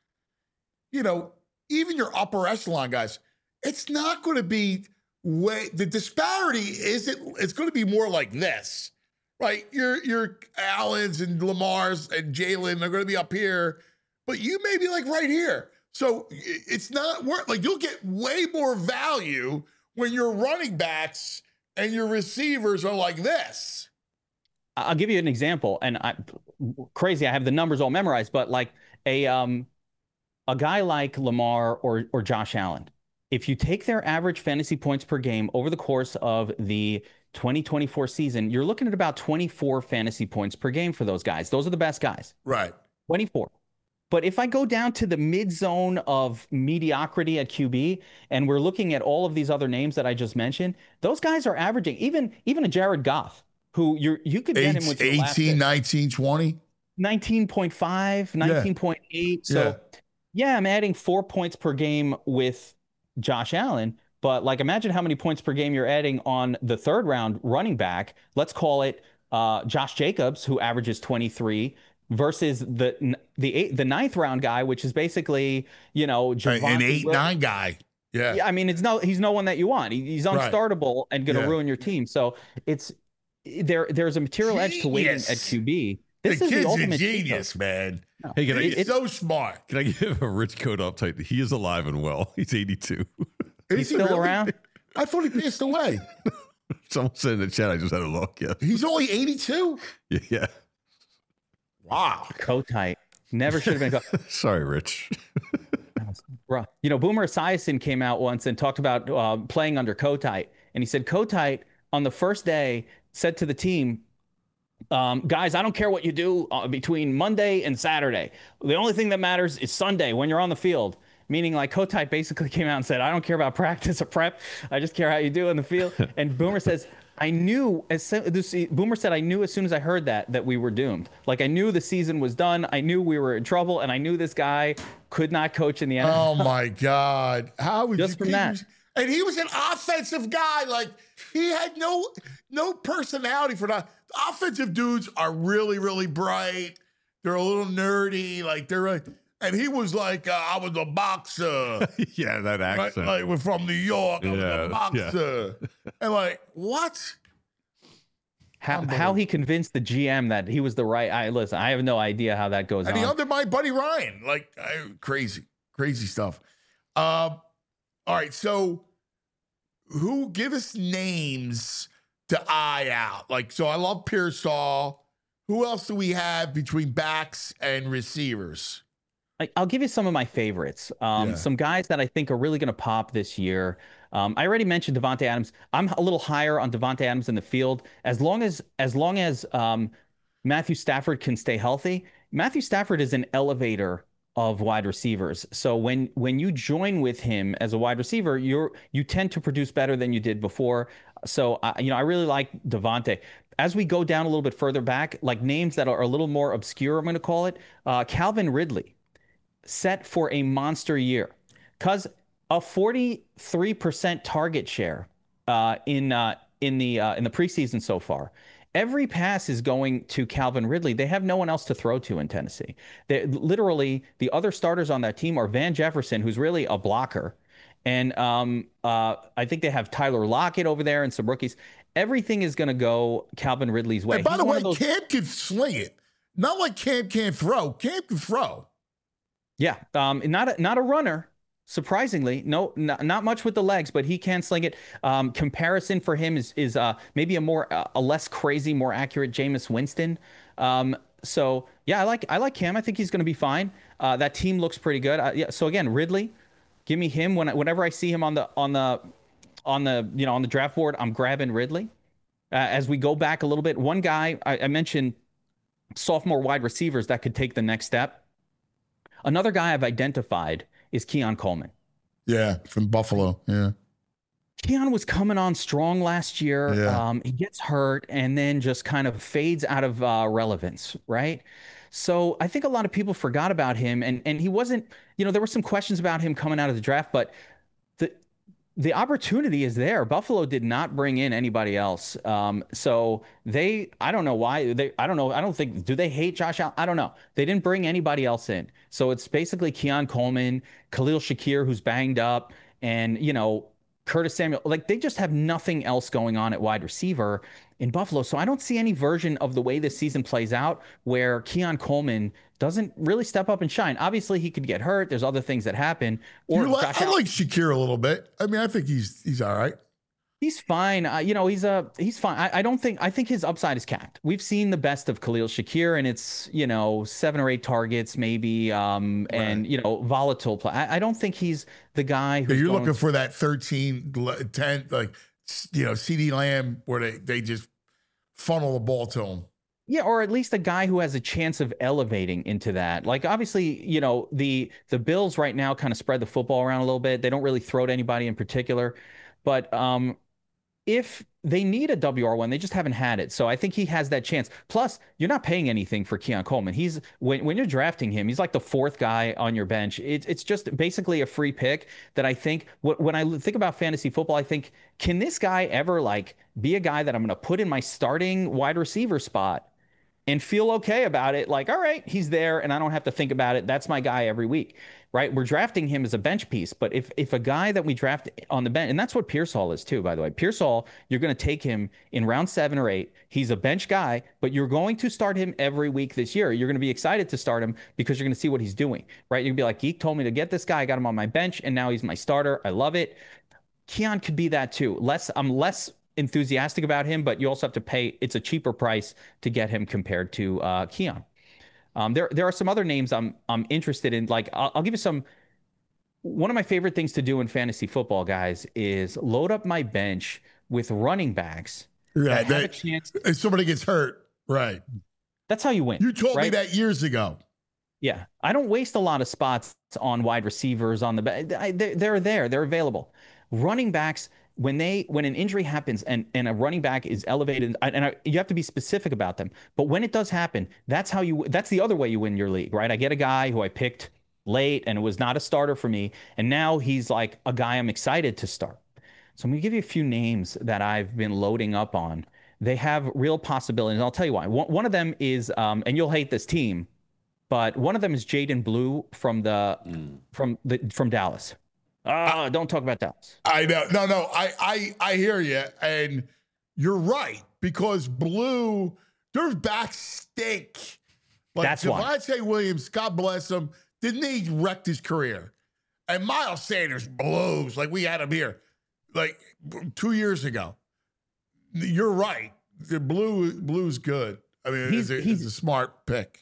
even your upper echelon guys, it's not going to be the disparity isn't. It's going to be more like this, right? Your Allens and Lamars and Jalen are going to be up here, but you may be like right here. So it's not worth, like, you'll get way more value when your running backs and your receivers are like this. I'll give you an example, and I have the numbers all memorized, but like a guy like Lamar or Josh Allen, if you take their average fantasy points per game over the course of the 2024 season, you're looking at about 24 fantasy points per game for those guys. Those are the best guys. Right. 24. But if I go down to the mid zone of mediocrity at QB, and we're looking at all of these other names that I just mentioned, those guys are averaging, even a Jared Goff, who you could get him with 18, 19, 20. 19.5, 19.8. So yeah, I'm adding 4 points per game with Josh Allen, but like, imagine how many points per game you're adding on the 3rd round running back. Let's call it Josh Jacobs, who averages 23, versus the 9th round guy, which is basically, Javonte an 8-9 guy. Yeah. I mean, he's no one that you want. He's unstartable and going to ruin your team. So there's a material edge to waiting at QB. This is the ultimate genius, man. No. Hey, he's so smart. Can I give a Rich Coat uptight? He is alive and well. He's 82. He's still really around? I thought he passed away. Someone said in the chat, I just had a look. Yeah. He's only 82? Yeah. Wow. Kotite. Never should have been. Sorry, Rich. Boomer Esiason came out once and talked about playing under Kotite. And he said Kotite on the first day said to the team, guys, I don't care what you do between Monday and Saturday. The only thing that matters is Sunday when you're on the field. Meaning, like, Kotite basically came out and said, I don't care about practice or prep. I just care how you do in the field. And Boomer says, Boomer said, I knew as soon as I heard that we were doomed. Like, I knew the season was done. I knew we were in trouble, and I knew this guy could not coach in the NFL. Oh my God. How would just from that? And he was an offensive guy. Like, he had no personality for that. Offensive dudes are really, really bright. They're a little nerdy. Like, and he was like, I was a boxer. Yeah, that accent. Right? Like, we're from New York. I was a boxer. Yeah. And like, what? How he convinced the GM that he was the right. Listen, I have no idea how that goes on. And he undermined Buddy Ryan. Like, crazy stuff. All right, so give us names to eye out. Like, so I love Pearsall. Who else do we have between backs and receivers? I'll give you some of my favorites. Some guys that I think are really going to pop this year. I already mentioned Devontae Adams. I'm a little higher on Devontae Adams in the field. As long as Matthew Stafford can stay healthy. Matthew Stafford is an elevator of wide receivers. So when you join with him as a wide receiver, you tend to produce better than you did before. So I really like Devontae. As we go down a little bit further back, like names that are a little more obscure, I'm going to call it, Calvin Ridley, set for a monster year, because a 43% target share in the preseason so far. Every pass is going to Calvin Ridley. They have no one else to throw to in Tennessee. Literally, the other starters on that team are Van Jefferson, who's really a blocker, and I think they have Tyler Lockett over there and some rookies. Everything is going to go Calvin Ridley's way. And by the way, Cam can sling it. Not like Cam can't throw. Cam can throw. Yeah, not a runner. Surprisingly, no, not much with the legs, but he can sling it. Comparison for him is maybe a less crazy, more accurate Jameis Winston. So yeah, I like Cam. I think he's going to be fine. That team looks pretty good. Yeah. So again, Ridley, give me him whenever I see him on the draft board. I'm grabbing Ridley. As we go back a little bit, one guy I mentioned, sophomore wide receivers that could take the next step. Another guy I've identified is Keon Coleman. Yeah, from Buffalo. Yeah. Keon was coming on strong last year. Yeah. He gets hurt and then just kind of fades out of relevance, right? So I think a lot of people forgot about him, and he wasn't, there were some questions about him coming out of the draft, but the opportunity is there. Buffalo did not bring in anybody else. So I don't know why. Do they hate Josh Allen? I don't know. They didn't bring anybody else in. So it's basically Keon Coleman, Khalil Shakir, who's banged up, and, Curtis Samuel. Like, they just have nothing else going on at wide receiver in Buffalo. So I don't see any version of the way this season plays out where Keon Coleman doesn't really step up and shine. Obviously, he could get hurt. There's other things that happen. I like Shakir a little bit. I mean, I think he's all right. He's fine. He's fine. I think his upside is capped. We've seen the best of Khalil Shakir, and it's, 7 or 8 targets maybe, and, volatile play. I don't think he's the guy who's you're looking for that 13, 10, like, CeeDee Lamb, where they just funnel the ball to him. Yeah, or at least a guy who has a chance of elevating into that. Like, obviously, the Bills right now kind of spread the football around a little bit. They don't really throw to anybody in particular. But if they need a WR1, they just haven't had it. So I think he has that chance. Plus, you're not paying anything for Keon Coleman. He's when you're drafting him, he's like the 4th guy on your bench. It's just basically a free pick that I think when I think about fantasy football, I think, can this guy ever be a guy that I'm going to put in my starting wide receiver spot and feel okay about it? Like, all right, he's there and I don't have to think about it. That's my guy every week, right? We're drafting him as a bench piece. But if a guy that we draft on the bench, and that's what Pearsall is too, by the way. Pearsall, you're going to take him in round 7 or 8. He's a bench guy, but you're going to start him every week this year. You're going to be excited to start him because you're going to see what he's doing, right? You're going to be like, Geek told me to get this guy. I got him on my bench, and now he's my starter. I love it. Keon could be that too. I'm less enthusiastic about him, but you also have to pay. It's a cheaper price to get him compared to Keon. There are some other names I'm interested in. Like, I'll give you some. One of my favorite things to do in fantasy football, guys, is load up my bench with running backs. Right. Have a chance. If somebody gets hurt, right. That's how you win. You told me that years ago. Yeah. I don't waste a lot of spots on wide receivers on the back. They're there. They're available. Running backs, when an injury happens and a running back is elevated, and you have to be specific about them. But when it does happen, that's the other way you win your league, right? I get a guy who I picked late and it was not a starter for me, and now he's like a guy I'm excited to start. So I'm going to give you a few names that I've been loading up on. They have real possibilities, and I'll tell you why. One of them is, and you'll hate this team, but one of them is Jaden Blue from Dallas. Don't talk about Dallas. I know. No. I hear you, and you're right, because Blue, their backs stink. Like, that's why. Javonte Williams, God bless him, didn't he wreck his career? And Miles Sanders blows like we had him here, like 2 years ago. You're right. The Blue's good. I mean, he's a smart pick.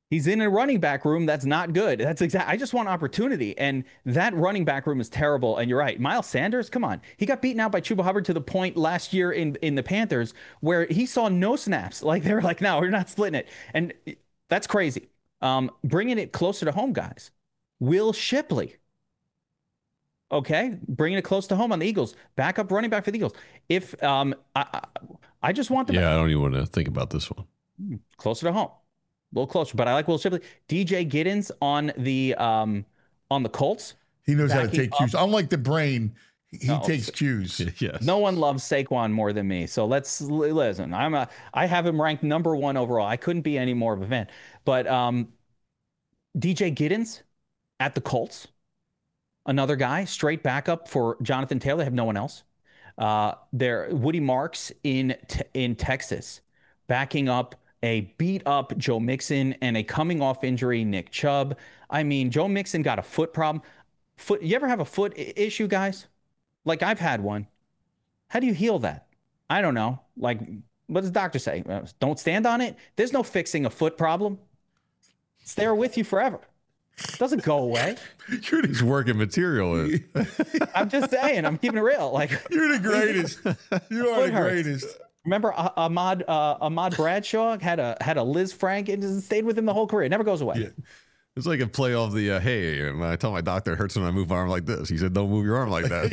He's in a running back room that's not good. That's exactly. I just want opportunity, and that running back room is terrible. And you're right, Miles Sanders. Come on, he got beaten out by Chuba Hubbard to the point last year in the Panthers where he saw no snaps. Like they were like, no, we're not splitting it, and that's crazy. Bringing it closer to home, guys. Will Shipley. Okay, bringing it close to home on the Eagles. Backup running back for the Eagles. If I just want the I don't even want to think about this one. Closer to home. A little closer, but I like Will Shipley. DJ Giddens on the Colts. He knows how to take cues. Unlike the brain, he takes cues. Yes. No one loves Saquon more than me. So let's listen. I have him ranked number 1 overall. I couldn't be any more of a fan. But DJ Giddens at the Colts, another guy, straight backup for Jonathan Taylor. They have no one else. Woody Marks in Texas, backing up a beat-up Joe Mixon and a coming-off injury Nick Chubb. I mean, Joe Mixon got a foot problem. You ever have a foot issue, guys? Like, I've had one. How do you heal that? I don't know. Like, what does the doctor say? Don't stand on it? There's no fixing a foot problem. It's there with you forever. It doesn't go away. You're just working material. I'm just saying. I'm keeping it real. Like, you're the greatest. You are the greatest. Remember Ahmad Bradshaw had a Liz Frank and stayed with him the whole career. It never goes away. Yeah. It's like a play off the, hey, I tell my doctor it hurts when I move my arm like this. He said, don't move your arm like that.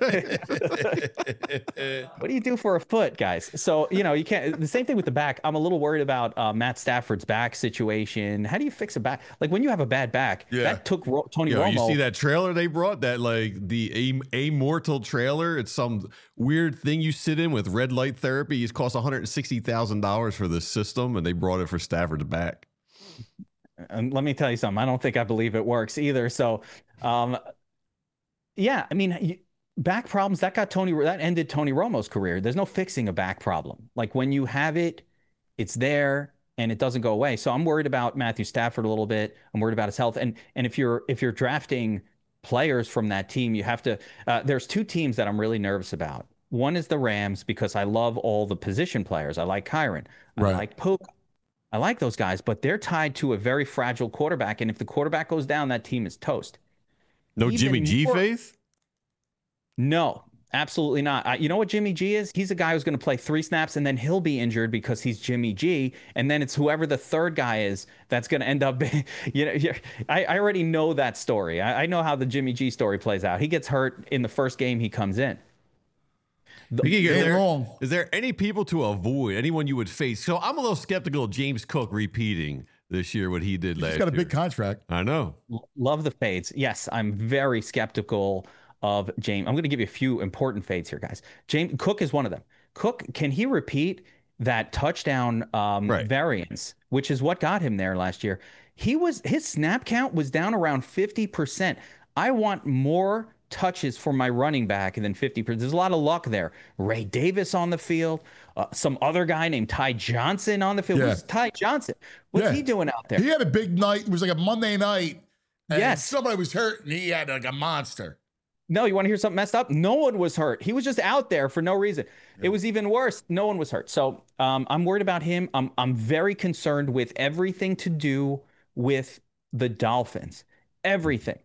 What do you do for a foot, guys? So, you can't, the same thing with the back. I'm a little worried about Matt Stafford's back situation. How do you fix a back? Like when you have a bad back, that took Tony Romo. You see that trailer they brought, that like the Immortal trailer? It's some weird thing you sit in with red light therapy. It costs $160,000 for this system, and they brought it for Stafford's back. And let me tell you something. I don't think I believe it works either. So, yeah, I mean, back problems that ended Tony Romo's career. There's no fixing a back problem. Like when you have it, it's there and it doesn't go away. So I'm worried about Matthew Stafford a little bit. I'm worried about his health. And if you're drafting players from that team, you have to. There's 2 teams that I'm really nervous about. One is the Rams because I love all the position players. I like Kyron. I like Puka. I like those guys, but they're tied to a very fragile quarterback. And if the quarterback goes down, that team is toast. No Jimmy G faith? No, absolutely not. You know what Jimmy G is? He's a guy who's going to play 3 snaps and then he'll be injured because he's Jimmy G. And then it's whoever the third guy is that's going to end up. I already know that story. I know how the Jimmy G story plays out. He gets hurt in the first game he comes in. Is there any people to avoid, anyone you would face? So I'm a little skeptical of James Cook repeating this year what he did last year. He's got a big contract. I know. Love the fades. Yes, I'm very skeptical of James. I'm going to give you a few important fades here, guys. James Cook is one of them. Cook, can he repeat that touchdown variance, which is what got him there last year? His snap count was down around 50%. I want more touches for my running back than 50%. There's a lot of luck there. Ray Davis on the field, some other guy named Ty Johnson on the field. Who's Ty Johnson? What's he doing out there? He had a big night. It was like a Monday night. And somebody was hurt and he had like a monster. No, you want to hear something messed up? No one was hurt. He was just out there for no reason. It was even worse. No one was hurt. So I'm worried about him. I'm very concerned with everything to do with the Dolphins. Everything.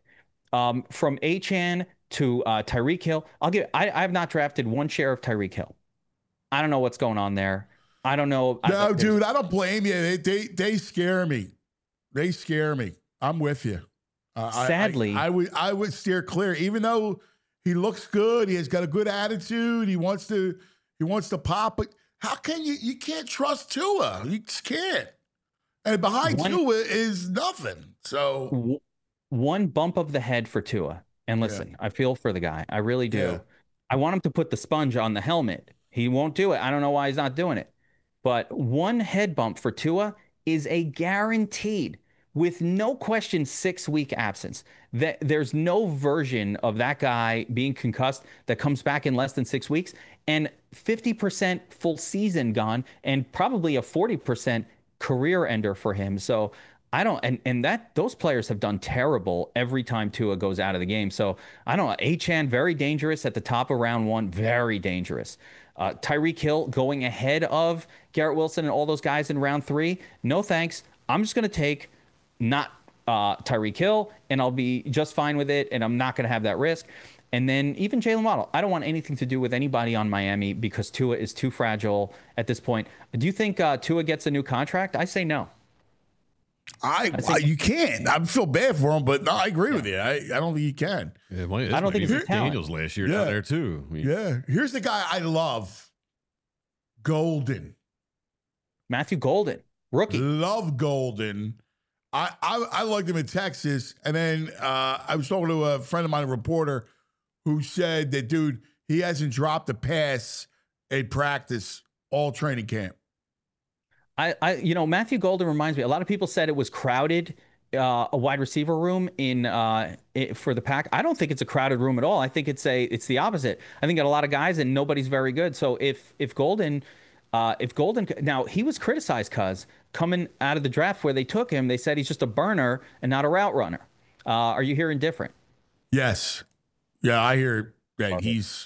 From Achane to Tyreek Hill. I have not drafted one share of Tyreek Hill. I don't know what's going on there. I don't know. No, dude, I don't blame you. They scare me. They scare me. I'm with you. Sadly, I would steer clear, even though he looks good. He has got a good attitude. He wants to pop. But how can you can't trust Tua? You just can't. And behind Tua is nothing. So one bump of the head for Tua. And listen, I feel for the guy. I really do. Yeah. I want him to put the sponge on the helmet. He won't do it. I don't know why he's not doing it. But one head bump for Tua is a guaranteed, with no question, 6-week absence. There's no version of that guy being concussed that comes back in less than 6 weeks, and 50% full season gone, and probably a 40% career ender for him. So I don't, and that those players have done terrible every time Tua goes out of the game. So I don't know. Achane, very dangerous at the top of round 1, very dangerous. Tyreek Hill going ahead of Garrett Wilson and all those guys in round 3. No thanks. I'm just going to take not Tyreek Hill, and I'll be just fine with it, and I'm not going to have that risk. And then even Jalen Waddle. I don't want anything to do with anybody on Miami because Tua is too fragile at this point. Do you think Tua gets a new contract? I say no. You can't. I feel bad for him, but no, I agree with you. I don't think you can. Yeah, I don't think it's Daniels last year down there too. Here's the guy I love. Golden. Matthew Golden, rookie. Love Golden. I liked him in Texas. And then I was talking to a friend of mine, a reporter, who said that, dude, he hasn't dropped a pass at practice all training camp. Matthew Golden reminds me. A lot of people said it was crowded, a wide receiver room for the Pack. I don't think it's a crowded room at all. I think it's the opposite. I think got a lot of guys and nobody's very good. So if Golden, now he was criticized because coming out of the draft where they took him, they said he's just a burner and not a route runner. Are you hearing different? Yes. Yeah, I hear that he's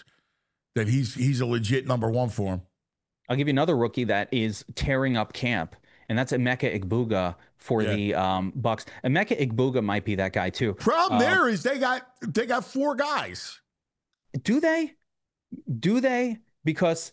a legit number one for him. I'll give you another rookie that is tearing up camp, and that's Emeka Egbuka for the Bucks. Emeka Egbuka might be that guy too. Problem there is they got 4 guys. Do they? Because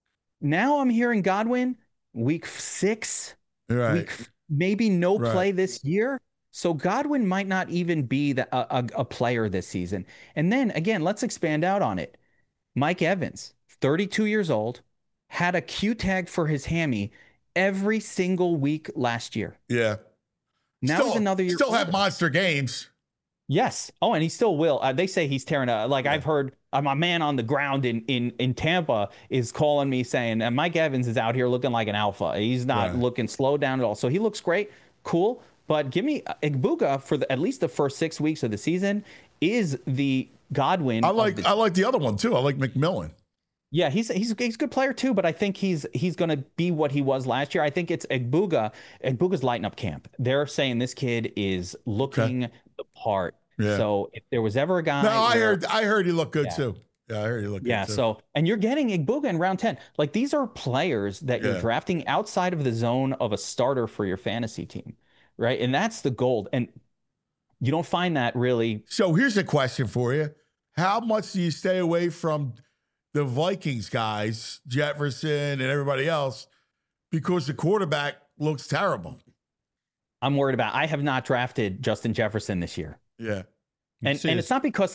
now I'm hearing Godwin week 6, right? Maybe no play this year. So Godwin might not even be a player this season. And then again, let's expand out on it. Mike Evans, 32 years old. Had a Q tag for his hammy every single week last year. Yeah. Now he's another year. Still have monster games. Yes. Oh, and he still will. They say he's tearing up. I've heard my man on the ground in Tampa is calling me saying Mike Evans is out here looking like an alpha. He's not looking slowed down at all. So he looks great. Cool. But give me Egbuka for at least the first 6 weeks of the season is the Godwin. I like the other one too. I like McMillan. Yeah, he's a good player too, but I think he's going to be what he was last year. I think it's Egbuka. Egbuka's lighting up camp. They're saying this kid is looking the part. Yeah. So if there was ever a guy, I heard he looked good too. Yeah, I heard he looked good too. So and you're getting Egbuka in round 10. Like these are players that you're drafting outside of the zone of a starter for your fantasy team, right? And that's the gold. And you don't find that really. So here's a question for you: how much do you stay away from the Vikings guys, Jefferson and everybody else, because the quarterback looks terrible? I'm worried about. I have not drafted Justin Jefferson this year. Yeah, and it's not because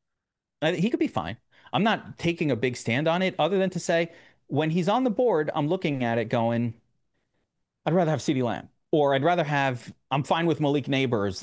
he could be fine. I'm not taking a big stand on it, other than to say when he's on the board, I'm looking at it going, I'd rather have CeeDee Lamb, or I'd rather have. I'm fine with Malik Neighbors,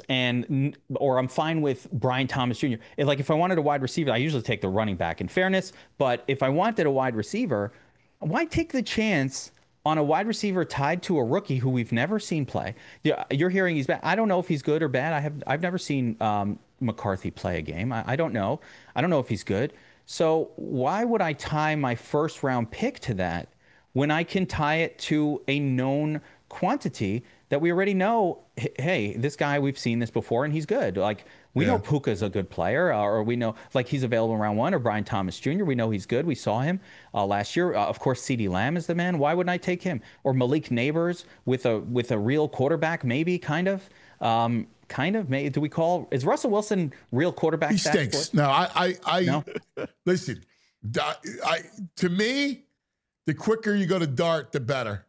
or I'm fine with Brian Thomas Jr. If I wanted a wide receiver, I usually take the running back. In fairness, but if I wanted a wide receiver, why take the chance on a wide receiver tied to a rookie who we've never seen play? Yeah, you're hearing he's bad. I don't know if he's good or bad. I've never seen McCarthy play a game. I don't know. I don't know if he's good. So why would I tie my first round pick to that when I can tie it to a known quantity that we already know? Hey, this guy, we've seen this before and he's good. We know Puka's a good player, or we know he's available in round 1, or Brian Thomas Jr. We know he's good. We saw him last year. Of course, CeeDee Lamb is the man. Why wouldn't I take him? Or Malik Neighbors with a real quarterback, maybe, kind of. Maybe, do we call, is Russell Wilson real quarterback? He stinks. No, I listen, to me, the quicker you go to Dart, the better.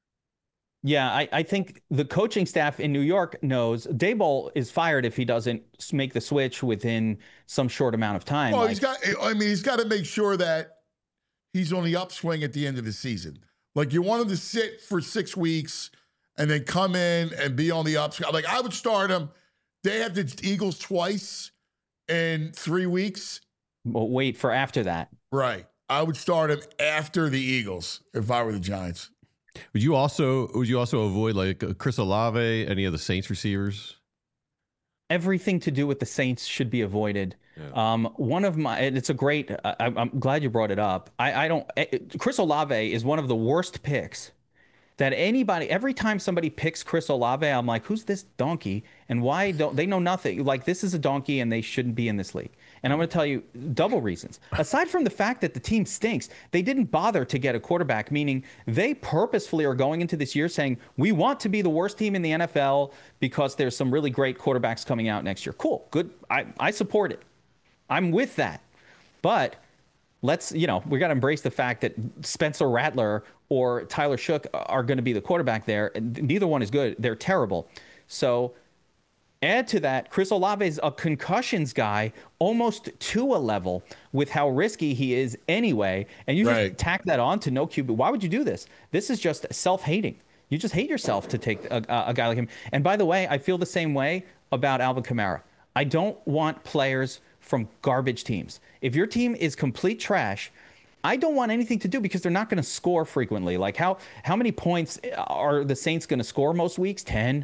Yeah, I think the coaching staff in New York knows Daboll is fired if he doesn't make the switch within some short amount of time. Well, he's got to make sure that he's on the upswing at the end of the season. You want him to sit for 6 weeks and then come in and be on the upswing. I would start him. They have the Eagles twice in 3 weeks. Well, wait for after that. Right. I would start him after the Eagles if I were the Giants. Would you also avoid Chris Olave, any of the Saints receivers? Everything to do with the Saints should be avoided. Yeah. It's a great. I'm glad you brought it up. Chris Olave is one of the worst picks that every time somebody picks Chris Olave, I'm like, who's this donkey? And why don't they know nothing? Like, this is a donkey and they shouldn't be in this league. And I'm going to tell you double reasons. Aside from the fact that the team stinks, they didn't bother to get a quarterback, meaning they purposefully are going into this year saying, we want to be the worst team in the NFL because there's some really great quarterbacks coming out next year. Cool. Good. I support it. I'm with that. But let's, we got to embrace the fact that Spencer Rattler or Tyler Shook are going to be the quarterback there. Neither one is good. They're terrible. So add to that, Chris Olave is a concussions guy almost to a level with how risky he is anyway. And you just tack that on to no QB. Why would you do this? This is just self-hating. You just hate yourself to take a guy like him. And by the way, I feel the same way about Alvin Kamara. I don't want players from garbage teams. If your team is complete trash, I don't want anything to do because they're not going to score frequently. Like how many points are the Saints going to score most weeks? 10,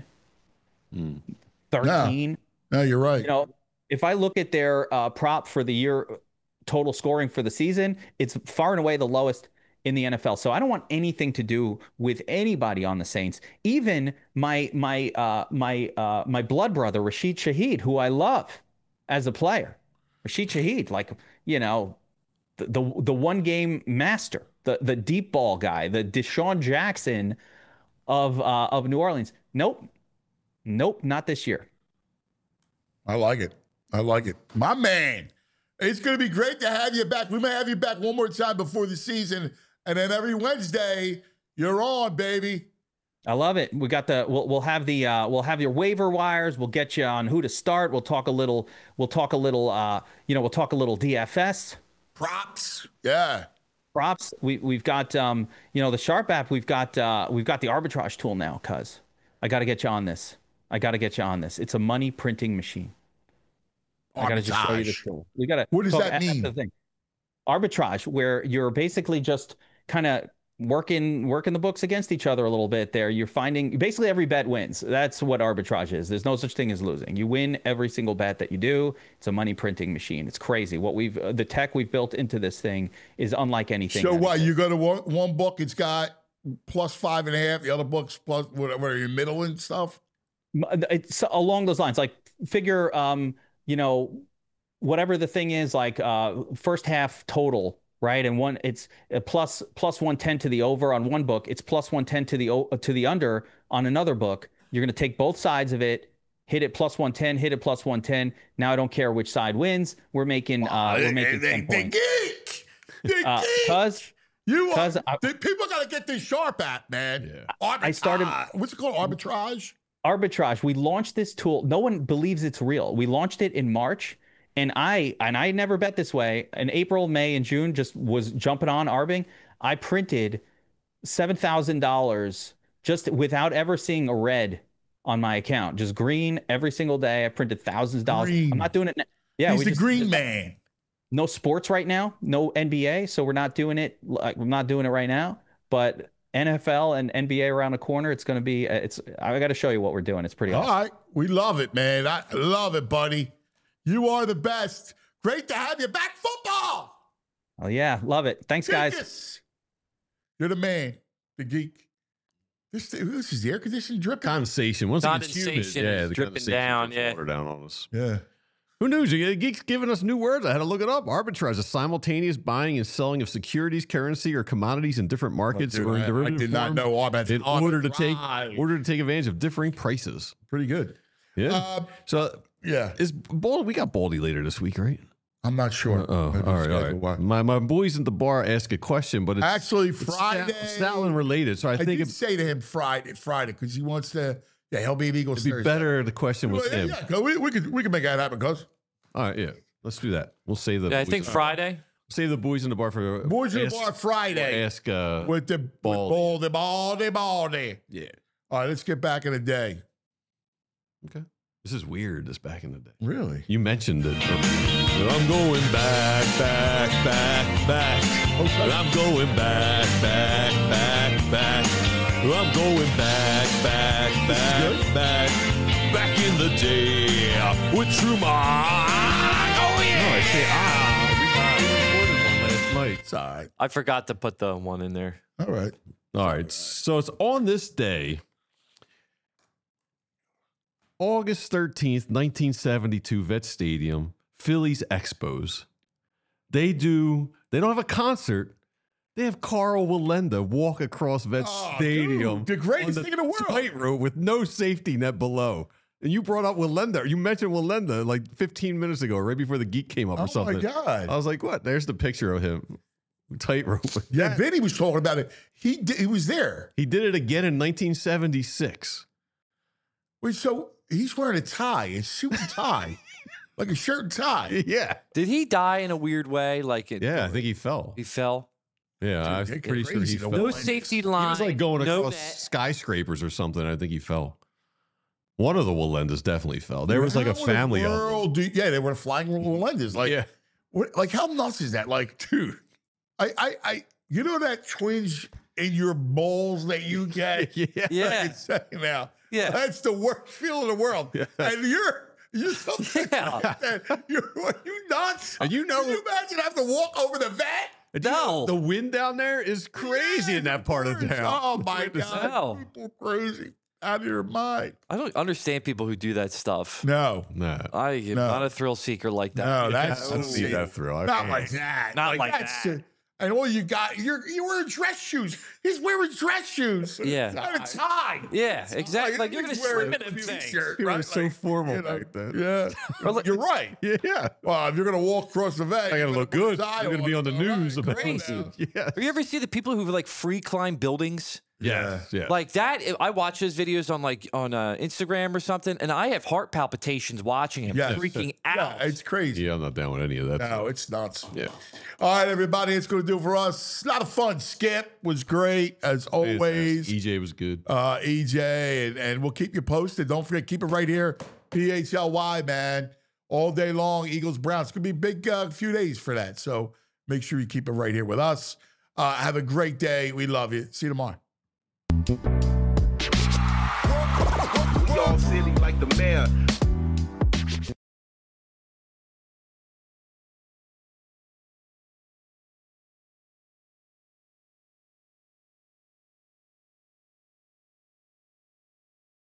13. No, you're right. If I look at their prop for the year total scoring for the season, it's far and away the lowest in the NFL. So I don't want anything to do with anybody on the Saints. Even my blood brother Rashid Shaheed, who I love as a player. Rashid Shaheed, like, the one game master, the deep ball guy, the Deshaun Jackson of New Orleans. Nope, not this year. I like it. My man, it's going to be great to have you back. We may have you back one more time before the season, and then every Wednesday you're on, baby. I love it. We got we'll have your waiver wires. We'll get you on who to start. We'll talk a little DFS. Props. Yeah. Props. We've got the Sharp app. We've got the arbitrage tool now, cuz I got to get you on this. It's a money printing machine. Arbitrage. I got to just show you this tool. What does that mean? That's the thing. Arbitrage, where you're basically just kind of working the books against each other a little bit there. You're finding basically every bet wins. That's what arbitrage is. There's no such thing as losing. You win every single bet that you do. It's a money printing machine. It's crazy. The tech we've built into this thing is unlike anything. So what? You go to one book, it's got plus 5.5. The other book's plus whatever your middle and stuff. It's along those lines. Like figure, whatever the thing is, like first half total. Right, and it's a plus 110 to the over on one book. It's plus 110 to the under on another book. You're going to take both sides of it, hit it plus 110, hit it plus 110. Now I don't care which side wins. We're making 10 points. Because people got to get this Sharp app, man. Yeah. I started. What's it called? Arbitrage. Arbitrage. We launched this tool. No one believes it's real. We launched it in March. And I never bet this way. In April, May, and June, just was jumping on arbing. I printed $7,000 just without ever seeing a red on my account. Just green every single day. I printed thousands of dollars. I'm not doing it. Yeah, he's the green man. No sports right now. No NBA, so we're not doing it. I'm not doing it right now. But NFL and NBA around the corner. It's going to be. I got to show you what we're doing. It's pretty awesome. All right, we love it, man. I love it, buddy. You are the best. Great to have you back. Football. Oh, yeah. Love it. Thanks, guys. You're the man, the geek. This is the air conditioning dripping. Condensation. Once condensation is dripping down. Yeah. Water down on us. Yeah. Who knew? Geeks giving us new words. I had to look it up. Arbitrage, a simultaneous buying and selling of securities, currency, or commodities in different markets or in derivative I did not know arbitrage. In order to take advantage of differing prices. Pretty good. Yeah. Yeah. We got Baldy later this week, right? I'm not sure. All right. My boys at the bar asked a question, but it's actually Friday. Stalin related. So I think did say to him Friday because he wants to. Yeah, he'll be an Eagles. It'd be better. The question was him. Yeah, we could make that happen, cuz. All right, yeah. Let's do that. We'll save the. Yeah, I think Friday. Save the boys in the bar for boys in the bar Friday. We'll ask with the baldy. Yeah. All right, let's get back in the day. Okay. This is weird, this back in the day. Really? You mentioned it. I'm going back. Okay. I'm going back. I'm going back in the day with Truman. Oh, yeah. No, I say, we recorded one last night. It's all right. I forgot to put the one in there. All right. All right. So it's on this day, August 13th, 1972, Vet Stadium, Phillies Expos. They don't have a concert. They have Carl Wallenda walk across Vet Stadium. Dude, the greatest thing in the world. Tightrope with no safety net below. And you brought up Wallenda. You mentioned Wallenda like 15 minutes ago, right before the geek came up or something. Oh, my God. I was like, what? There's the picture of him. Tightrope. Yeah, Vinny was talking about it. He was there. He did it again in 1976. Wait, so he's wearing a tie, a suit and tie, like a shirt and tie. Yeah. Did he die in a weird way? Yeah, I think he fell. He fell. Yeah, I'm pretty sure he fell. No safety line. He was like going no across skyscrapers or something. I think he fell. One of the Wallendas definitely fell. There was like a family of them. Yeah, they were flying Wallendas. Like, yeah. Like, how nuts is that? Like, dude, you know that twinge in your balls that you get? Yeah. Now. Yeah. That's the worst feeling in the world. Yeah. And you're so you nuts? And you imagine having to walk over the vet? No. The wind down there is crazy in that part of town. Oh my God. People crazy. Out of your mind. I don't understand people who do that stuff. No. I am not a thrill seeker like that. No, that's I don't need that thrill. Not like that. Not like that. And all you got, you're wearing dress shoes. He's wearing dress shoes. Yeah. Not a tie. Yeah, exactly. Like you're gonna slip in them things. He was so formal back then. Yeah. You're right. Yeah. Well, if you're gonna walk across the vet, I gotta look good. I'm gonna be on the news about Crazy. it. Yeah. Have you ever see the people who like free climb buildings? Yeah. Like that, I watch those videos on Instagram or something, and I have heart palpitations watching him freaking out. Yeah, it's crazy. Yeah, I'm not down with any of that. No, it's nuts. Yeah. All right, everybody, it's going to do it for us. A lot of fun. Skip was great, as always. EJ was good. EJ, and we'll keep you posted. Don't forget, keep it right here. PHLY, man. All day long, Eagles, Browns. It's going to be a big few days for that. So make sure you keep it right here with us. Have a great day. We love you. See you tomorrow. We all silly like the mayor.